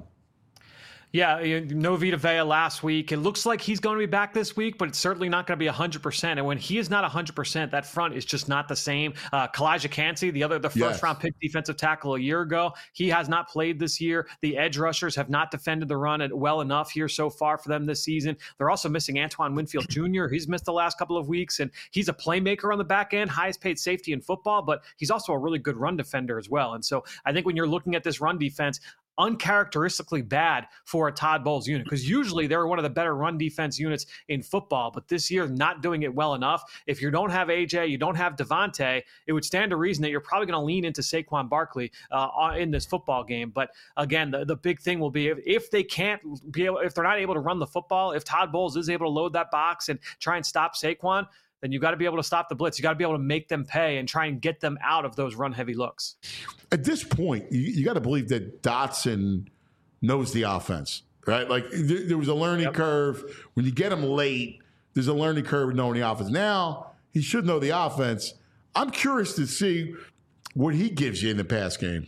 Yeah, no Vita Vea last week. It looks like he's going to be back this week, but it's certainly not going to be one hundred percent. And when he is not one hundred percent, that front is just not the same. Uh, Kalijah Kancey, the other, the first yes. round pick defensive tackle a year ago, he has not played this year. The edge rushers have not defended the run well enough here so far for them this season. They're also missing Antoine Winfield Junior He's missed the last couple of weeks, and he's a playmaker on the back end, highest paid safety in football, but he's also a really good run defender as well. And so I think when you're looking at this run defense, uncharacteristically bad for a Todd Bowles unit, because usually they're one of the better run defense units in football, but this year not doing it well enough. If you don't have A J, you don't have Devontae, it would stand to reason that you're probably going to lean into Saquon Barkley uh, in this football game. But again, the, the big thing will be if, if they can't be able, if they're not able to run the football, if Todd Bowles is able to load that box and try and stop Saquon, then you got to be able to stop the blitz. You got to be able to make them pay and try and get them out of those run-heavy looks. At this point, you, you got to believe that Dotson knows the offense, right? Like there, there was a learning yep. curve. When you get him late, there's a learning curve with knowing the offense. Now, he should know the offense. I'm curious to see what he gives you in the pass game.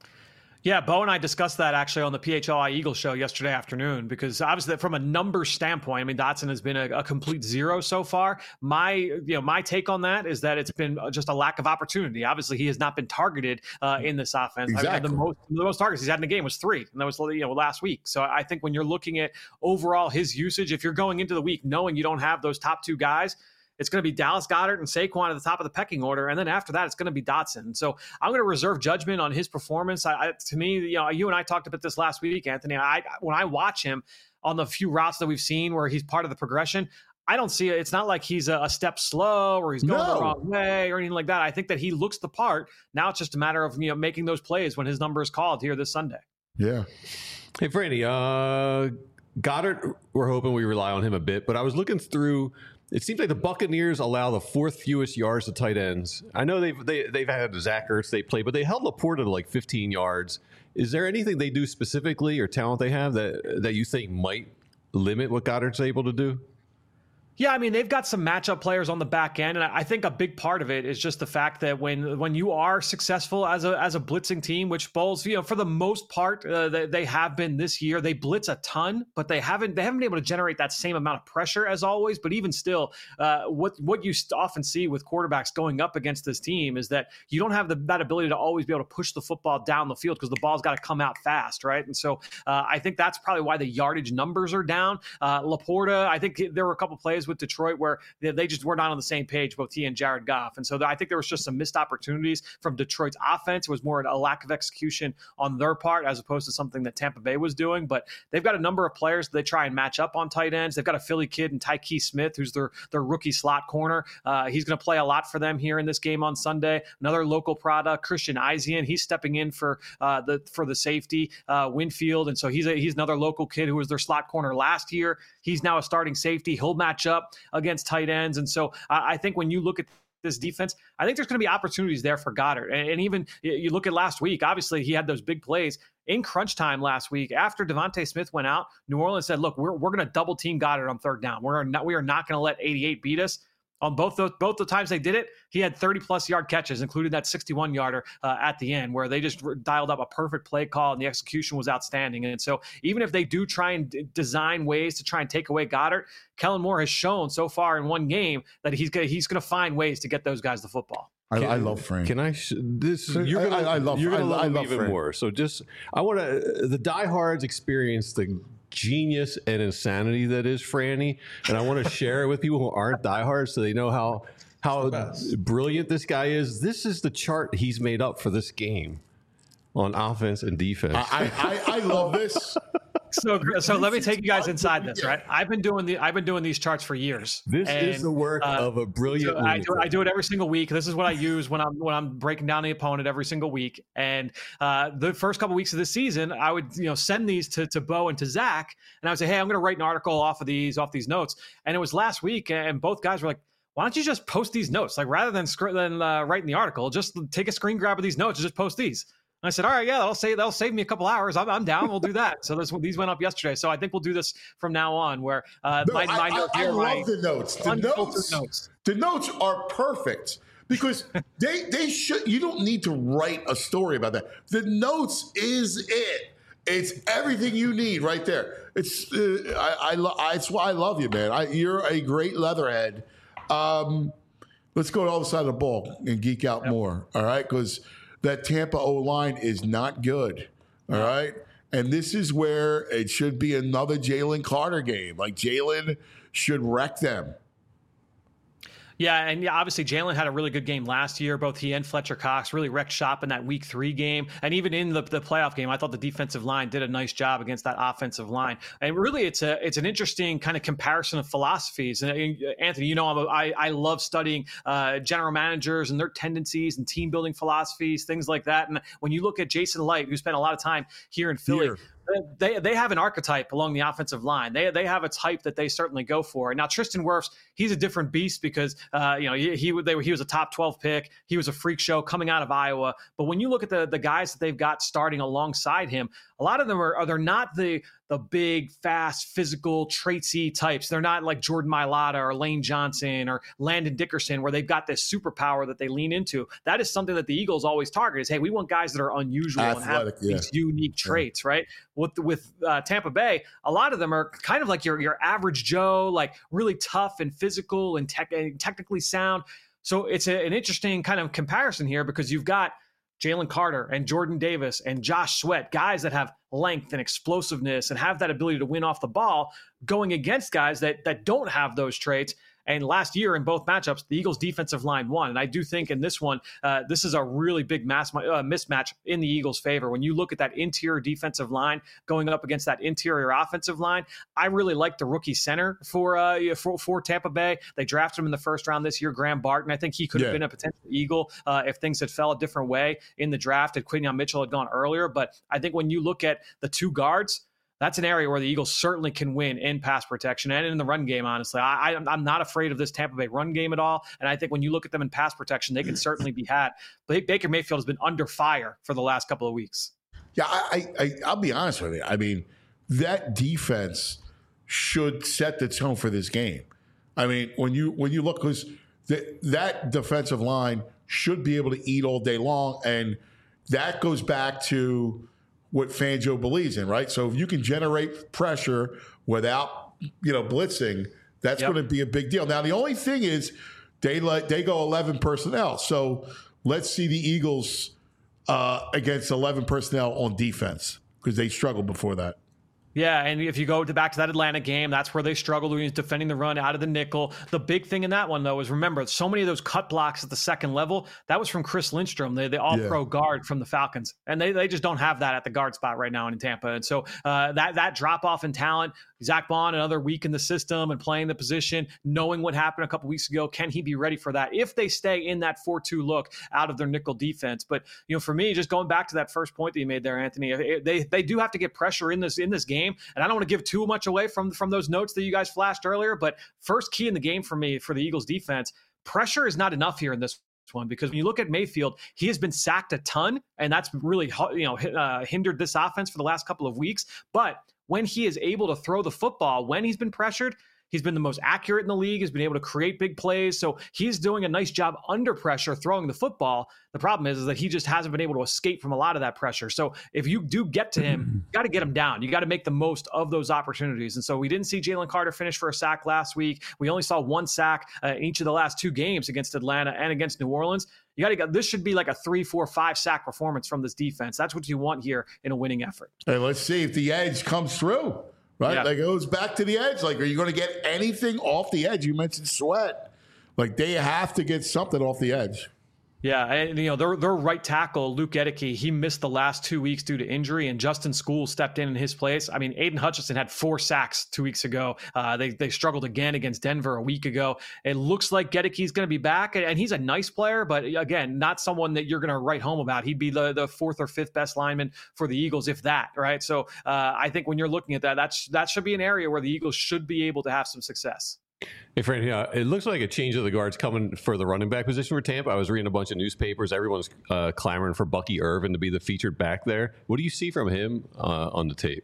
Yeah, Bo and I discussed that actually on the P H L I Eagles show yesterday afternoon, because obviously from a numbers standpoint, I mean, Dotson has been a, a complete zero so far. My, you know, my take on that is that it's been just a lack of opportunity. Obviously, he has not been targeted uh, in this offense. Exactly. I mean, the most the most targets he's had in the game was three, and that was you know last week. So I think when you're looking at overall his usage, if you're going into the week knowing you don't have those top two guys, it's going to be Dallas Goedert and Saquon at the top of the pecking order, and then after that, it's going to be Dotson. So I'm going to reserve judgment on his performance. I, I, to me, you know, you and I talked about this last week, Anthony. I when I watch him on the few routes that we've seen where he's part of the progression, I don't see it. It's not like he's a, a step slow or he's going no. the wrong way or anything like that. I think that he looks the part. Now it's just a matter of you know making those plays when his number is called here this Sunday. Yeah. Hey, Franny, uh, Goddard, we're hoping we rely on him a bit, but I was looking through. It seems like the Buccaneers allow the fourth fewest yards to tight ends. I know they've they, they've had Zach Ertz they play, but they held Laporta to like fifteen yards. Is there anything they do specifically or talent they have that that you think might limit what Goddard's able to do? Yeah, I mean, they've got some matchup players on the back end, and I think a big part of it is just the fact that when when you are successful as a as a blitzing team, which Bowles, you know, for the most part, uh, they, they have been this year. They blitz a ton, but they haven't they haven't been able to generate that same amount of pressure as always. But even still, uh, what what you often see with quarterbacks going up against this team is that you don't have the, that ability to always be able to push the football down the field because the ball's got to come out fast, right? And so uh, I think that's probably why the yardage numbers are down. Uh, Laporta, I think there were a couple plays with Detroit where they just were not on the same page, both he and Jared Goff. And so I think there was just some missed opportunities from Detroit's offense. It was more a lack of execution on their part as opposed to something that Tampa Bay was doing. But they've got a number of players that they try and match up on tight ends. They've got a Philly kid in Tyke Smith, who's their, their rookie slot corner. Uh, he's going to play a lot for them here in this game on Sunday. Another local product, Christian Izien, he's stepping in for uh, the for the safety, uh, Winfield. And so he's a, he's another local kid who was their slot corner last year. He's now a starting safety. He'll match up against tight ends. And so I, I think when you look at this defense, I think there's going to be opportunities there for Goddard. And, and even you look at last week, obviously he had those big plays in crunch time last week. After Devontae Smith went out, New Orleans said, look, we're, we're going to double team Goddard on third down. We're not, we are not going to let eighty-eight beat us. On both those, both the times they did it, he had thirty plus yard catches, including that sixty-one yarder uh, at the end, where they just dialed up a perfect play call and the execution was outstanding. And so, even if they do try and d- design ways to try and take away Goddard, Kellen Moore has shown so far in one game that he's gonna, he's going to find ways to get those guys the football. I, I love Frank. Can I? Sh- this So you're gonna. I, I love. You're gonna I, love I him love even Frank. more. So just, I want to. The diehards experience the genius and insanity that is Franny, and I want to share it with people who aren't diehards, so they know how how brilliant this guy is. This is the chart he's made up for this game on offense and defense. I, I, I love this. So, so let me take you guys inside this, right? I've been doing the I've been doing these charts for years. This and, is the work uh, of a brilliant. so I, do, I do it every single week. This is what I use when I'm when I'm breaking down the opponent every single week. And uh, the first couple weeks of the season, I would you know send these to to Bo and to Zach, and I would say, hey, I'm going to write an article off of these off these notes. And it was last week, and both guys were like, why don't you just post these notes? Like rather than than uh, writing the article, just take a screen grab of these notes and just post these. And I said, all right, yeah, that'll save that'll save me a couple hours. I'm, I'm down. We'll do that. So this, these went up yesterday. So I think we'll do this from now on. Where uh, No, my, my I, note I, here, I my love the notes. The unfiltered notes, notes. the notes are perfect because they they should. You don't need to write a story about that. The notes is it. It's everything you need right there. It's uh, I, I, lo- I it's why I love you, man. I, you're a great leatherhead. Um, let's go to the other side of the ball and geek out yep. more. All right, because that Tampa O-line is not good, all right? And this is where it should be another Jalen Carter game. Like, Jalen should wreck them. Yeah, and yeah, obviously Jalen had a really good game last year. Both he and Fletcher Cox really wrecked shop in that week three game. And even in the, the playoff game, I thought the defensive line did a nice job against that offensive line. And really, it's a it's an interesting kind of comparison of philosophies. And Anthony, you know, I'm a, I, I love studying uh, general managers and their tendencies and team building philosophies, things like that. And when you look at Jason Light, who spent a lot of time here in Philly, here. They they have an archetype along the offensive line. They they have a type that they certainly go for. Now Tristan Wirfs, he's a different beast because uh, you know he he, they were, he was a top twelve pick. He was a freak show coming out of Iowa. But when you look at the the guys that they've got starting alongside him, a lot of them are, are they're not the the big, fast, physical, traitsy types. They're not like Jordan Mailata or Lane Johnson or Landon Dickerson, where they've got this superpower that they lean into. That is something that the Eagles always target is, hey, we want guys that are unusual Athletic, and have yeah. these unique traits, yeah. right? With with uh, Tampa Bay, a lot of them are kind of like your your average Joe, like really tough and physical and, tech, and technically sound. So it's a, an interesting kind of comparison here because you've got Jalen Carter and Jordan Davis and Josh Sweat, guys that have length and explosiveness and have that ability to win off the ball, going against guys that that don't have those traits. And last year in both matchups, the Eagles' defensive line won. And I do think in this one, uh, this is a really big mass, uh, mismatch in the Eagles' favor. When you look at that interior defensive line going up against that interior offensive line, I really like the rookie center for uh, for, for Tampa Bay. They drafted him in the first round this year, Graham Barton. I think he could have yeah. been a potential Eagle uh, if things had fell a different way in the draft, if Quinyon Mitchell had gone earlier. But I think when you look at the two guards, that's an area where the Eagles certainly can win in pass protection and in the run game, honestly. I, I, I'm not afraid of this Tampa Bay run game at all. And I think when you look at them in pass protection, they can certainly be had. But Baker Mayfield has been under fire for the last couple of weeks. Yeah, I, I, I'll be honest with you. I mean, that defense should set the tone for this game. I mean, when you when you look, because that defensive line should be able to eat all day long. And that goes back to what Fangio believes in, right? So if you can generate pressure without, you know, blitzing, that's yep. going to be a big deal. Now, the only thing is they let they go eleven personnel. So let's see the Eagles uh, against eleven personnel on defense because they struggled before that. Yeah, and if you go to back to that Atlanta game, that's where they struggled when he was defending the run out of the nickel. The big thing in that one, though, is remember, so many of those cut blocks at the second level, that was from Chris Lindstrom, the, the all-pro yeah. guard from the Falcons. And they, they just don't have that at the guard spot right now in Tampa. And so uh, that, that drop-off in talent, Zach Bond, another week in the system and playing the position, knowing what happened a couple weeks ago, can he be ready for that if they stay in that four two look out of their nickel defense? But, you know, for me, just going back to that first point that you made there, Anthony, they they do have to get pressure in this in this game. And I don't want to give too much away from, from those notes that you guys flashed earlier, but first key in the game for me for the Eagles defense, pressure is not enough here in this one, because when you look at Mayfield, he has been sacked a ton, and that's really, you know, uh, hindered this offense for the last couple of weeks. But when he is able to throw the football, when he's been pressured, he's been the most accurate in the league, has been able to create big plays. So he's doing a nice job under pressure throwing the football. The problem is, is that he just hasn't been able to escape from a lot of that pressure. So if you do get to him, you got to get him down. You got to make the most of those opportunities. And so we didn't see Jalen Carter finish for a sack last week. We only saw one sack uh, in each of the last two games against Atlanta and against New Orleans. You got to get, this should be like a three, four, five sack performance from this defense. That's what you want here in a winning effort. Hey, let's see if the edge comes through. Right? Yeah. Like, it goes back to the edge. Like, are you going to get anything off the edge? You mentioned Sweat. Like, they have to get something off the edge. Yeah, and you know, their their right tackle, Luke Edeke, he missed the last two weeks due to injury, and Justin School stepped in in his place. I mean, Aiden Hutchinson had four sacks two weeks ago. Uh, they they struggled again against Denver a week ago. It looks like Gedeke's going to be back, and, and he's a nice player, but again, not someone that you're going to write home about. He'd be the, the fourth or fifth best lineman for the Eagles, if that, right? So uh, I think when you're looking at that, that's that should be an area where the Eagles should be able to have some success. Hey, Fran, yeah, it looks like a change of the guards coming for the running back position for Tampa. I was reading a bunch of newspapers. Everyone's uh, clamoring for Bucky Irvin to be the featured back there. What do you see from him uh, on the tape?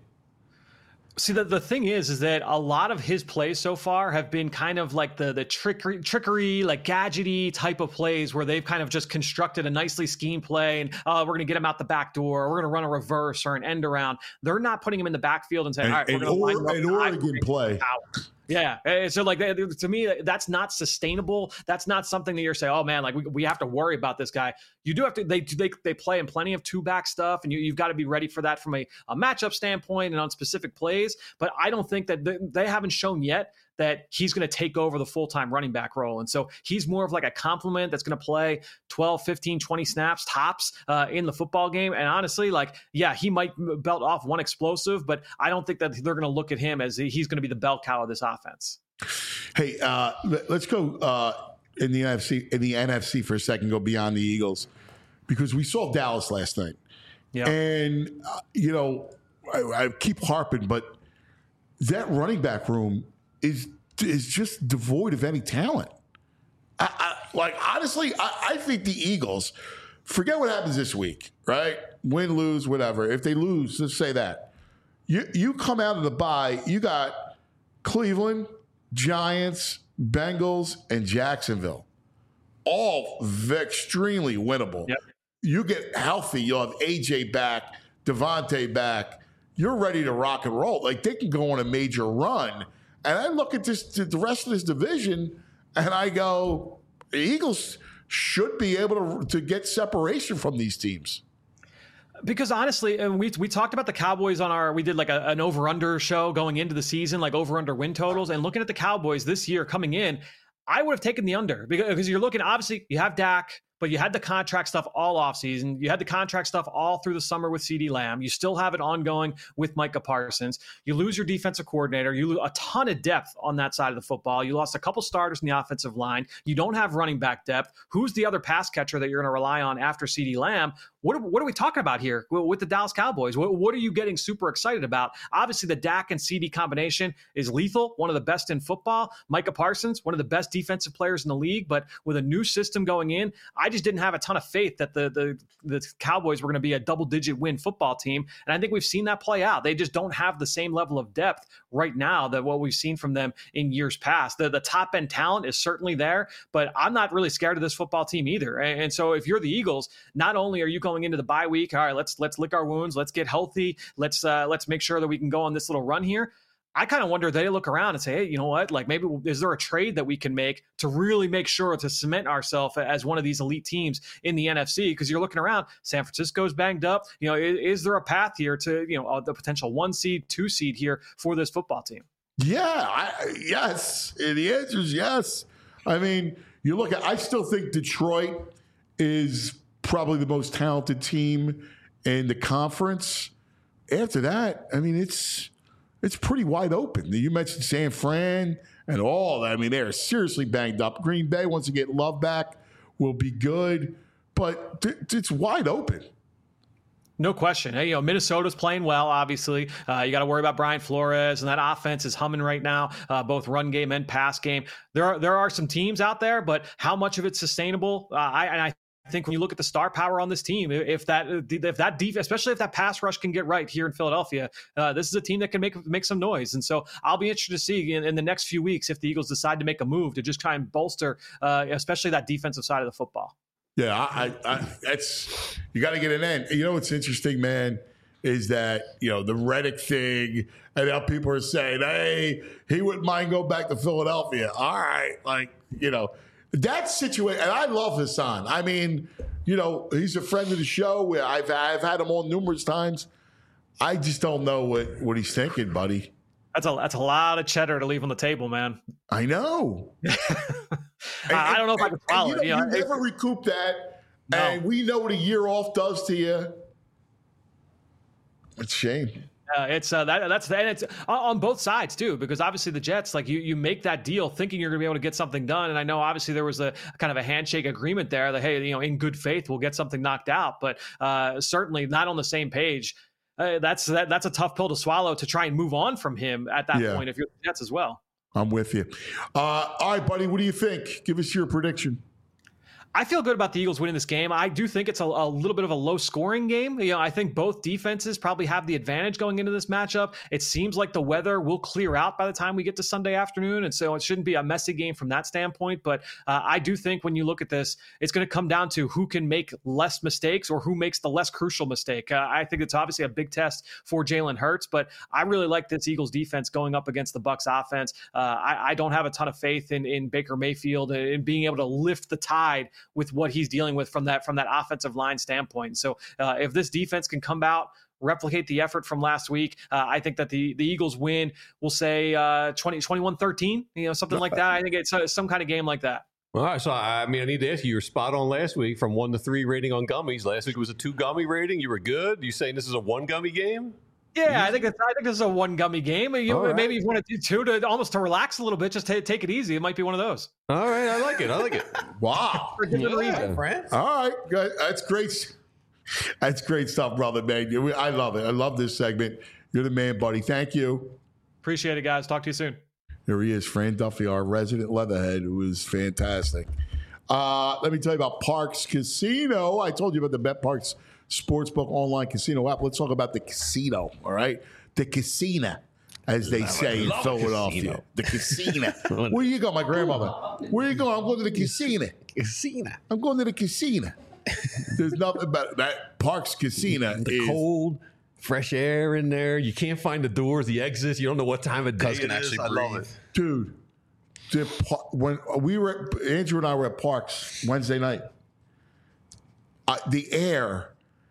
See, the, the thing is, is that a lot of his plays so far have been kind of like the the trickery, trickery, like gadgety type of plays where they've kind of just constructed a nicely schemed play and uh, we're going to get him out the back door, or we're going to run a reverse or an end around. They're not putting him in the backfield and saying, And, all right, we're and, going to line or, up and the Oregon play. power. Yeah. And so like to me, that's not sustainable. That's not something that you're saying, oh man, like we, we have to worry about this guy. You do have to, they they, they play in plenty of two back stuff, and you, you've got to be ready for that from a, a matchup standpoint and on specific plays. But I don't think that they, they haven't shown yet that he's going to take over the full-time running back role. And so he's more of like a complement that's going to play twelve, fifteen, twenty snaps tops uh, in the football game. And honestly, like, yeah, he might belt off one explosive, but I don't think that they're going to look at him as he's going to be the bell cow of this offense. Hey, uh, let's go uh, in the N F C in the N F C for a second, go beyond the Eagles, because we saw Dallas last night. Yeah. And, uh, you know, I, I keep harping, but that running back room is is just devoid of any talent. I, I, like, honestly, I, I think the Eagles, forget what happens this week, right? Win, lose, whatever. If they lose, let's say that. You, you come out of the bye, you got Cleveland, Giants, Bengals, and Jacksonville. All extremely winnable. Yep. You get healthy, you'll have A J back, Devontae back. You're ready to rock and roll. Like, they can go on a major run. And I look at this, the rest of this division, and I go, the Eagles should be able to, to get separation from these teams. Because honestly, and we we talked about the Cowboys on our, we did like a, an over-under show going into the season, like over-under win totals, and looking at the Cowboys this year coming in, I would have taken the under because, because you're looking, obviously, you have Dak, but you had the contract stuff all offseason. You had the contract stuff all through the summer with CeeDee Lamb. You still have it ongoing with Micah Parsons. You lose your defensive coordinator. You lose a ton of depth on that side of the football. You lost a couple starters in the offensive line. You don't have running back depth. Who's the other pass catcher that you're going to rely on after CeeDee Lamb? What are, what are we talking about here with the Dallas Cowboys? What, what are you getting super excited about? Obviously, the Dak and CeeDee combination is lethal, one of the best in football. Micah Parsons, one of the best defensive players in the league, but with a new system going in, I just didn't have a ton of faith that the the, the Cowboys were going to be a double-digit win football team, and I think we've seen that play out. They just don't have the same level of depth right now that what we've seen from them in years past. The, the top-end talent is certainly there, but I'm not really scared of this football team either. And, and so if you're the Eagles, not only are you going into the bye week, all right, let's let's lick our wounds, let's get healthy, let's uh, let's make sure that we can go on this little run here. I kind of wonder if they look around and say, hey, you know what? Like, maybe is there a trade that we can make to really make sure to cement ourselves as one of these elite teams in the N F C? Because you're looking around, San Francisco's banged up. You know, is, is there a path here to, you know, uh, the potential one seed, two seed here for this football team? Yeah, I, yes. The answer is yes. I mean, you look at, I still think Detroit is probably the most talented team in the conference. After that, I mean, it's it's pretty wide open. You mentioned San Fran and all that. I mean, they're seriously banged up. Green Bay, once they get Love back, will be good, but th- it's wide open. No question. Hey, you know, Minnesota's playing well, obviously. Uh, you got to worry about Brian Flores, and that offense is humming right now, uh, both run game and pass game. There are there are some teams out there, but how much of it's sustainable? Uh, I, and I think when you look at the star power on this team, if that if that def- especially if that pass rush can get right here in Philadelphia, uh, this is a team that can make make some noise. And so I'll be interested to see in, in the next few weeks if the Eagles decide to make a move to just try and bolster, uh, especially that defensive side of the football. Yeah, I, I, I that's you got to get an end. You know what's interesting, man, is that you know the Reddick thing, and now people are saying, "Hey, he wouldn't mind going back to Philadelphia." All right, like you know that situation, and I love Hassan. I mean, you know, he's a friend of the show. I've I've had him on numerous times. I just don't know what what he's thinking, buddy. That's a that's a lot of cheddar to leave on the table, man. I know. and, I don't know if I can follow and, it. You, know, You know, you never recoup that, No. and we know what a year off does to you. It's a shame. Uh, it's uh, that that's and it's on, on both sides too, because obviously the Jets, like you, you make that deal thinking you're going to be able to get something done, and I know obviously there was a kind of a handshake agreement there that hey, you know, in good faith we'll get something knocked out, but uh, certainly not on the same page. Uh, that's that, that's a tough pill to swallow to try and move on from him at that Yeah. point if you're the Jets as well. I'm with you. Uh, all right, buddy. What do you think? Give us your prediction. I feel good about the Eagles winning this game. I do think it's a, a little bit of a low-scoring game. You know, I think both defenses probably have the advantage going into this matchup. It seems like the weather will clear out by the time we get to Sunday afternoon, and so it shouldn't be a messy game from that standpoint. But uh, I do think when you look at this, it's going to come down to who can make less mistakes or who makes the less crucial mistake. Uh, I think it's obviously a big test for Jalen Hurts, but I really like this Eagles defense going up against the Bucs offense. Uh, I, I don't have a ton of faith in, in Baker Mayfield and in being able to lift the tide with what he's dealing with from that from that offensive line standpoint. So uh, if this defense can come out, replicate the effort from last week, uh, I think that the the Eagles win. We'll say uh, twenty, twenty-one thirteen, you know, something like that. I think it's uh, some kind of game like that. All right, so I mean, I need to ask you, you were spot on last week from one to three rating on gummies. Last week was a two gummy rating. You were good. You saying this is a one gummy game? Yeah, I think it's, I think this is a one gummy game. You, right. Maybe if you want to do two to almost to relax a little bit, just t- take it easy. It might be one of those. All right, I like it. I like it. Wow. For different reasons. France. All right. Good. That's great. That's great stuff, brother, man. You- I love it. I love this segment. You're the man, buddy. Thank you. Appreciate it, guys. Talk to you soon. Here he is, Fran Duffy, our resident leatherhead, who is fantastic. Uh, let me tell you about Parx Casino. I told you about the Bet Parx Sportsbook online casino app. Let's talk about the casino, all right? The casino, as they say in Philadelphia. The casino. Where you go, my grandmother? Where you going? I'm going to the casino. Casino. I'm going to the casino. There's nothing about that. Parx Casino The is cold, fresh air in there. You can't find the doors, the exits. You don't know what time of day Cuz can it is. actually I love breathe. it. dude. The, par- when we were at, Andrew and I were at Parks Wednesday night. Uh, the air,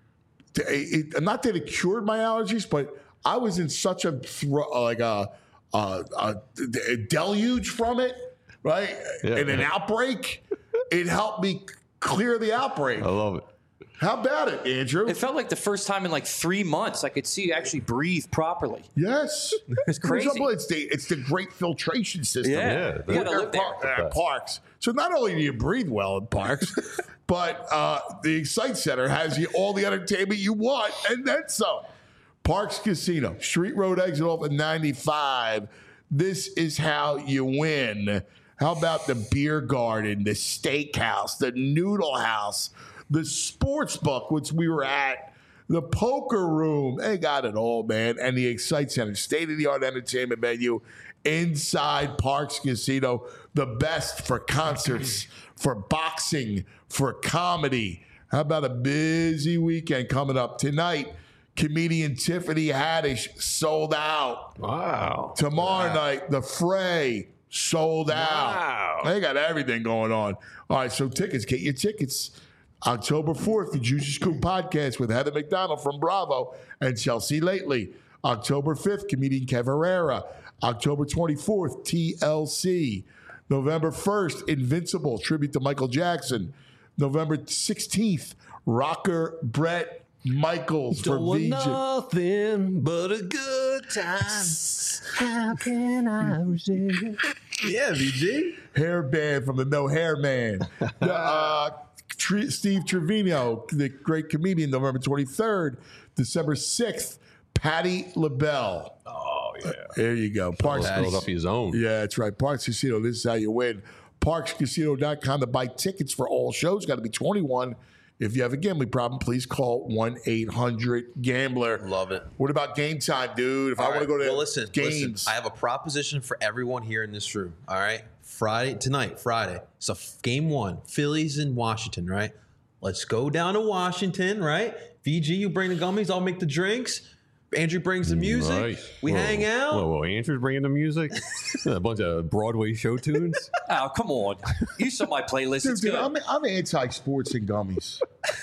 it, it, not that it cured my allergies, but I was in such a thro- like a, a, a, a deluge from it, right? Yeah. And an outbreak. It helped me clear the outbreak. I love it. How about it, Andrew? It felt like the first time in like three months I could see you actually breathe properly. Yes, It's crazy. It's the it's the great filtration system. Yeah, Yeah, you gotta At live there. par- at Parks. So not only do you breathe well in Parks, but uh, the Excite Center has you all the entertainment you want and then some. Parks Casino, Street Road exit off at ninety-five. This is how you win. How about the beer garden, the steakhouse, the noodle house, the sports book, which we were at, the poker room. They got it all, man. And the Excite Center, state-of-the-art entertainment venue inside Parks Casino. The best for concerts, for boxing, for comedy. How about a busy weekend coming up tonight? Comedian Tiffany Haddish sold out. Wow. Tomorrow night, The Fray sold out. Wow. They got everything going on. All right, so tickets, get your tickets. October fourth, the Juicy Scoop podcast with Heather McDonald from Bravo and Chelsea Lately. October fifth, comedian Kev Herrera. October twenty-fourth, T L C. November first, Invincible, tribute to Michael Jackson. November sixteenth, rocker Brett Michaels for Don't want V J. nothing but a good time. How can I resist? Yeah, V G. Hair band from the No Hair Man. The, uh, Tre- Steve Trevino, the great comedian, November twenty-third. December sixth, Patty LaBelle. Oh, yeah. There you go. Parks Philadelphia's own. Yeah, that's right. Parks Casino, this is how you win. Parks Casino dot com to buy tickets for all shows. Got to be twenty-one. If you have a gambling problem, please call one eight hundred gambler. Love it. What about game time, dude? If All I want to right. go to well, listen, games. listen, I have a proposition for everyone here in this room. All right, Friday tonight, Friday. So f- game one, Phillies in Washington. Right. Let's go down to Washington. Right. V G, you bring the gummies. I'll make the drinks. Andrew brings the music. Nice. We Whoa. hang out. Whoa, whoa, Andrew's bringing the music? A bunch of Broadway show tunes? Oh, come on. You saw my playlist. Dude, It's dude, good. I'm, I'm anti-sports and gummies.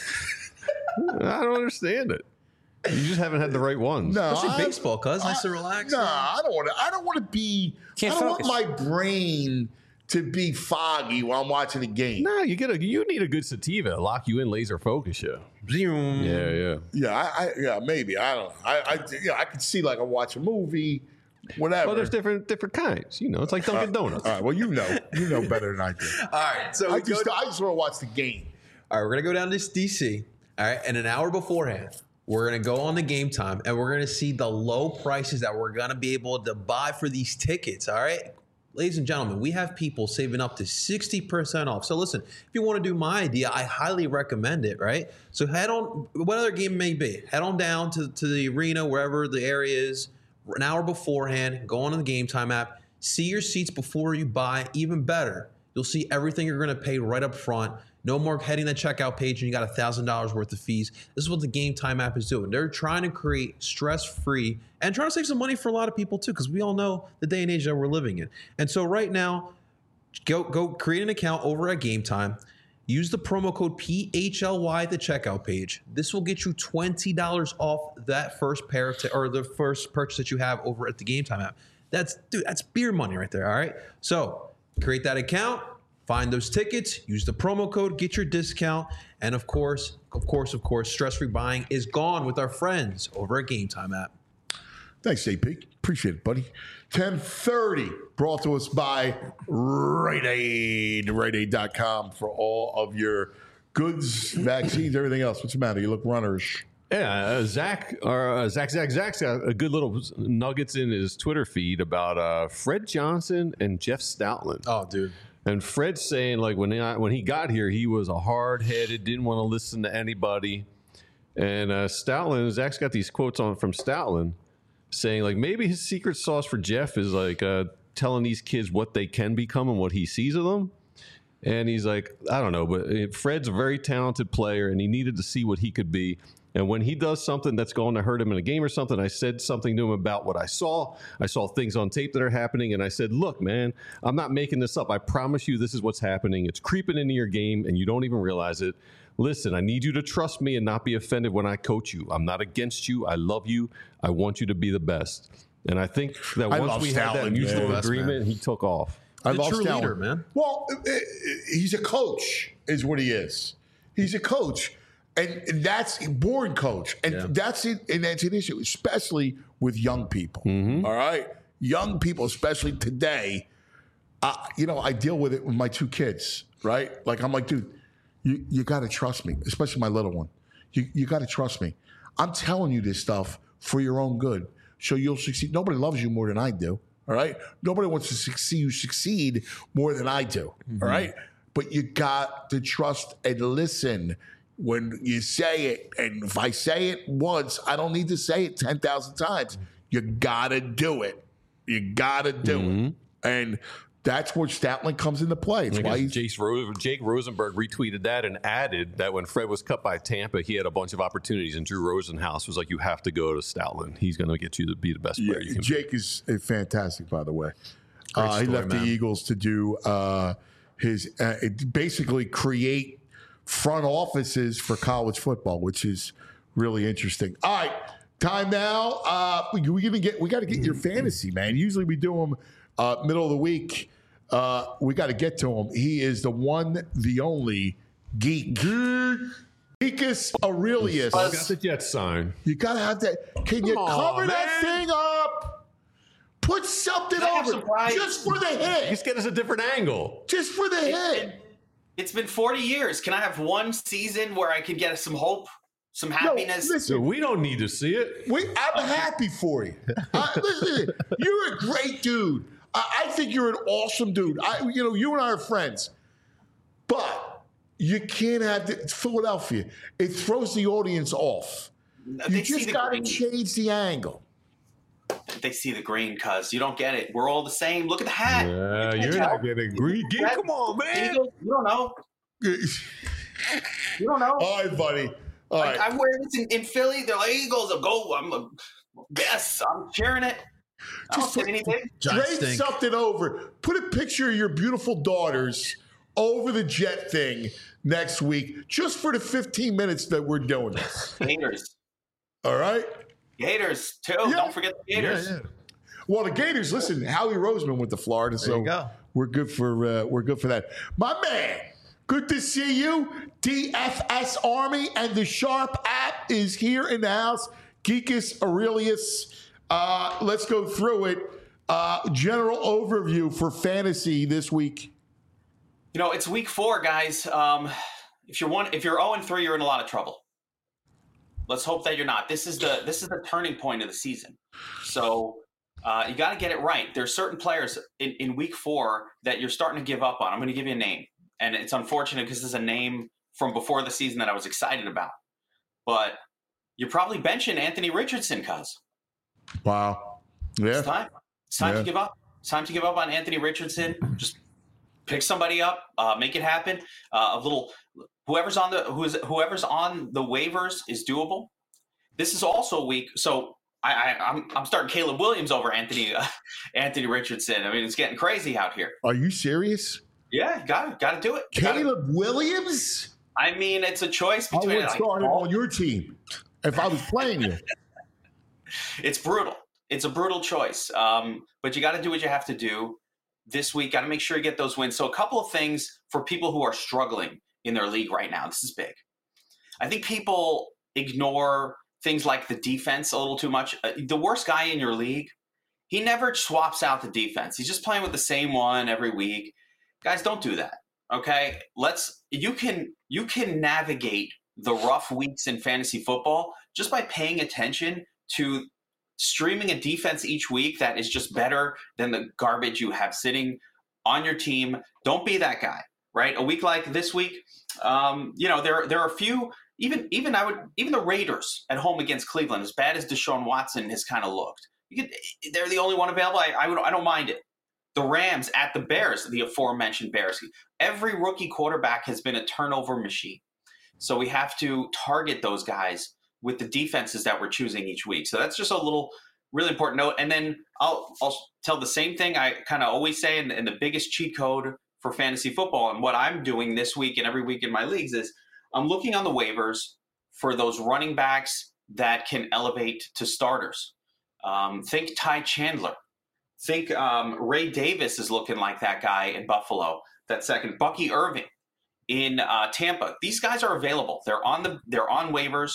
I don't understand it. You just haven't had the right ones. No, Especially I- baseball, cuz nice I- to relax. No, I don't want to. I don't want to be. Can't I don't focus. want my brain to be foggy while I'm watching the game. No, you get a you need a good sativa to lock you in, laser focus you. Zoom. Yeah, yeah. Yeah, I, I yeah maybe I don't. I I yeah, I could see like I watch a movie, whatever. Well, there's different different kinds. You know, it's like Dunkin' Donuts. All right. Well, you know, you know better than I do. All right. So I we go just I just want to watch the game. All right, we're gonna go down to D C. All right, and an hour beforehand, we're gonna go on the game time, and we're gonna see the low prices that we're gonna be able to buy for these tickets. All right, ladies and gentlemen, we have people saving up to sixty percent off. So listen, if you want to do my idea, I highly recommend it. Right, so head on, what other game may be, head on down to to the arena wherever the area is, an hour beforehand. Go on the Game Time app, see your seats before you buy. Even better, you'll see everything you're gonna pay right up front. No more heading the checkout page and you got one thousand dollars worth of fees. This is what the Game Time app is doing. They're trying to create stress-free and trying to save some money for a lot of people too, because we all know the day and age that we're living in. And so right now, go go create an account over at Game Time. Use the promo code P H L Y at the checkout page. This will get you twenty dollars off that first pair of t- or the first purchase that you have over at the Game Time app. That's dude, that's beer money right there. All right. So create that account. Find those tickets, use the promo code, get your discount, and of course, of course, of course, stress-free buying is gone with our friends over at Game Time app. Thanks, J P. Appreciate it, buddy. ten thirty, brought to us by Rite Aid, Rite Aid dot com for all of your goods, vaccines, everything else. What's the matter? You look runnerish. Yeah, uh, Zach or uh, Zach Zach Zach's got a good little nuggets in his Twitter feed about uh, Fred Johnson and Jeff Stoutland. Oh, dude. And Fred's saying, like, when he, when he got here, he was a hard-headed, didn't want to listen to anybody. And uh, Stoutland, Zach's got these quotes on from Stoutland saying, like, maybe his secret sauce for Jeff is, like, uh, telling these kids what they can become and what he sees of them. And he's like, I don't know, but Fred's a very talented player, and he needed to see what he could be. And when he does something that's going to hurt him in a game or something, I said something to him about what I saw. I saw things on tape that are happening, and I said, look, man, I'm not making this up. I promise you this is what's happening. It's creeping into your game, and you don't even realize it. Listen, I need you to trust me and not be offended when I coach you. I'm not against you. I love you. I want you to be the best. And I think that I once love we had that Stoutland, mutual man. agreement, he took off. I The love true Stoutland. leader, man. Well, uh, uh, he's a coach, is what he is. He's a coach. And and that's a born coach. And Yeah. that's it. And that's an issue, especially with young people. Mm-hmm. All right? Young people, especially today. Uh, you know, I deal with it with my two kids, right? Like, I'm like, dude, you, you got to trust me, especially my little one. You, you got to trust me. I'm telling you this stuff for your own good, so you'll succeed. Nobody loves you more than I do, all right? Nobody wants to see you succeed more than I do, Mm-hmm. all right? But you got to trust and listen when you say it. And if I say it once, I don't need to say it ten thousand times. You got to do it. You got to do Mm-hmm. it. And that's where Stoutland comes into play. It's I why guess he's Jace Rose, Jake Rosenberg retweeted that and added that when Fred was cut by Tampa, he had a bunch of opportunities, and Drew Rosenhaus was like, "You have to go to Stoutland. He's going to get you to be the best Yeah, player you can." Jake is uh, fantastic, by the way. Uh, he story, left man. the Eagles to do uh, his uh, it basically create front offices for college football, which is really interesting. All right, time now. Uh, we we gonna get we got to get your fantasy, man. Usually we do them uh, middle of the week. Uh, we got to get to him. He is the one, the only geek. Geekus Aurelius. Got the Jets sign. You gotta have that. Can you Come cover on, that man. thing up? Put something Can I have over some pride? just for the hit. Just get us a different angle. Just for the hit. It's been forty years. Can I have one season where I can get some hope, some happiness? No, listen, So we don't need to see it. we, I'm happy for you. Uh, listen, you're a great dude. I, I think you're an awesome dude. I, you know, you and I are friends, but you can't have the, it's Philadelphia. It throws the audience off. They You see just the got to green. change the angle. They see the green, cuz you don't get it. We're all the same. Look at the hat. Yeah, You you're can't not tell. getting green. Red- Come on, man. Eagles, you don't know. You don't know. All right, buddy. All Like, right. I wear this in, in Philly. They're like, Eagles, I'll go. I'm a, yes, I'm cheering it. I don't Just say put- anything. Giant Trade stink. something over. Put a picture of your beautiful daughters over the Jet thing next week, just for the fifteen minutes that we're doing this. Gators. All right? Gators, too. Yeah. Don't forget the Gators. Yeah, yeah. Well, the Gators, listen, Howie Roseman went to Florida, so you go. we're good for uh, we're good for that. My man, good to see you. D F S Army and the Sharp app is here in the house. Geekus Aurelius. Uh, let's go through it. Uh, general overview for fantasy this week. You know, it's week four, guys. Um, if you're one, if you're zero and three, you're in a lot of trouble. Let's hope that you're not. This is the this is the turning point of the season. So uh, you got to get it right. There's certain players in, in week four that you're starting to give up on. I'm going to give you a name, and it's unfortunate because this is a name from before the season that I was excited about. But you're probably benching Anthony Richardson, cuz. Wow. Yeah. It's time. It's time Yeah. to give up. It's time to give up on Anthony Richardson. Just pick somebody up, uh, make it happen. Uh, a little whoever's on the who's whoever's on the waivers is doable. This is also a week, so I, I I'm I'm starting Caleb Williams over Anthony uh, Anthony Richardson. I mean, it's getting crazy out here. Are you serious? Yeah, got it, got to do it. Gotta- Caleb Williams? I mean, it's a choice I between. would like, start him all- on your team if I was playing you. It's brutal. It's a brutal choice. Um, but you got to do what you have to do this week. Got to make sure you get those wins. So a couple of things for people who are struggling in their league right now. This is big. I think people ignore things like the defense a little too much. Uh, the worst guy in your league, he never swaps out the defense. He's just playing with the same one every week. Guys, don't do that. Okay? Let's you can you can navigate the rough weeks in fantasy football just by paying attention to streaming a defense each week that is just better than the garbage you have sitting on your team. Don't be that guy, right? A week like this week, um, you know, there there are a few. Even even I would even the Raiders at home against Cleveland, as bad as Deshaun Watson has kind of looked, you could, they're the only one available. I I, would, I don't mind it. The Rams at the Bears, the aforementioned Bears. Every rookie quarterback has been a turnover machine, so we have to target those guys with the defenses that we're choosing each week. So that's just a little really important note. And then I'll I'll tell the same thing I kind of always say, and, and the biggest cheat code for fantasy football and what I'm doing this week and every week in my leagues is I'm looking on the waivers for those running backs that can elevate to starters. Um, think Ty Chandler. Think um, Ray Davis is looking like that guy in Buffalo. That second, Bucky Irving in uh, Tampa. These guys are available. They're on the they're on waivers.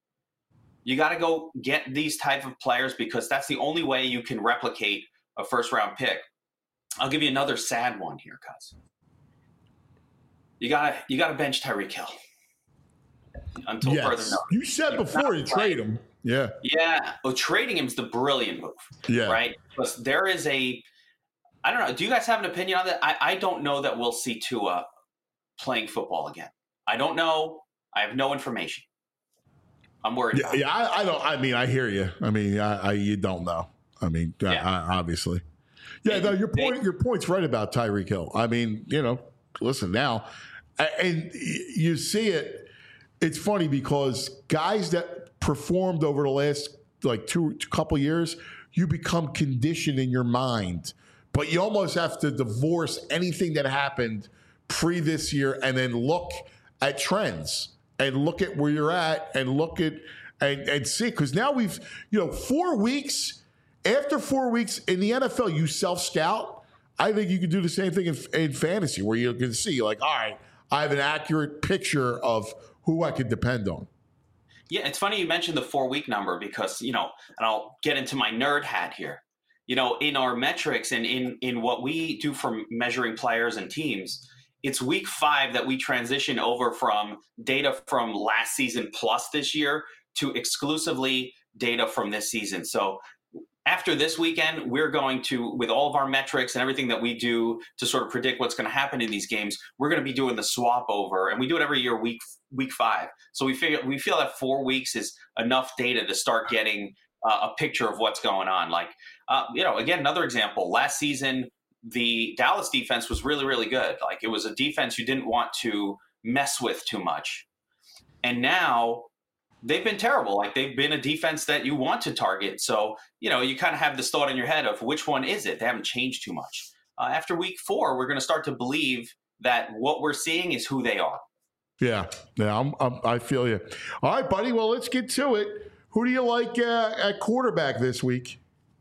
You got to go get these type of players because that's the only way you can replicate a first round pick. I'll give you another sad one here, cuz. You gotta you gotta bench Tyreek Hill until further Yes. notice. You said before you trade him. Yeah. Yeah, well, trading him is the brilliant move, Yeah. right? Because there is a, I don't know. Do you guys have an opinion on that? I, I don't know that we'll see Tua playing football again. I don't know. I have no information. I'm worried. Yeah, about yeah I, I don't. I mean, I hear you. I mean, I, I you don't know. I mean, I- Yeah. I, obviously. Yeah, no, your point. Your point's right about Tyreek Hill. I mean, you know, listen now, a- and y- you see it. It's funny because guys that performed over the last like two, two couple years, you become conditioned in your mind, but you almost have to divorce anything that happened pre this year and then look at trends and look at where you're at and look at and, and see, because now we've, you know, four weeks after four weeks in the N F L, you self scout. I think you can do the same thing in, in fantasy where you can see like, all right, I have an accurate picture of who I can depend on. Yeah, it's funny you mentioned the four-week number because, you know, and I'll get into my nerd hat here. You know, in our metrics and in, in what we do for measuring players and teams, it's week five that we transition over from data from last season plus this year to exclusively data from this season. So after this weekend, we're going to, with all of our metrics and everything that we do to sort of predict what's going to happen in these games, we're going to be doing the swap over, and we do it every year, week week five. So we figure we feel that four weeks is enough data to start getting uh, a picture of what's going on. Like, uh, you know, again, another example. Last season, the Dallas defense was really, really good. Like, it was a defense you didn't want to mess with too much, and now they've been terrible. Like, they've been a defense that you want to target. So, you know, you kind of have this thought in your head of which one is it? They haven't changed too much. Uh, after week four, we're going to start to believe that what we're seeing is who they are. Yeah, yeah, I'm, I'm, I feel you. All right, buddy. Well, let's get to it. Who do you like uh, at quarterback this week?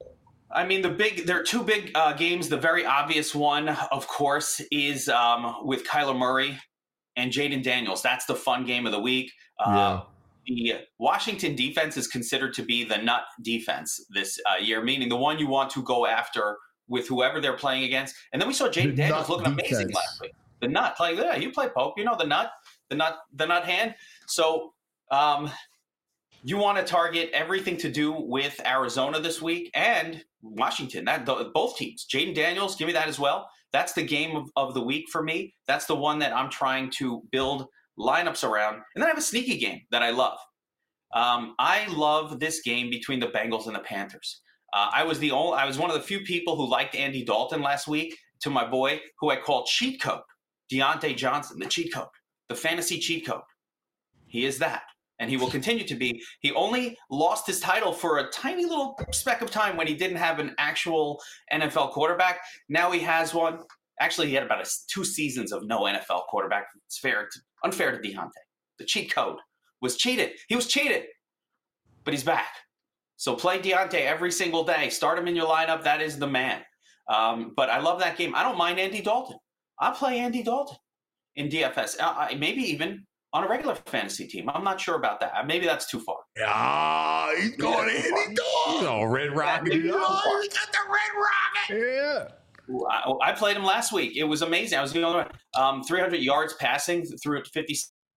I mean, the big, there are two big uh, games. The very obvious one, of course, is um, with Kyler Murray and Jaden Daniels. That's the fun game of the week. Uh, Yeah. The Washington defense is considered to be the nut defense this uh, year, meaning the one you want to go after with whoever they're playing against. And then we saw Jaden Daniels looking amazing defense. last week. The nut, like, yeah, you play Pope, you know the nut, the nut, the nut hand. So um, you want to target everything to do with Arizona this week and Washington. That both teams. Jaden Daniels, give me that as well. That's the game of, of the week for me. That's the one that I'm trying to build lineups around. And then I have a sneaky game that I love. Um, I love this game between the Bengals and the Panthers. Uh, I was the only, I was one of the few people who liked Andy Dalton last week, to my boy, who I called cheat code, Deontay Johnson, the cheat code, the fantasy cheat code. He is that, and he will continue to be. He only lost his title for a tiny little speck of time when he didn't have an actual N F L quarterback. Now he has one. Actually, he had about a, two seasons of no N F L quarterback. It's fair, to, unfair to Deontay. The cheat code was cheated. He was cheated, but he's back. So play Deontay every single day. Start him in your lineup. That is the man. Um, but I love that game. I don't mind Andy Dalton. I'll play Andy Dalton in D F S. Uh, maybe even on a regular fantasy team. I'm not sure about that. Maybe that's too far. Ah, he's going Yeah, Andy Dalton. Oh, Red Rocket. maybe Oh, he got the red rocket. Yeah. I, I played him last week. It was amazing. I was the only one. Um, three hundred yards passing through fifty.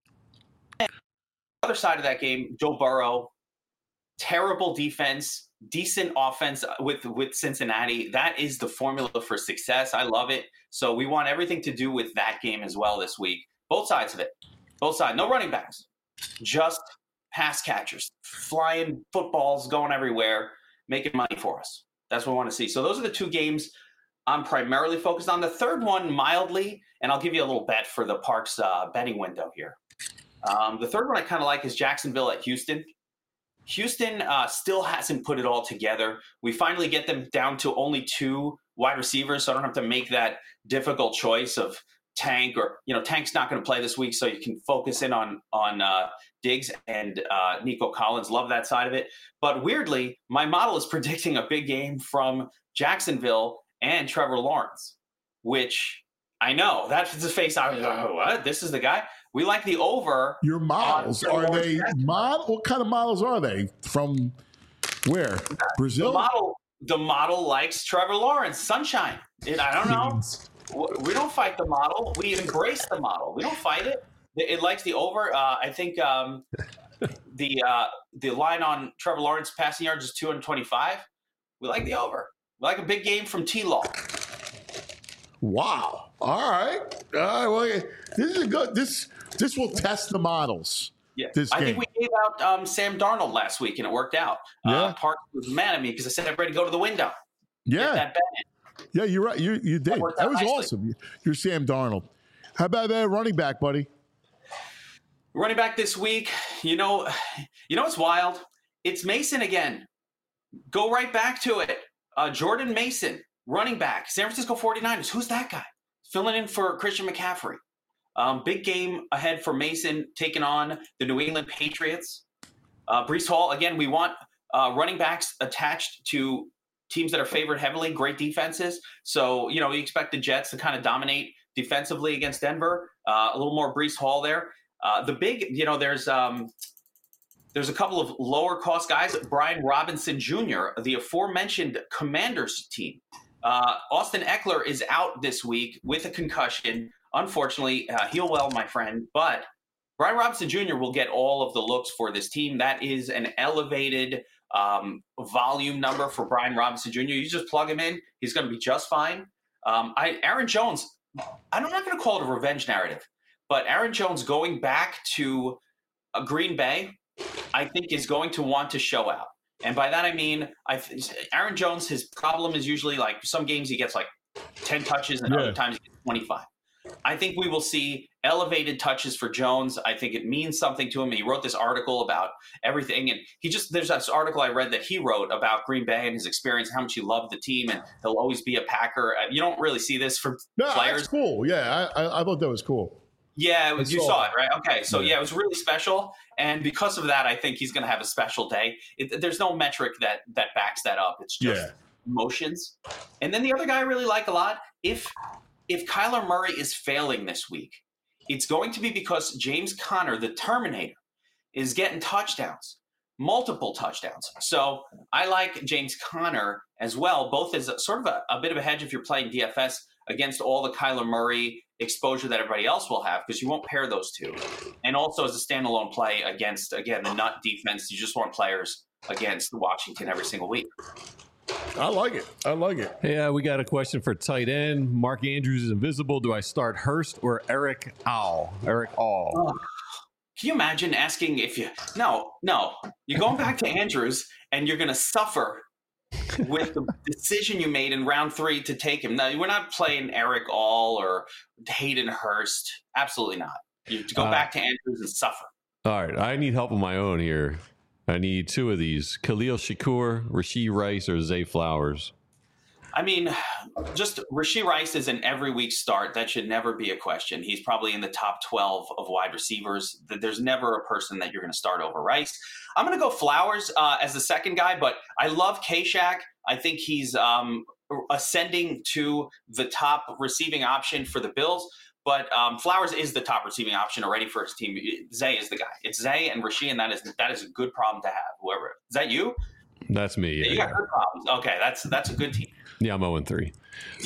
Other side of that game, Joe Burrow, terrible defense, decent offense with, with Cincinnati. That is the formula for success. I love it. So we want everything to do with that game as well this week. Both sides of it. Both sides. No running backs. Just pass catchers. Flying footballs going everywhere, making money for us. That's what we want to see. So those are the two games I'm primarily focused on. The third one, mildly, and I'll give you a little bet for the Parks uh, betting window here. Um, the third one I kind of like is Jacksonville at Houston. Houston uh, still hasn't put it all together. We finally get them down to only two wide receivers, so I don't have to make that difficult choice of Tank or, you know, Tank's not going to play this week, so you can focus in on on uh, Diggs and uh, Nico Collins. Love that side of it. But weirdly, my model is predicting a big game from Jacksonville and Trevor Lawrence, which I know that's the face. I was like, oh, what? This is the guy. We like the over. Your models, are they mod? What kind of models are they? From where? Brazil? The model, the model likes Trevor Lawrence. Sunshine. It, I don't know. We don't fight the model. We embrace the model. We don't fight it. It, it likes the over. Uh, I think um, the uh, the line on Trevor Lawrence passing yards is two hundred twenty-five. We like the over. We like a big game from T-Law. Wow. All right. All right. Well, this is a good. This this will test the models. Yeah, This I game. think we gave out um, Sam Darnold last week, and it worked out. Yeah. Uh, Park was mad at me because I said I'm ready to go to the window. Get Yeah. that bet in. Yeah. You're right. You you did. worked That out was nicely. awesome. You're Sam Darnold. How about that running back, buddy? Running back this week, you know, you know what's wild? It's Mason again. Go right back to it. Uh, Jordan Mason, running back, San Francisco forty-niners. Who's that guy? Filling in for Christian McCaffrey. Um, big game ahead for Mason, taking on the New England Patriots. Uh, Breece Hall, again, we want uh, running backs attached to teams that are favored heavily, great defenses. So, you know, we expect the Jets to kind of dominate defensively against Denver. Uh, a little more Breece Hall there. Uh, the big, you know, there's um, there's a couple of lower cost guys. Brian Robinson Junior, the aforementioned Commanders team. Uh, Austin Eckler is out this week with a concussion. unfortunately, uh, heal well, my friend. But Brian Robinson Junior will get all of the looks for this team. That is an elevated um, volume number for Brian Robinson Junior You just plug him in; he's going to be just fine. Um, I, Aaron Jones, I'm not going to call it a revenge narrative, but Aaron Jones going back to uh, Green Bay, I think is going to want to show out. And by that I mean, I Aaron Jones, his problem is usually like some games he gets like ten touches and yeah. other times he gets twenty-five. I think we will see elevated touches for Jones. I think it means something to him. He wrote this article about everything. And he just, there's this article I read that he wrote about Green Bay and his experience, how much he loved the team, and he'll always be a Packer. You don't really see this from no, players. That's cool. Yeah, I, I, I thought that was cool. Yeah, it was, you saw, saw it, right? Okay, so yeah. yeah, it was really special. And because of that, I think he's going to have a special day. It, there's no metric that that backs that up. It's just yeah. emotions. And then the other guy I really like a lot, if if Kyler Murray is failing this week, it's going to be because James Conner, the Terminator, is getting touchdowns, multiple touchdowns. So I like James Conner as well, both as a, sort of a, a bit of a hedge if you're playing D F S against all the Kyler Murray exposure that everybody else will have, because you won't pair those two. And also as a standalone play against, again, the nut defense. You just want players against Washington every single week. I like it. I like it. Yeah, we got a question for tight end. Mark Andrews is invisible. Do I start Hurst or Eric All? Eric All. Oh, can you imagine asking if you – no, no. You're going back to Andrews, and you're going to suffer with the decision you made in round three to take him. No, we're not playing Eric All or Hayden Hurst. Absolutely not. You have to go uh, back to Andrews and suffer. All right. I need help of my own here. I need two of these: Khalil Shakur, Rashee Rice, or Zay Flowers. I mean, just Rashee Rice is an every week start. That should never be a question. He's probably in the top twelve of wide receivers. There's never a person that you're going to start over Rice. I'm going to go Flowers uh, as the second guy, but I love K-Shack. I think he's um, ascending to the top receiving option for the Bills. But um, Flowers is the top receiving option already for his team. Zay is the guy. It's Zay and Rashee, and that is that is a good problem to have. Whoever is that, you? That's me. Yeah, yeah, you got yeah. good problems. Okay, that's that's a good team. Yeah, I'm zero and three.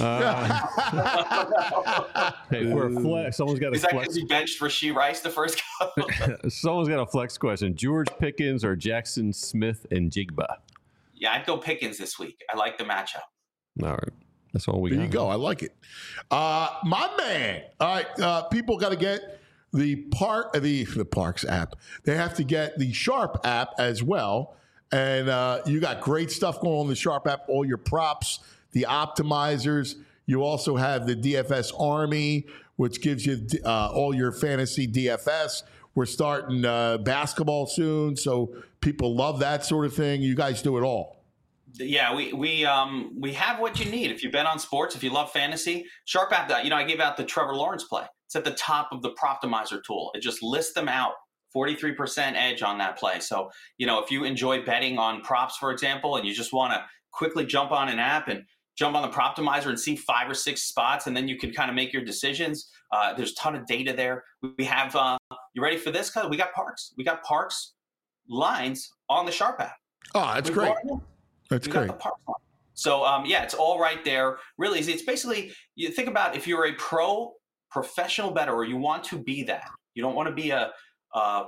Uh, hey, for a flex, someone's got a is that flex. because you benched Rashee Rice the first couple? Someone's got a flex question: George Pickens or Jackson Smith and Jigba? Yeah, I'd go Pickens this week. I like the matchup. All right. That's all we there got. you go. I like it. Uh, my man. All right. Uh, people got to get the park, the the Parks app. They have to get the Sharp app as well. And uh, you got great stuff going on in the Sharp app. All your props, the optimizers. You also have the D F S Army, which gives you uh, all your fantasy D F S. We're starting uh, basketball soon, so people love that sort of thing. You guys do it all. Yeah, we we um we have what you need. If you bet on sports, if you love fantasy, Sharp app. That you know, I gave out the Trevor Lawrence play. It's at the top of the Proptimizer tool. It just lists them out. forty-three percent edge on that play. So you know, if you enjoy betting on props, for example, and you just want to quickly jump on an app and jump on the Proptimizer and see five or six spots, and then you can kind of make your decisions. Uh, there's a ton of data there. We have. Uh, you ready for this? Cause we got Parks. We got Parks lines on the Sharp app. Oh, that's we great. That's we great. Got the Parks line. So um, yeah, it's all right there. Really, it's basically you think about if you're a pro professional bettor or you want to be that. You don't want to be a a,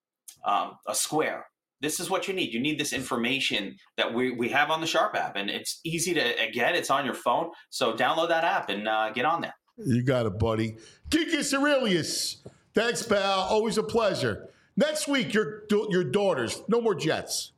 um, a square. This is what you need. You need this information that we, we have on the Sharp app, and it's easy to get. It's on your phone, so download that app and uh, get on there. You got it, buddy. Geekus Aurelius. Thanks, pal. Always a pleasure. Next week, your your daughters. No more Jets.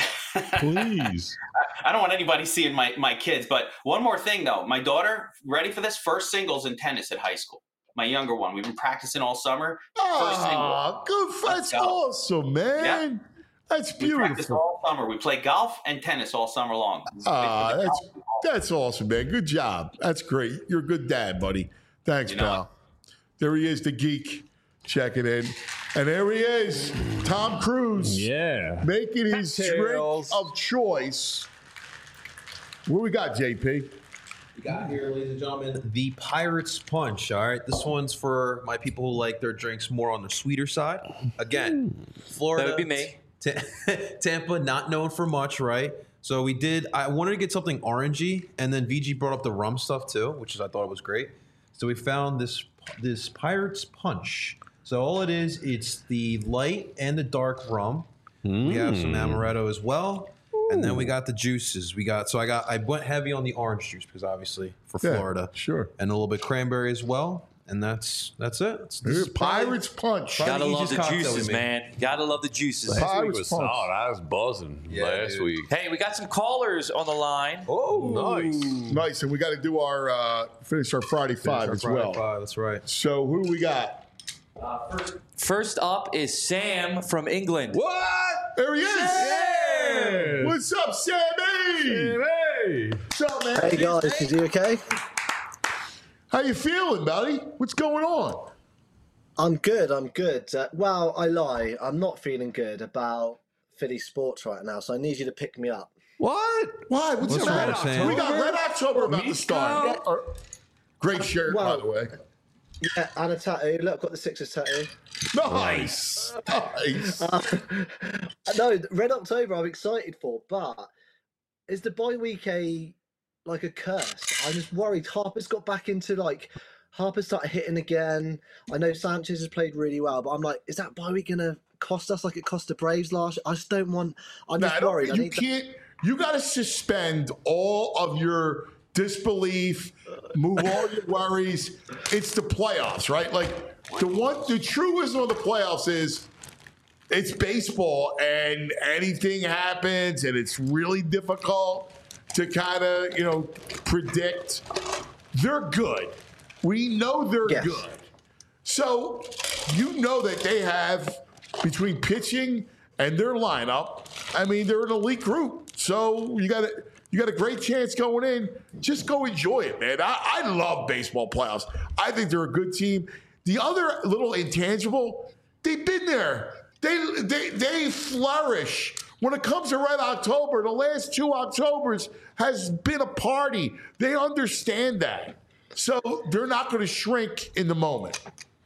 Please. I don't want anybody seeing my, my kids, but one more thing, though. My daughter, ready for this? First singles in tennis at high school. My younger one. We've been practicing all summer. First Oh, good. That's awesome, man. Yeah. That's We practice beautiful. all summer. We play golf and tennis all summer long. Ah, that's that's awesome, man. Good job. That's great. You're a good dad, buddy. Thanks, You know pal. There he is, the geek, checking in. And there he is, Tom Cruise. Yeah. Making his Cocktails. drink of choice. What we got, J P? We got here, ladies and gentlemen, the Pirates Punch. All right, this one's for my people who like their drinks more on the sweeter side. Again, Florida. That would be me. Ta- Tampa, not known for much, right? So we did. I wanted to get something orangey, and then V G brought up the rum stuff too, which is I thought it was great. So we found this this Pirates Punch. So all it is, it's the light and the dark rum. Mm. We have some amaretto as well. Ooh. And then we got the juices. We got so I got I went heavy on the orange juice because obviously for Yeah, Florida. sure. And a little bit cranberry as well. And that's that's it. It's, this is Pirates Punch. Gotta the love easiest the cocktail we juices, made. man. Gotta love the juices. Last week Pirates was Punch. solid. I was buzzing Yeah, last dude. week. Hey, we got some callers on the line. Oh, Nice. Nice, and we got to do our uh, finish our Friday Five Our as Friday well. Five, that's right. So who do we got? First up is Sam from England. What? There he is. Sam! What's up, Sammy? Hey! What's up, man? Hey guys, is you okay? How you feeling, buddy? What's going on? I'm good, I'm good. Uh, well, I lie. I'm not feeling good about Philly sports right now, so I need you to pick me up. What? Why? What's, What's the wrong, matter? Sam? We got Red October about to start. Uh, Great shirt, Well- by the way. Yeah, and a tattoo. Look, I've got the Sixers tattoo. Nice. Nice. Uh, no, Red October I'm excited for, but is the bye week a like a curse? I'm just worried. Harper's got back into like Harper started hitting again. I know Sanchez has played really well, but I'm like, is that bye week gonna cost us like it cost the Braves last year? I just don't want. I'm Nah, just I don't- worried. I you need to- can't. You got to suspend all of your disbelief. Move all your worries. It's the playoffs, right? Like the one, the true wisdom of the playoffs is it's baseball, and anything happens, and it's really difficult to kind of you know predict. They're good. We know they're Yes. good. So you know that they have between pitching and their lineup. I mean, they're an elite group. So you got a you got a great chance going in. Just go enjoy it, man. I, I love baseball playoffs. I think they're a good team. The other little intangible, they've been there. They they they flourish. When it comes to Red October, the last two Octobers has been a party. They understand that. So they're not going to shrink in the moment.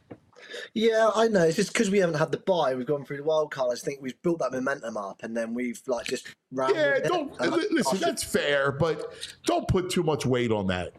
Yeah, I know. It's just because we haven't had the bye. We've gone through the wild card. I just think we've built that momentum up, and then we've like just ran. Yeah, with it. don't And I- li- listen. I should- That's fair, but don't put too much weight on that.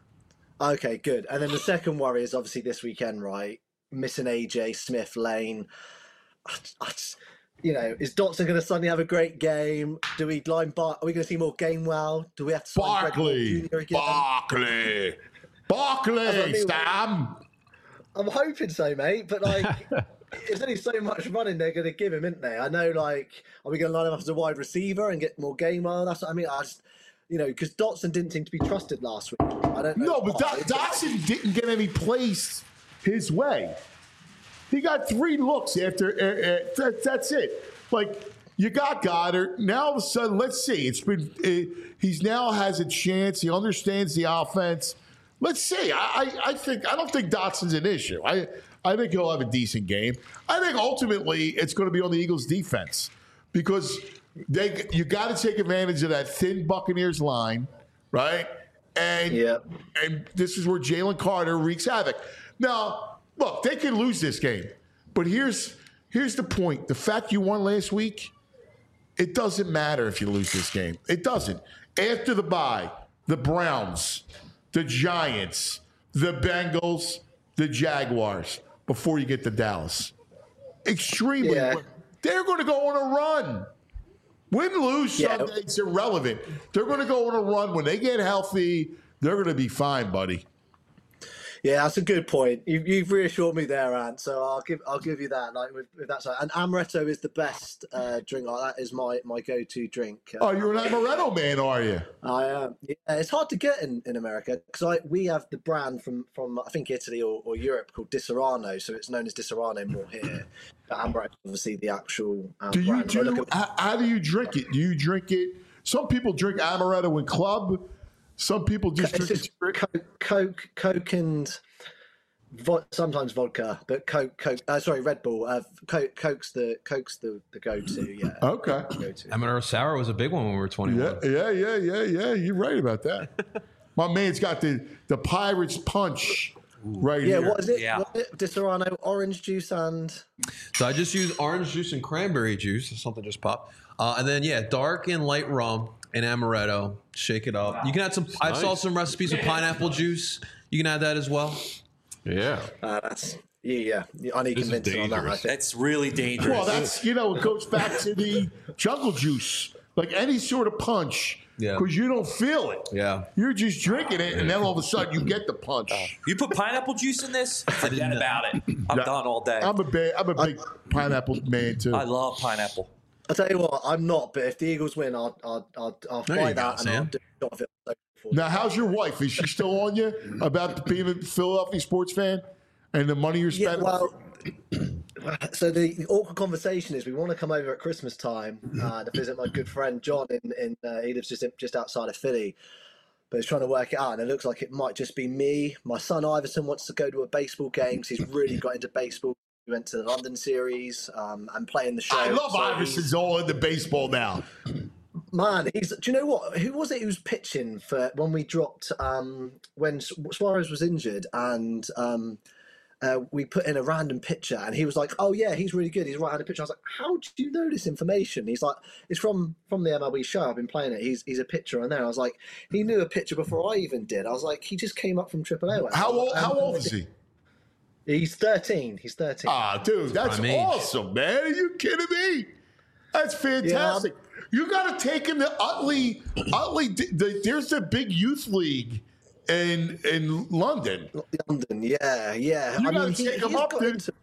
Okay, good. And then the second worry is obviously this weekend, right? Missing A J Smith, Lane. I, I just, you know, is Dotson going to suddenly have a great game? Do we line Bar? Are we going to see more Gainwell? Do we have to sign Greg Moore Barkley, Junior again? Barkley, Barkley, That's what I mean. Stam. I'm hoping so, mate. But like, there's only so much running they're going to give him, isn't they? I know. Like, are we going to line him up as a wide receiver and get more Gainwell? That's what I mean. I just, you know, because Dotson didn't seem to be trusted last week. I don't know. No, but why. Do- Dotson didn't get any plays his way. He got three looks after. Uh, uh, that, that's it. Like you got Goddard. Now all of a sudden, let's see. It's been. Uh, he's now has a chance. He understands the offense. Let's see. I, I, I think. I don't think Dotson's an issue. I, I think he'll have a decent game. I think ultimately it's going to be on the Eagles' defense because they. You got to take advantage of that thin Buccaneers line, right? And Yeah. and this is where Jalen Carter wreaks havoc. Now, look, they can lose this game, but here's here's the point: the fact you won last week, it doesn't matter if you lose this game. It doesn't. After the bye, the Browns, the Giants, the Bengals, the Jaguars, before you get to Dallas, extremely. Yeah. They're going to go on a run. Win, lose, Yeah. Sunday, it's irrelevant. They're going to go on a run. When they get healthy, they're going to be fine, buddy. Yeah, that's a good point. You've, you've reassured me there, Ant. So I'll give I'll give you that. Like with, with that side, and amaretto is the best uh, drink. Like that is my, my go to drink. Uh, Oh, you're an Amaretto man, are you? I am. Yeah, it's hard to get in, in America because we have the brand from, from I think Italy or, or Europe called Disaronno, so it's known as Disaronno more here. But amaretto, is obviously the actual. Um, Do you brand. So I do? look at- How, how do you drink it? Do you drink it? Some people drink Amaretto in club. Some people just It's drink just it. Coke, Coke, Coke, and vo- sometimes vodka, but Coke, Coke. Uh, sorry, Red Bull. Uh, Coke, Coke's the Coke's the, the go-to. Yeah. Okay. Go-to. Amaretto sour was a big one when we were twenty-one. Yeah, yeah, yeah, yeah, yeah. You're right about that. My man's got the the Pirates punch right Yeah. here. What is it? Yeah. What is it? Disaronno, orange juice, and So I just use orange juice and cranberry juice. Something just popped. Uh, and then yeah, dark and light rum and amaretto. Shake it up. You can add some. I saw nice. some recipes of pineapple juice. You can add that as well. Yeah. Uh, that's yeah, yeah. I need This is convincing on that. I dangerous. think. That's really dangerous. Well, that's, you know, it goes back to the jungle juice. Like any sort of punch, Yeah. because you don't feel it. Yeah. You're just drinking it, and then all of a sudden you get the punch. You put pineapple juice in this? Forget about it. I'm Yeah. done all day. I'm a big, I'm a big pineapple man too. I love pineapple. I'll tell you what, I'm not, but if the Eagles win, I'll I'll I'll, I'll There you fight go, that and Sam. I'll do a shot of it. Now, how's your wife? Is she still on you about being a Philadelphia sports fan and the money you're Yeah, spending? well, so the, the awkward conversation is we want to come over at Christmas time uh, to visit my good friend John in, in uh, he lives just just outside of Philly, but he's trying to work it out, and it looks like it might just be me. My son Iverson wants to go to a baseball game because he's really got into baseball. We went to the London series um, and playing the show. I love so Iverson's he's- all into baseball now. Man, he's. Do you know what? Who was it who was pitching for when we dropped um, when Suarez was injured and um, uh, we put in a random pitcher and he was like, "Oh yeah, he's really good. He's a right-handed pitcher." I was like, "How do you know this information?" He's like, "It's from from the M L B show. I've been playing it. He's he's a pitcher on there." I was like, "He knew a pitcher before I even did." I was like, "He just came up from Triple A." How old? How old is he? He's thirteen. He's thirteen. Ah, dude, that's prime age. awesome, man. Are you kidding me? That's fantastic. You got to take him to Utley. Utley, the, there's the big youth league in in London. London, yeah, yeah. You I gotta mean, he, take him he's up, got dude. into-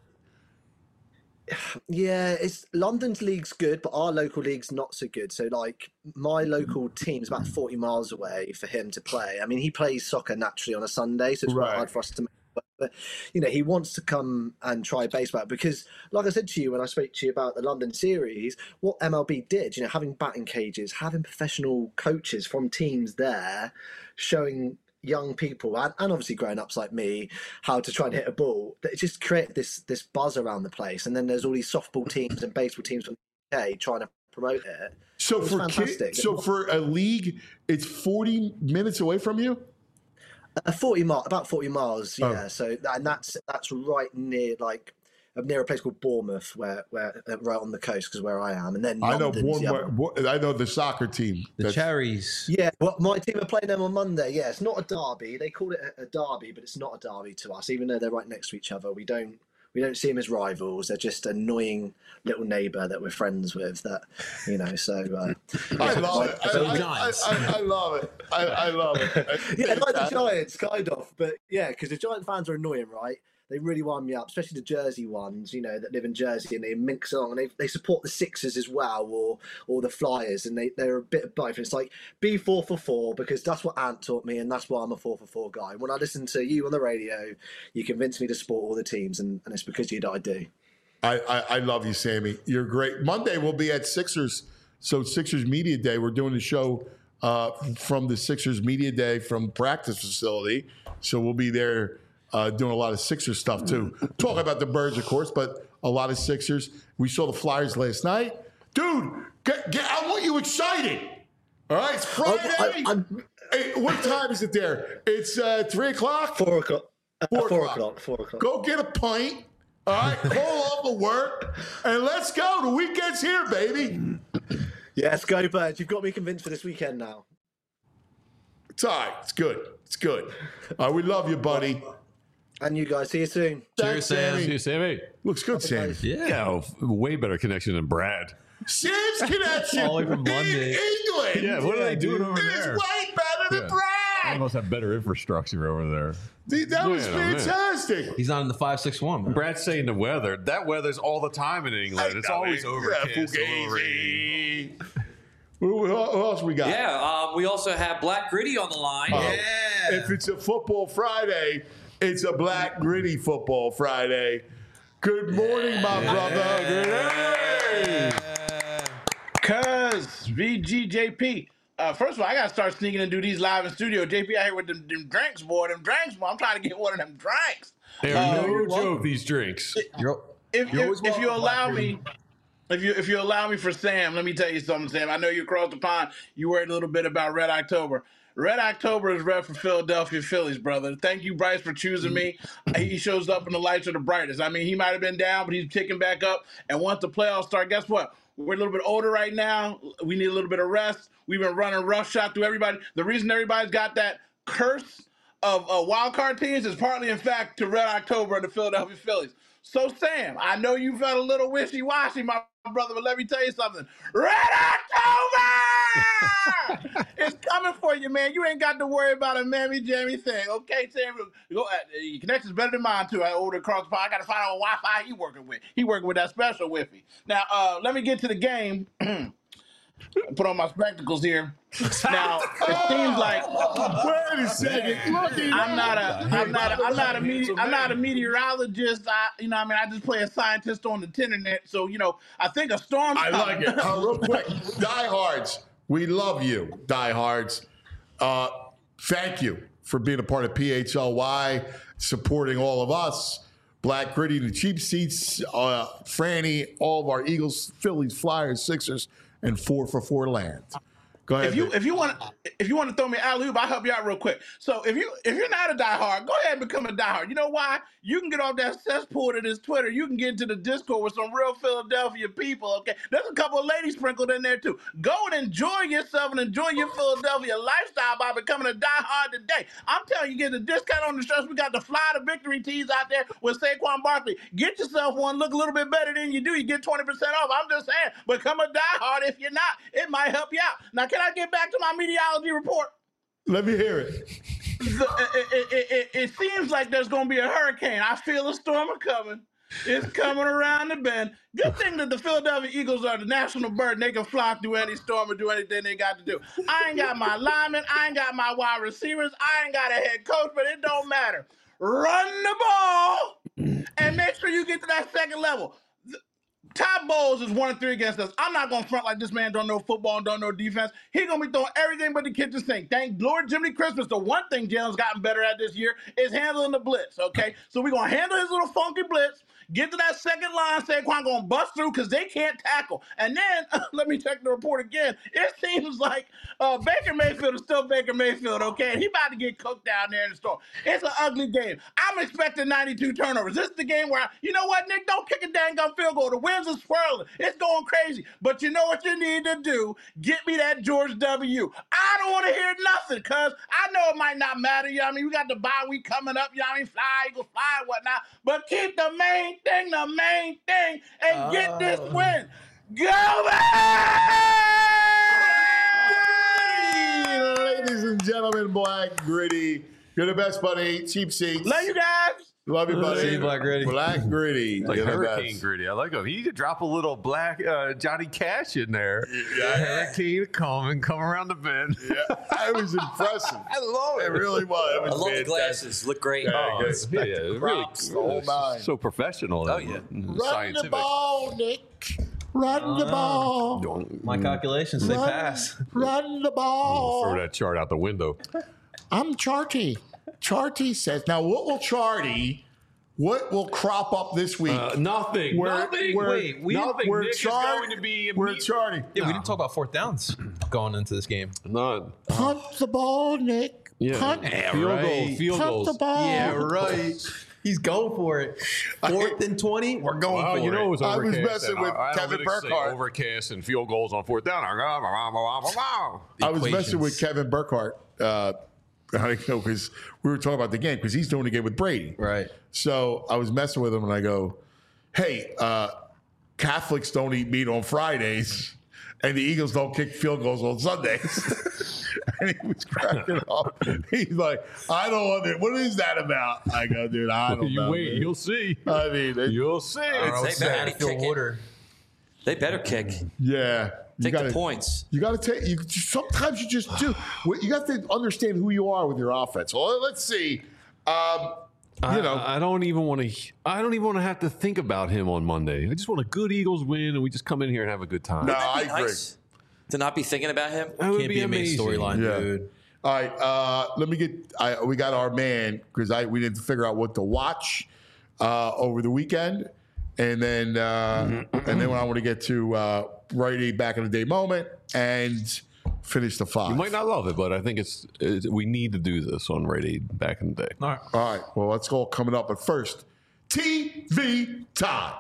Yeah, it's London's league's good, but our local league's not so good. So, like, my local team's about forty miles away for him to play. I mean, he plays soccer naturally on a Sunday, so it's Right. quite hard for us to make. But, but you know, he wants to come and try baseball because, like I said to you when I spoke to you about the London series, what M L B did, you know, having batting cages, having professional coaches from teams there, showing young people and, and obviously grown-ups like me how to try and hit a ball, that it just created this this buzz around the place. And then there's all these softball teams and baseball teams from the U K trying to promote it. So It was for fantastic. kids, so for a league, it's forty minutes away from you. Uh, forty mile, about forty miles, yeah. Oh. So and that's that's right near like near a place called Bournemouth, where where uh, right on the coast, because where I am. And then I know London's the other- Bournemouth, I know the soccer team. The That's- Cherries. Yeah, well, my team are playing them on Monday. Yeah, it's not a derby. They call it a, a derby, but it's not a derby to us, even though they're right next to each other. We don't we don't see them as rivals. They're just annoying little neighbour that we're friends with. That you know. So uh, I yeah, love like- it. I, So I, Giants. I, I, I love it. I, I love it. Yeah, like the Giants, kind of. But yeah, because the Giant fans are annoying, right? They really wind me up, especially the Jersey ones, you know, that live in Jersey and they mix along and they, they support the Sixers as well or or the Flyers, and they, they're a bit of both. And it's like, be four for four because that's what Ant taught me and that's why I'm a four for four guy. When I listen to you on the radio, you convince me to support all the teams, and, and it's because of you that I do. I, I, I love you, Sammy. You're great. Monday we'll be at Sixers. So Sixers Media Day. We're doing the show uh, from the Sixers Media Day from practice facility. So we'll be there uh, doing a lot of Sixers stuff too. Talking about the Birds, of course, but a lot of Sixers. We saw the Flyers last night. Dude, get, get, I want you excited. All right, it's Friday. I, I'm, Hey, what time is it there? It's uh, three o'clock. four o'clock. Uh, Four four o'clock. o'clock. Four o'clock. Go get a pint. All right, call off the work, and let's go. The weekend's here, baby. Yes, go Birds. You've got me convinced for this weekend now. It's all right. It's good. It's good. All right, we love you, buddy. And you guys, see you soon. Thanks, Sam. Sammy. See you, Sammy. Looks good, Sammy. Yeah. Yeah, way better connection than Brad. Sam's connection All the way from in London. England Yeah, what are they doing over is there? way better than Yeah. Brad. They must have better infrastructure over there. Dude, that was Yeah, man. fantastic. He's not in the five six one. man. Brad's saying the weather. That weather's all the time in England. It's I know always it. overcast. Yeah, a little rain. Fugazi. Who, who else we got? Yeah, um, we also have Black Gritty on the line. Oh, If it's a football Friday, it's a black gritty football Friday. Good morning, my brother. Good day. Cuz V G J P. Uh, first of all, I gotta start sneaking and do these live in studio. J P out here with them, them drinks, boy. Them drinks, boy. I'm trying to get one of them drinks. They're Uh, no joke, these drinks. You're, If, You're if, always if you welcome, allow Black me, if you if you allow me for Sam, let me tell you something, Sam. I know you across the pond. You worried a little bit about Red October. Red October is red for Philadelphia Phillies, brother. Thank you, Bryce, for choosing me. He shows up when the lights are the brightest. I mean, he might have been down, but he's kicking back up. And once the playoffs start, guess what? We're a little bit older right now. We need a little bit of rest. We've been running roughshod through everybody. The reason everybody's got that curse of uh, wild card teams is partly, in fact, to Red October and the Philadelphia Phillies. So, Sam, I know you felt a little wishy-washy, my brother, but let me tell you something. Red October! It's coming for you, man. You ain't got to worry about a mammy-jammy thing, okay, Sam? Go, uh, your connection's better than mine, too. I ordered across the pond. I got to find out what Wi-Fi he working with. He working with that special Wi-Fi. Now, uh, let me get to the game. Put on my spectacles here. Now it seems like wait a second. Look, I'm not a I'm not a, I'm not a mete- I'm not a meteorologist. I you know I mean I just play a scientist on the internet. So you know I think a storm. I like it. Uh, real quick, diehards, we love you, diehards. Uh, thank you for being a part of P H L Y, supporting all of us. Black Gritty, the Cheap Seats, uh, Franny, all of our Eagles, Phillies, Flyers, Sixers, and four for four land. Go ahead. If you if you want if you want to throw me alley oop, I'll help you out real quick. So if you if you're not a diehard, go ahead and become a diehard. You know why? You can get off that cesspool to this Twitter. You can get into the Discord with some real Philadelphia people. Okay, there's a couple of ladies sprinkled in there too. Go and enjoy yourself and enjoy your Philadelphia lifestyle by becoming a diehard today. I'm telling you, get a discount on the shirts. We got the Fly to Victory tees out there with Saquon Barkley. Get yourself one. Look a little bit better than you do. You get twenty percent off. I'm just saying, become a diehard. If you're not, it might help you out. Now, can I get back to my meteorology report? Let me hear it. The, it, it, it, it seems like there's going to be a hurricane. I feel a storm coming. It's coming around the bend. Good thing that the Philadelphia Eagles are the national bird and they can fly through any storm or do anything they got to do. I ain't got my linemen. I ain't got my wide receivers. I ain't got a head coach, but it don't matter. Run the ball and make sure you get to that second level. Todd Bowles is one and three against us. I'm not going to front like this man don't know football and don't know defense. He's going to be throwing everything but the kitchen sink. Thank Lord Jiminy Christmas. The one thing Jalen's gotten better at this year is handling the blitz, okay? So we're going to handle his little funky blitz, get to that second line, Saquon going to bust through because they can't tackle. And then, uh, let me check the report again. It seems like uh, Baker Mayfield is still Baker Mayfield, okay? And he about to get cooked down there in the storm. It's an ugly game. I'm expecting ninety-two turnovers. This is the game where, I, you know what, Nick? Don't kick a dang gun field goal. The winds are swirling. It's going crazy. But you know what you need to do? Get me that George W. I don't want to hear nothing because I know it might not matter. You know what I mean? We got the bye week coming up. You know what I mean? Fly, Eagles, fly, and whatnot. But keep the main thing the main thing and uh, get this win. Go back! Ladies and gentlemen, Black Gritty. You're the best, buddy. Cheap Seats. Love you guys. Love you, buddy. See you, Black Gritty. Black Gritty. Like You're the Hurricane best. Gritty. I like him. He could drop a little black uh, Johnny Cash in there. Yeah. Hurricane coming, come around the bend. Yeah, I was impressive. I love it. It really was. It was I love fantastic. the glasses. Look great. Yeah, Oh, good. it's, yeah, really, Props, the whole nine. so professional. Oh, and- yeah. and Run scientific. the ball, Nick. Run the ball. My calculations say Run, pass. run the Throw ball. that chart out the window. I'm Charty. Charty says, now what will Charty, what will crop up this week? Uh, nothing. Where- nothing. where- Wait, we nothing. Nick We're is Char- going to be We're immediate- Charty. Yeah, we didn't talk about fourth downs going into this game. None. Punt the ball, Nick. Yeah. Punt, Yeah, field right. goal. Field punt goals. the ball. Yeah, right. He's going for it. Fourth and twenty, we're going Well, for you it. know it was I was overcast. messing and with our Kevin analytics say Burkhardt. Overcast and field goals on fourth down. I was messing with Kevin Burkhardt. Uh, I know because we were talking about the game because he's doing the game with Brady. Right. So I was messing with him and I go, "Hey, uh, Catholics don't eat meat on Fridays, and the Eagles don't kick field goals on Sundays." And he was cracking up. He's like, "I don't want it. What is that about?" I go, "Dude, I don't You know." wait, man." you'll see. I mean, it- You'll see. I don't know, They it's better out be of field kicking. order. They better kick. yeah. You Take gotta, the points. You got to take. You sometimes you just do. You got to understand who you are with your offense. Well, let's see. Um, you know, I, I don't even want to. I don't even want to have to think about him on Monday. I just want a good Eagles win, and we just come in here and have a good time. no, That'd I be agree. nice to not be thinking about him. That would Can't be, be a main amazing. storyline, Yeah. dude. All right, uh, let me get. I, we got our man because I we didn't figure out what to watch uh, over the weekend, and then uh, and then when I want to get to uh, Rite Aid back in the day moment and finish the five. You might not love it, but I think it's, it's we need to do this on Rite Aid back in the day. All right. All right, well, let's go coming up. But first, T V time.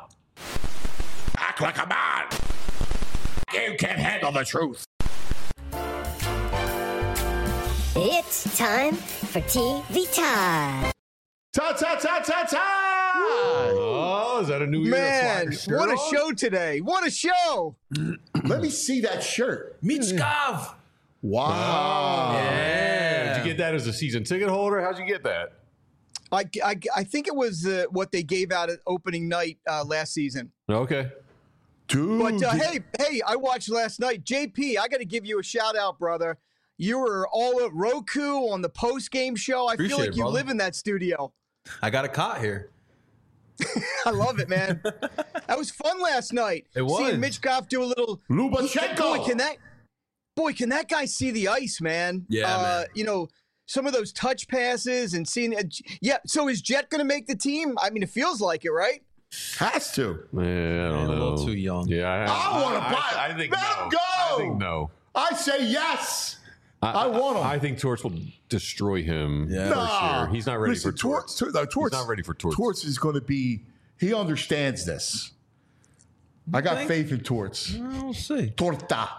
Act like a man. You can't handle the truth. It's time for T V time. Ta ta ta ta ta! Oh, is that a new Man, year? what a show today. What a show. Let me see that shirt. Michkov. Wow. Yeah. Did you get that as a season ticket holder? How'd you get that? I, I, I think it was uh, what they gave out at opening night uh, last season. Okay. Dude. But uh, hey, hey, I watched last night. J P, I got to give you a shout out, brother. You were all at Roku on the post game show. I Appreciate feel like it, you brother. live in that studio. I got a cot here. I love it, man. That was fun last night. It was. Seeing Mitch Goff do a little Lubachenko. Boy, can that boy, can that guy see the ice, man? Yeah, uh, man. You know, some of those touch passes and seeing. Uh, yeah. So is Jet going to make the team? I mean, it feels like it, right? Has to. Yeah, I don't Man, know. a little too young. Yeah, I, I want to buy I, it. I think Let no. him go. I think no. I say yes. I, I want him. I think Torts will destroy him Yeah. for Nah. sure. He's not ready Listen, for Torts. Torts. no, Torts. He's not ready for Torts. Torts is going to be. He understands this. I got think? faith in Torts. We'll see. Torta.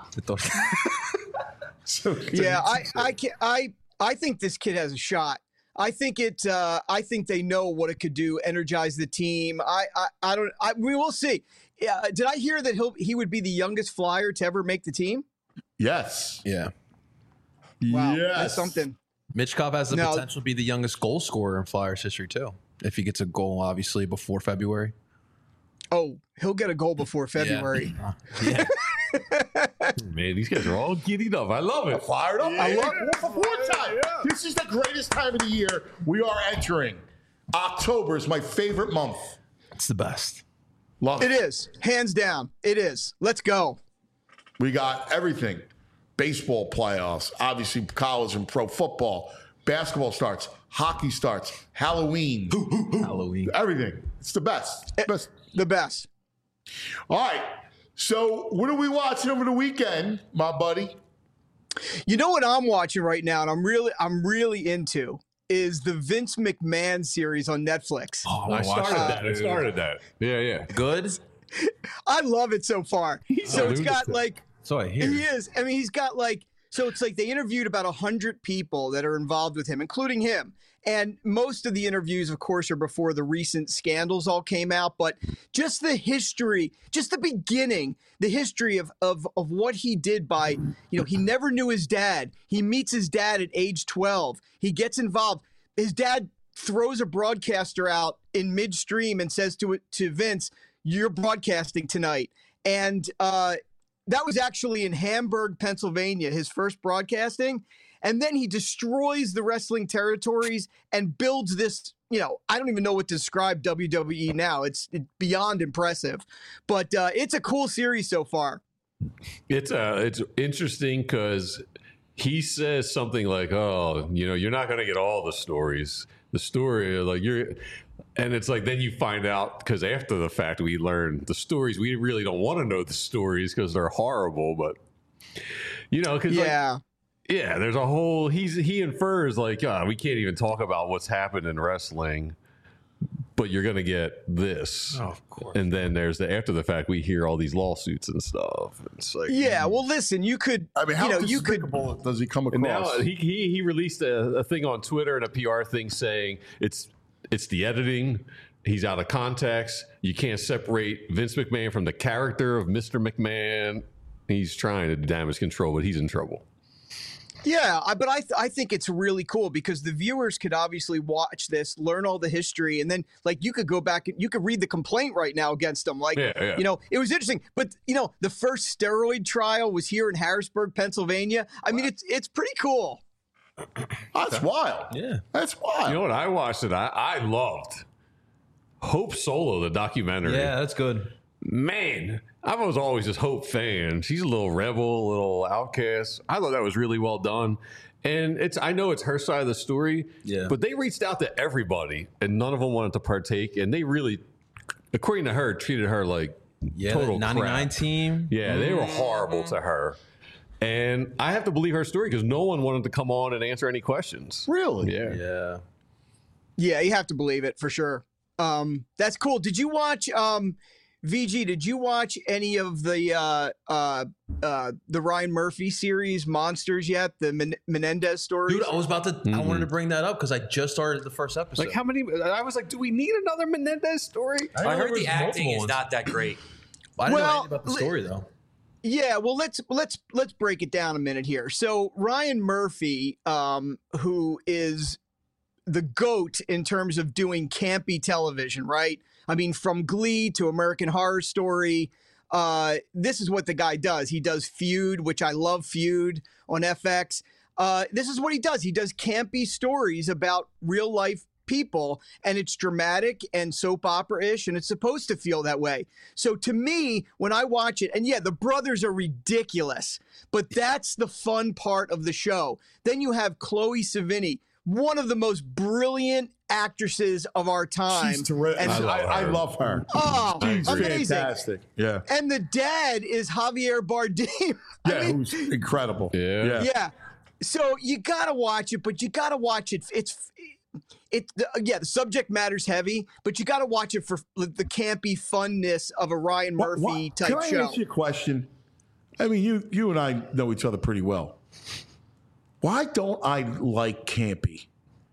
So, Yeah, I, I can I, I think this kid has a shot. I think it. Uh, I think they know what it could do. Energize the team. I. I, I don't. I, we will see. Yeah, did I hear that he'll he would be the youngest flyer to ever make the team? Yes. Yeah. Wow, Yes. that's something. Mitchkov has the No. potential to be the youngest goal scorer in Flyers history, too. If he gets a goal, obviously, before February. Oh, he'll get a goal before February. Yeah. Man, these guys are all giddied up. I love it. Fired up. I love it. For fourth time. This is the greatest time of the year we are entering. October is my favorite month. It's the best. Love It it. is hands down. It is. Let's go. We got everything. Baseball playoffs, obviously college and pro football. Basketball starts. Hockey starts. Halloween. Halloween. Everything. It's the best. Eh. Best. The best. All right. So what are we watching over the weekend, my buddy? You know what I'm watching right now, and I'm really I'm really into is the Vince McMahon series on Netflix. Oh, I I started watched that. I started that. Yeah, yeah. Good? I love it so far. So a it's got lunatic. like So I hear. he is. I mean, he's got like so it's like they interviewed about a hundred people that are involved with him, including him. And most of the interviews, of course, are before the recent scandals all came out. But just the history, just the beginning, the history of of of what he did by, you know, he never knew his dad. He meets his dad at age twelve. He gets involved. His dad throws a broadcaster out in midstream and says to it to Vince, "You're broadcasting tonight." And uh, that was actually in Hamburg, Pennsylvania, his first broadcasting. And then he destroys the wrestling territories and builds this, you know, I don't even know what to describe W W E now. It's it, beyond impressive. But uh, it's a cool series so far. It's uh, it's interesting because he says something like, "Oh, you know, you're not going to get all the stories. The story, like you're," and it's like then you find out because after the fact we learn the stories. We really don't want to know the stories because they're horrible, but you know, because Yeah. Like, yeah, there's a whole. He's he infers like, oh, we can't even talk about what's happened in wrestling, but you're gonna get this. Oh, of course. And then there's the after the fact we hear all these lawsuits and stuff. It's like Yeah. Well, listen, you could, I mean, how you know, you could. despicable does he come And now across? he, he he released a, a thing on Twitter and a P R thing saying it's it's the editing. He's out of context. You can't separate Vince McMahon from the character of Mister McMahon. He's trying to damage control, but he's in trouble. Yeah, I, but I th- I think it's really cool because the viewers could obviously watch this, learn all the history, and then like you could go back and you could read the complaint right now against them. Like, Yeah, yeah. you know, it was interesting. But you know, the first steroid trial was here in Harrisburg, Pennsylvania. I mean, it's it's pretty cool. That's wild. Yeah. That's wild. You know what? I watched it. I, I loved Hope Solo, the documentary. Yeah, that's good. Man, I was always this Hope fan. She's a little rebel, a little outcast. I thought that was really well done. And it's I know it's her side of the story, Yeah. but they reached out to everybody and none of them wanted to partake. And they really, according to her, treated her like Yeah, total that ninety-nine crap. team. Yeah, they were horrible to her. And I have to believe her story because no one wanted to come on and answer any questions. Really? Yeah. Yeah. Yeah, you have to believe it for sure. Um, that's cool. Did you watch? Um, V G, did you watch any of the uh, uh, uh, the Ryan Murphy series Monsters yet? The Men- Menendez stories? Dude, I was about to. Mm-hmm. I wanted to bring that up because I just started the first episode. Like how many? I was like, do we need another Menendez story? I, I heard the acting is not that great. I didn't Well, know anything about the story though. Yeah, well, let's let's let's break it down a minute here. So Ryan Murphy, um, who is the GOAT in terms of doing campy television, right? I mean, from Glee to American Horror Story, uh, this is what the guy does. He does Feud, which I love Feud on F X. Uh, this is what he does. He does campy stories about real life people, and it's dramatic and soap opera-ish, and it's supposed to feel that way. So to me, when I watch it, and yeah, the brothers are ridiculous, but that's the fun part of the show. Then you have Chloe Sevigny, one of the most brilliant actresses of our time. She's terrific. And I, I, I love her. Oh, She's amazing. fantastic. Yeah. And the dad is Javier Bardem. Yeah, I mean, who's incredible. Yeah. Yeah. yeah. So you gotta watch it, but you gotta watch it. It's it. The, yeah, the subject matter's heavy, but you gotta watch it for the campy funness of a Ryan What- Murphy what- type Can I show. ask you a question? I mean, you you and I know each other pretty well. Why don't I like campy?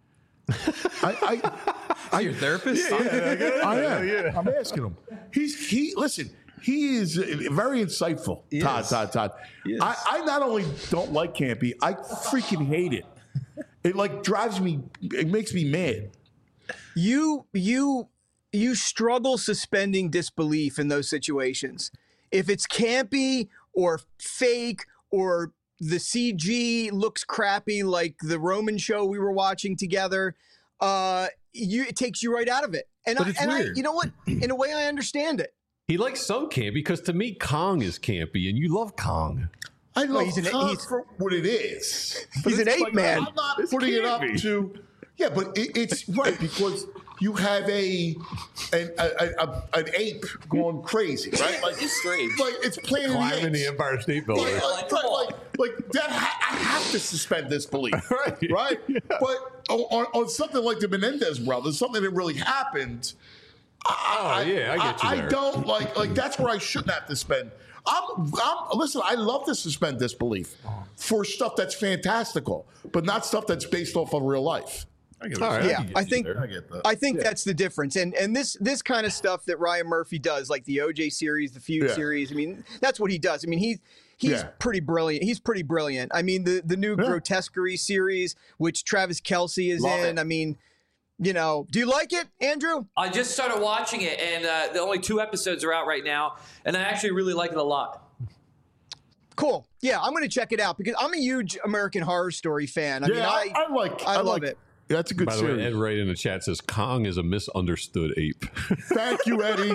I, I, I your therapist? Yeah, yeah, I am. I'm asking him. He's he. Listen, he is very insightful. He Todd, is. Todd, Todd. He I, is. I not only don't like campy, I freaking hate it. It like drives me. It makes me mad. You you you struggle suspending disbelief in those situations. If it's campy or fake or the C G looks crappy like the Roman show we were watching together, uh, you it takes you right out of it. And, But I, it's and I, weird. you know what? In a way, I understand it. He likes some campy because to me, Kong is campy, and you love Kong. I love he's an- Kong he's- for what it is. He's an It's ape like, man. I'm not It's putting it up campy. to. Yeah, but it, it's right because you have a an, a, a, a an ape going crazy, right? Like It's strange. Like it's Planet of Climbing the the Apes. Empire State Building. Like, like, like, like, like that, ha- I have to suspend disbelief, Right. right? But on, on, on something like the Menendez brothers, something that really happened. Oh, yeah, I get you I, there. don't like like that's where I shouldn't have to spend. I'm, I'm listen. I love to suspend disbelief for stuff that's fantastical, but not stuff that's based off of real life. I get All it. right, Yeah, can get I you think there. I get that. I think that's the difference. And and this this kind of stuff that Ryan Murphy does, like the O J series, the Feud Yeah. series. I mean, that's what he does. I mean, he he's Yeah. pretty brilliant. He's pretty brilliant. I mean, the the new Yeah. Grotesquerie series, which Travis Kelce is Love in. it. I mean, you know, do you like it, Andrew? I just started watching it, and uh, the only two episodes are out right now, and I actually really like it a lot. Cool. Yeah, I'm going to check it out because I'm a huge American Horror Story fan. I yeah, mean, I, I I like. I I, love like, it. Yeah, that's a good By the way, series. Ed Wright in the chat says Kong is a misunderstood ape. Thank you, Eddie.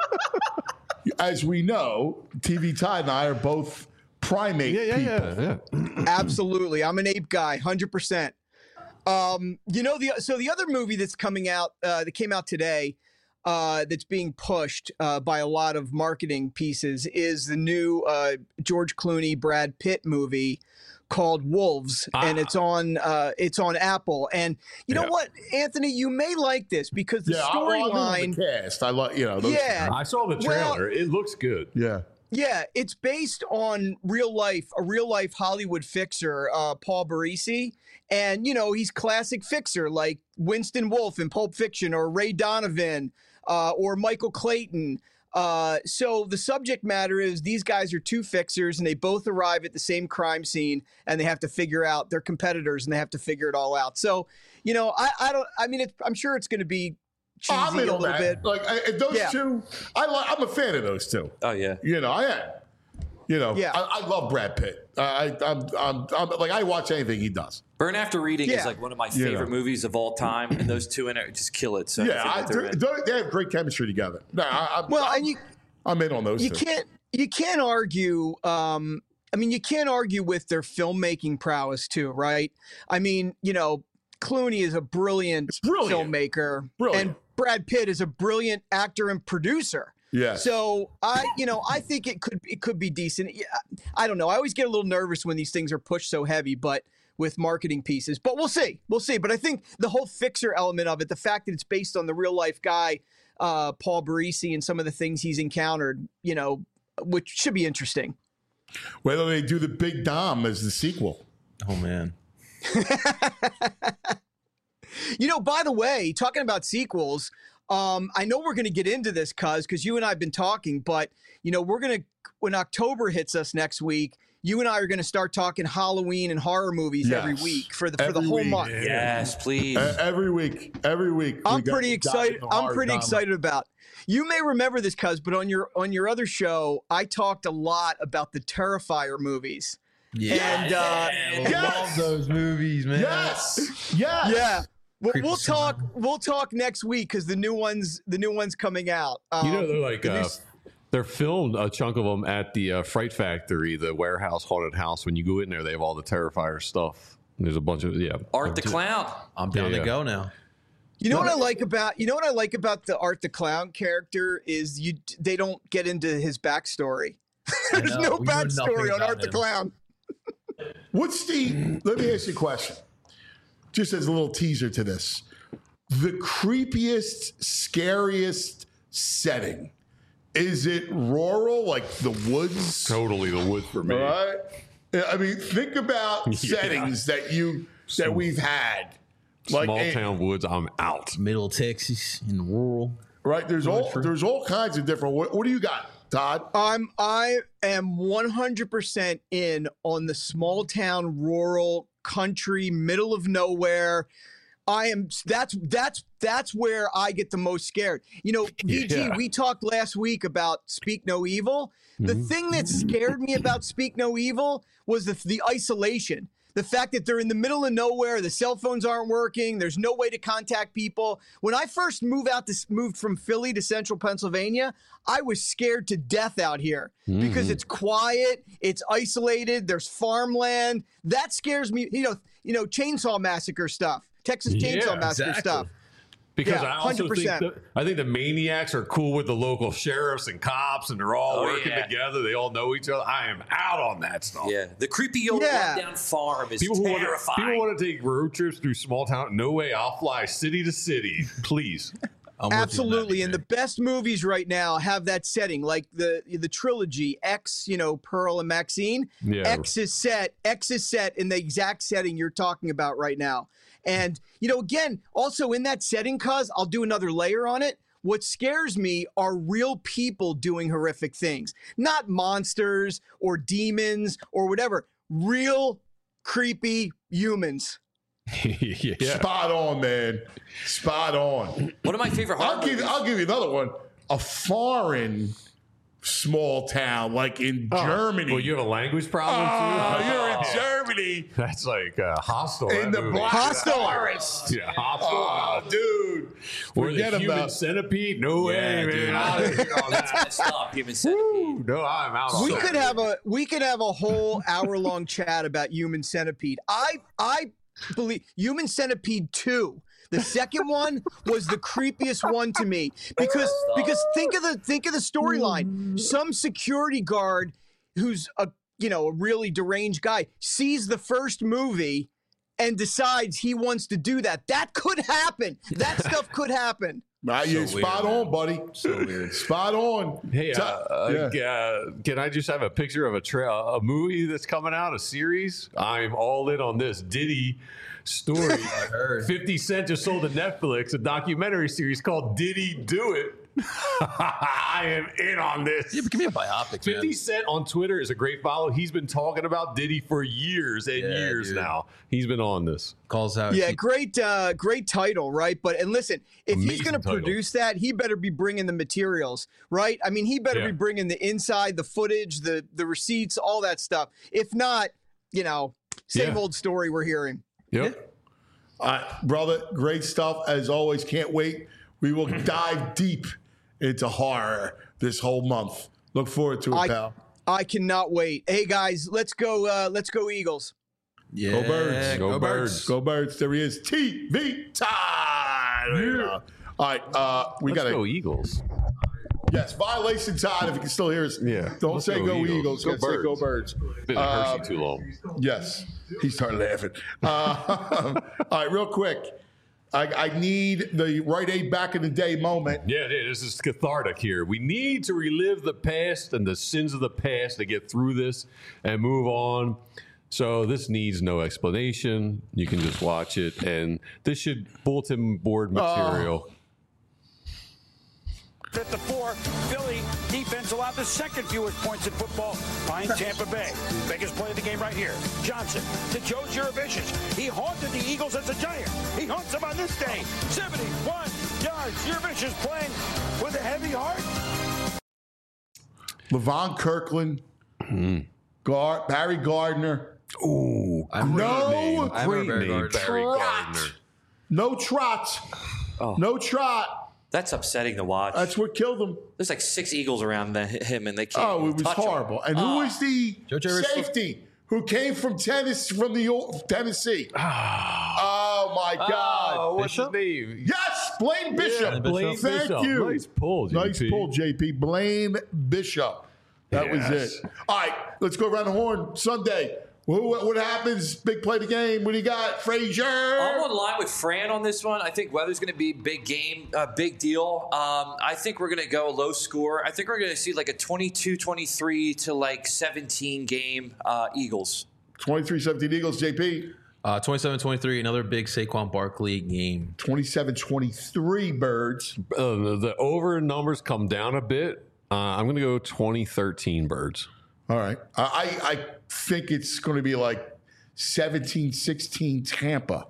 As we know, T V Tide and I are both primate yeah, yeah, people. yeah, yeah. Absolutely. I'm an ape guy, one hundred percent. Um, you know, the so the other movie that's coming out, uh, that came out today, uh, that's being pushed uh, by a lot of marketing pieces is the new uh, George Clooney, Brad Pitt movie called Wolves, and it's on uh, it's on Apple. And you know Yeah. what, Anthony, you may like this because the Yeah, I, well, I know storyline. the cast. I like you know. Those, Yeah. I saw the Well- trailer. it looks good. yeah. Yeah, it's based on real life, a real life Hollywood fixer, uh, Paul Barisi. And, you know, he's classic fixer like Winston Wolfe in Pulp Fiction or Ray Donovan uh, or Michael Clayton. Uh, so the subject matter is these guys are two fixers and they both arrive at the same crime scene and they have to figure out their competitors and they have to figure it all out. So, you know, I, I don't, I mean, it's, I'm sure it's going to be cheesy I'm in a on little that. bit. Like I, those Yeah. two, I like. I'm a fan of those two. Oh yeah. You know, I am. You know, Yeah. I, I love Brad Pitt. I, I, I'm, I'm, I'm like I watch anything he does. Burn After Reading Yeah. is like one of my You favorite know. movies of all time, and those two in it just kill it. So yeah, I I, think that they're they're- in. they they have great chemistry together. No, I, I'm, Well, I'm, and you, I'm in on those you two. can't you can't argue um I mean you can't argue with their filmmaking prowess too, right? I mean, you know, Clooney is a brilliant, brilliant. filmmaker Brilliant. and Brad Pitt is a brilliant actor and producer. Yeah. So I, you know, I think it could it could be decent. Yeah, I don't know. I always get a little nervous when these things are pushed so heavy, but with marketing pieces. But we'll see. We'll see. But I think the whole fixer element of it, the fact that it's based on the real life guy, uh, Paul Barisi and some of the things he's encountered, you know, which should be interesting. Whether they do the Big Dom as the sequel. Oh, man. You know, by the way, talking about sequels, um, I know we're going to get into this, Cuz, because you and I have been talking, but, you know, we're going to, when October hits us next week, you and I are going to start talking Halloween and horror movies Yes. every week for the for Every the whole week. month. Yes, please. Uh, every week. Every week. we I'm got- pretty got excited. the I'm horror pretty drama. excited about. You may remember this, Cuz, but on your on your other show, I talked a lot about the Terrifier movies. Yeah. And uh, I love those movies, man. Yes. Yes. yeah. We'll, Creepy we'll talk. sound. We'll talk next week because the new ones, the new ones coming out. Um, You know, they're like, the new uh, s- they're filmed a chunk of them at the uh, Fright Factory, the warehouse haunted house. When you go in there, they have all the Terrifier stuff. There's a bunch of, yeah. Art the Clown. I'm down Yeah, to yeah. go now. You know what I like about you know what I like about the Art the Clown character is you they don't get into his backstory. There's know. no We know nothing backstory on about Art the him. Clown. What's the, let me ask you a question. Just as a little teaser to this. The creepiest, scariest setting. Is it rural, like the woods? Totally the woods for me. All right. Yeah, I mean, think about Yeah. settings that you that we've had. Like Small a- town woods, I'm out. Middle Texas in rural. right? There's all there's all kinds of different. What, what do you got, Todd? I'm I am one hundred percent in on the small town, rural, country, middle of nowhere. I am that's that's that's where I get the most scared. You know, V G, Yeah. we talked last week about Speak No Evil. The Mm-hmm. thing that scared me about Speak No Evil was the the isolation. The fact that they're in the middle of nowhere, the cell phones aren't working, there's no way to contact people. When I first moved out to moved from Philly to central Pennsylvania, I was scared to death out here because Mhm. it's quiet, it's isolated, there's farmland. That scares me, you know, you know, Chainsaw Massacre stuff, Texas Chainsaw Yeah, Massacre exactly. stuff. Because Yeah, I also think one hundred percent. that, I think the maniacs are cool with the local sheriffs and cops, and they're all Oh, working yeah. together. They all know each other. I am out on that stuff. Yeah, the creepy old Yeah. rundown farm is People who, want to, terrifying. people want to take road trips through small town. No way. I'll fly city to city. Please. I'm with you on that, Absolutely, and B J. the best movies right now have that setting, like the the trilogy X, you know, Pearl and Maxine. Yeah. X is set. X is set in the exact setting you're talking about right now. And you know, again, also in that setting, cuz I'll do another layer on it. What scares me are real people doing horrific things, not monsters or demons or whatever. Real creepy humans. yeah. Spot on, man. Spot on. One of my favorite horror I'll give movies. I'll give you another one. A foreign small town, like in Germany. Well, you have a language problem Oh, too? you're in Germany. That's like uh, hostile. In that the movie. Black Hostile. Forest. Yeah, hostile. Oh, dude. or the Forget human about centipede. No Yeah, way, dude. man. I don't hear all That's that. messed up. Human centipede. No, I'm out on We that. could have a we could have a whole hour long chat about Human Centipede. I I believe Human Centipede two. The second one was the creepiest one to me because because think of the think of the storyline. Some security guard who's a you know a really deranged guy sees the first movie and decides he wants to do that. That could happen. That stuff could happen. Right, So you're weird, spot man. on, buddy. So weird. Spot on. Hey, uh, Ta- uh, yeah. uh, can I just have a picture of a tra- a movie that's coming out, a series? I'm all in on this Diddy story. I heard. fifty Cent just sold to Netflix a documentary series called Did He Do It? I am in on this. Yeah, but give me a biopic, fifty man. Cent on Twitter is a great follow. He's been talking about Diddy for years and Yeah, years dude. now. He's been on this. Calls out. Yeah, great, uh, great title, right? But and listen, if he's Amazing going to title. produce that, he better be bringing the materials, right? I mean, he better Yeah. be bringing the inside, the footage, the the receipts, all that stuff. If not, you know, same Yeah. old story we're hearing. Yep. All right, brother, great stuff as always. Can't wait. We will dive deep into horror this whole month. Look forward to it, I pal. I cannot wait. Hey guys, let's go. Uh, let's go Eagles. Yeah, Go Birds. Go Birds. Go Birds. There he is. T V time. There you go. All right, uh, we Let's got go to. Eagles. Yes, violation time. If you can still hear us, Yeah. Don't Let's say go go Eagles. Eagles. Go Go say go Birds. Been a Uh, Hershey too long. Yes, he started laughing. Uh, all right, real quick. I, I need the Rite Aid back in the day moment. Yeah, it is. This is cathartic here. We need to relive the past and the sins of the past to get through this and move on. So this needs no explanation. You can just watch it, and this should bulletin board material. Oh. At the four, Philly defense allowed the second fewest points in football behind Tampa Bay. Biggest play of the game right here. Johnson to Joe Jurevicius. He haunted the Eagles as a Giant. He haunts them on this day. seventy-one yards. Jurevicius playing with a heavy heart. Levon Kirkland, mm. Gar- Barry Gardner. Ooh, I'm no name. great Barry name. Barry Gardner. No trot. Oh. No trot. That's upsetting to watch. That's what killed him. There's like six Eagles around the, him, and they can't. Oh, it was touch horrible. Him. And who Oh. was the Joe safety who came from Tennessee, from the old Tennessee? Oh my God! Oh, what's his name? Yes, Blaine Bishop. Yeah, Blaine Thank Bishop. you. Nice pull, J P. Nice pull, J P. Blaine Bishop. That Yes. was it. All right, let's go around the horn. Sunday. Who, what happens? Big play of the game. What do you got, Frazier? I'm on line with Fran on this one. I think weather's going to be a big game, a big deal. Um, I think we're going to go low score. I think we're going to see like a twenty-two twenty-three to like seventeen game uh, Eagles. twenty-three seventeen Eagles, J P. Uh, twenty-seven twenty-three, another big Saquon Barkley game. twenty-seven twenty-three Birds. Uh, the, the over numbers come down a bit. Uh, I'm going to go twenty thirteen Birds. All right. I, I think it's going to be like seventeen sixteen Tampa.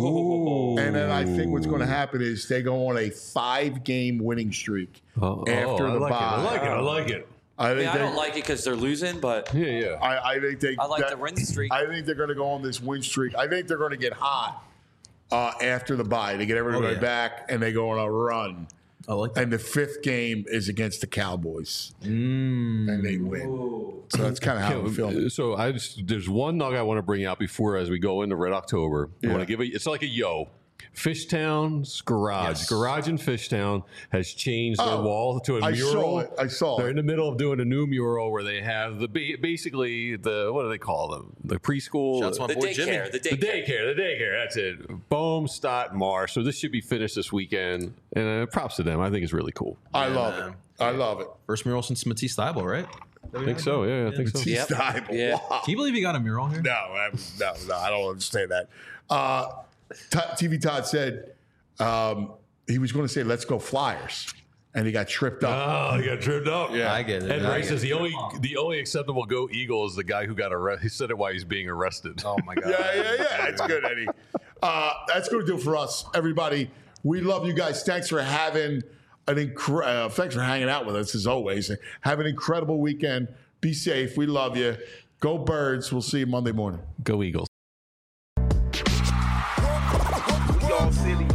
Ooh. And then I think what's going to happen is they go on a five-game winning streak Oh, after oh, the I like bye. it. I like it. I like it. I think Yeah, I they, don't like it because they're losing, but Yeah, yeah. I, I think they. I like that- the win streak. I think they're going to go on this win streak. I think they're going to get hot uh, after the bye. They get everybody Oh, yeah. back and they go on a run. I like that. And the fifth game is against the Cowboys, Mm. and they win. So that's kind of how I'm feeling. So I just, there's one nugget I want to bring out before as we go into Red October. I Yeah. want to give it. It's like a yo. Fishtown's garage, Yes. garage in Fishtown has changed their Oh, wall to a I mural. saw it. I saw They're it. in the middle of doing a new mural where they have the ba- basically the what do they call them? The preschool, Shouts to my the boy Jimmy. daycare, the the daycare. daycare, the daycare. That's it. Boom, Stott, Marsh. So this should be finished this weekend, and uh, props to them. I think it's really cool. I Yeah, love man. it. I love it. First mural since Matisse Thybulle, right? I think so. Yeah, I think so. Yep. Style. Yeah. Wow. Can you believe he got a mural here? No, I- no, no, I don't understand that. Uh, T- T V Todd said um, he was going to say, "Let's go Flyers," and he got tripped up. Oh, he got tripped up. Yeah. I get it. And I Ray get says it. the only the only acceptable go Eagle is the guy who got arrested. He said it while he's being arrested. Oh my god. Yeah, yeah, yeah. That's good, Eddie. Uh, that's going to do it for us, everybody. We love you guys. Thanks for having an incre- uh, thanks for hanging out with us as always. Have an incredible weekend. Be safe. We love you. Go Birds. We'll see you Monday morning. Go Eagles. Y'all silly.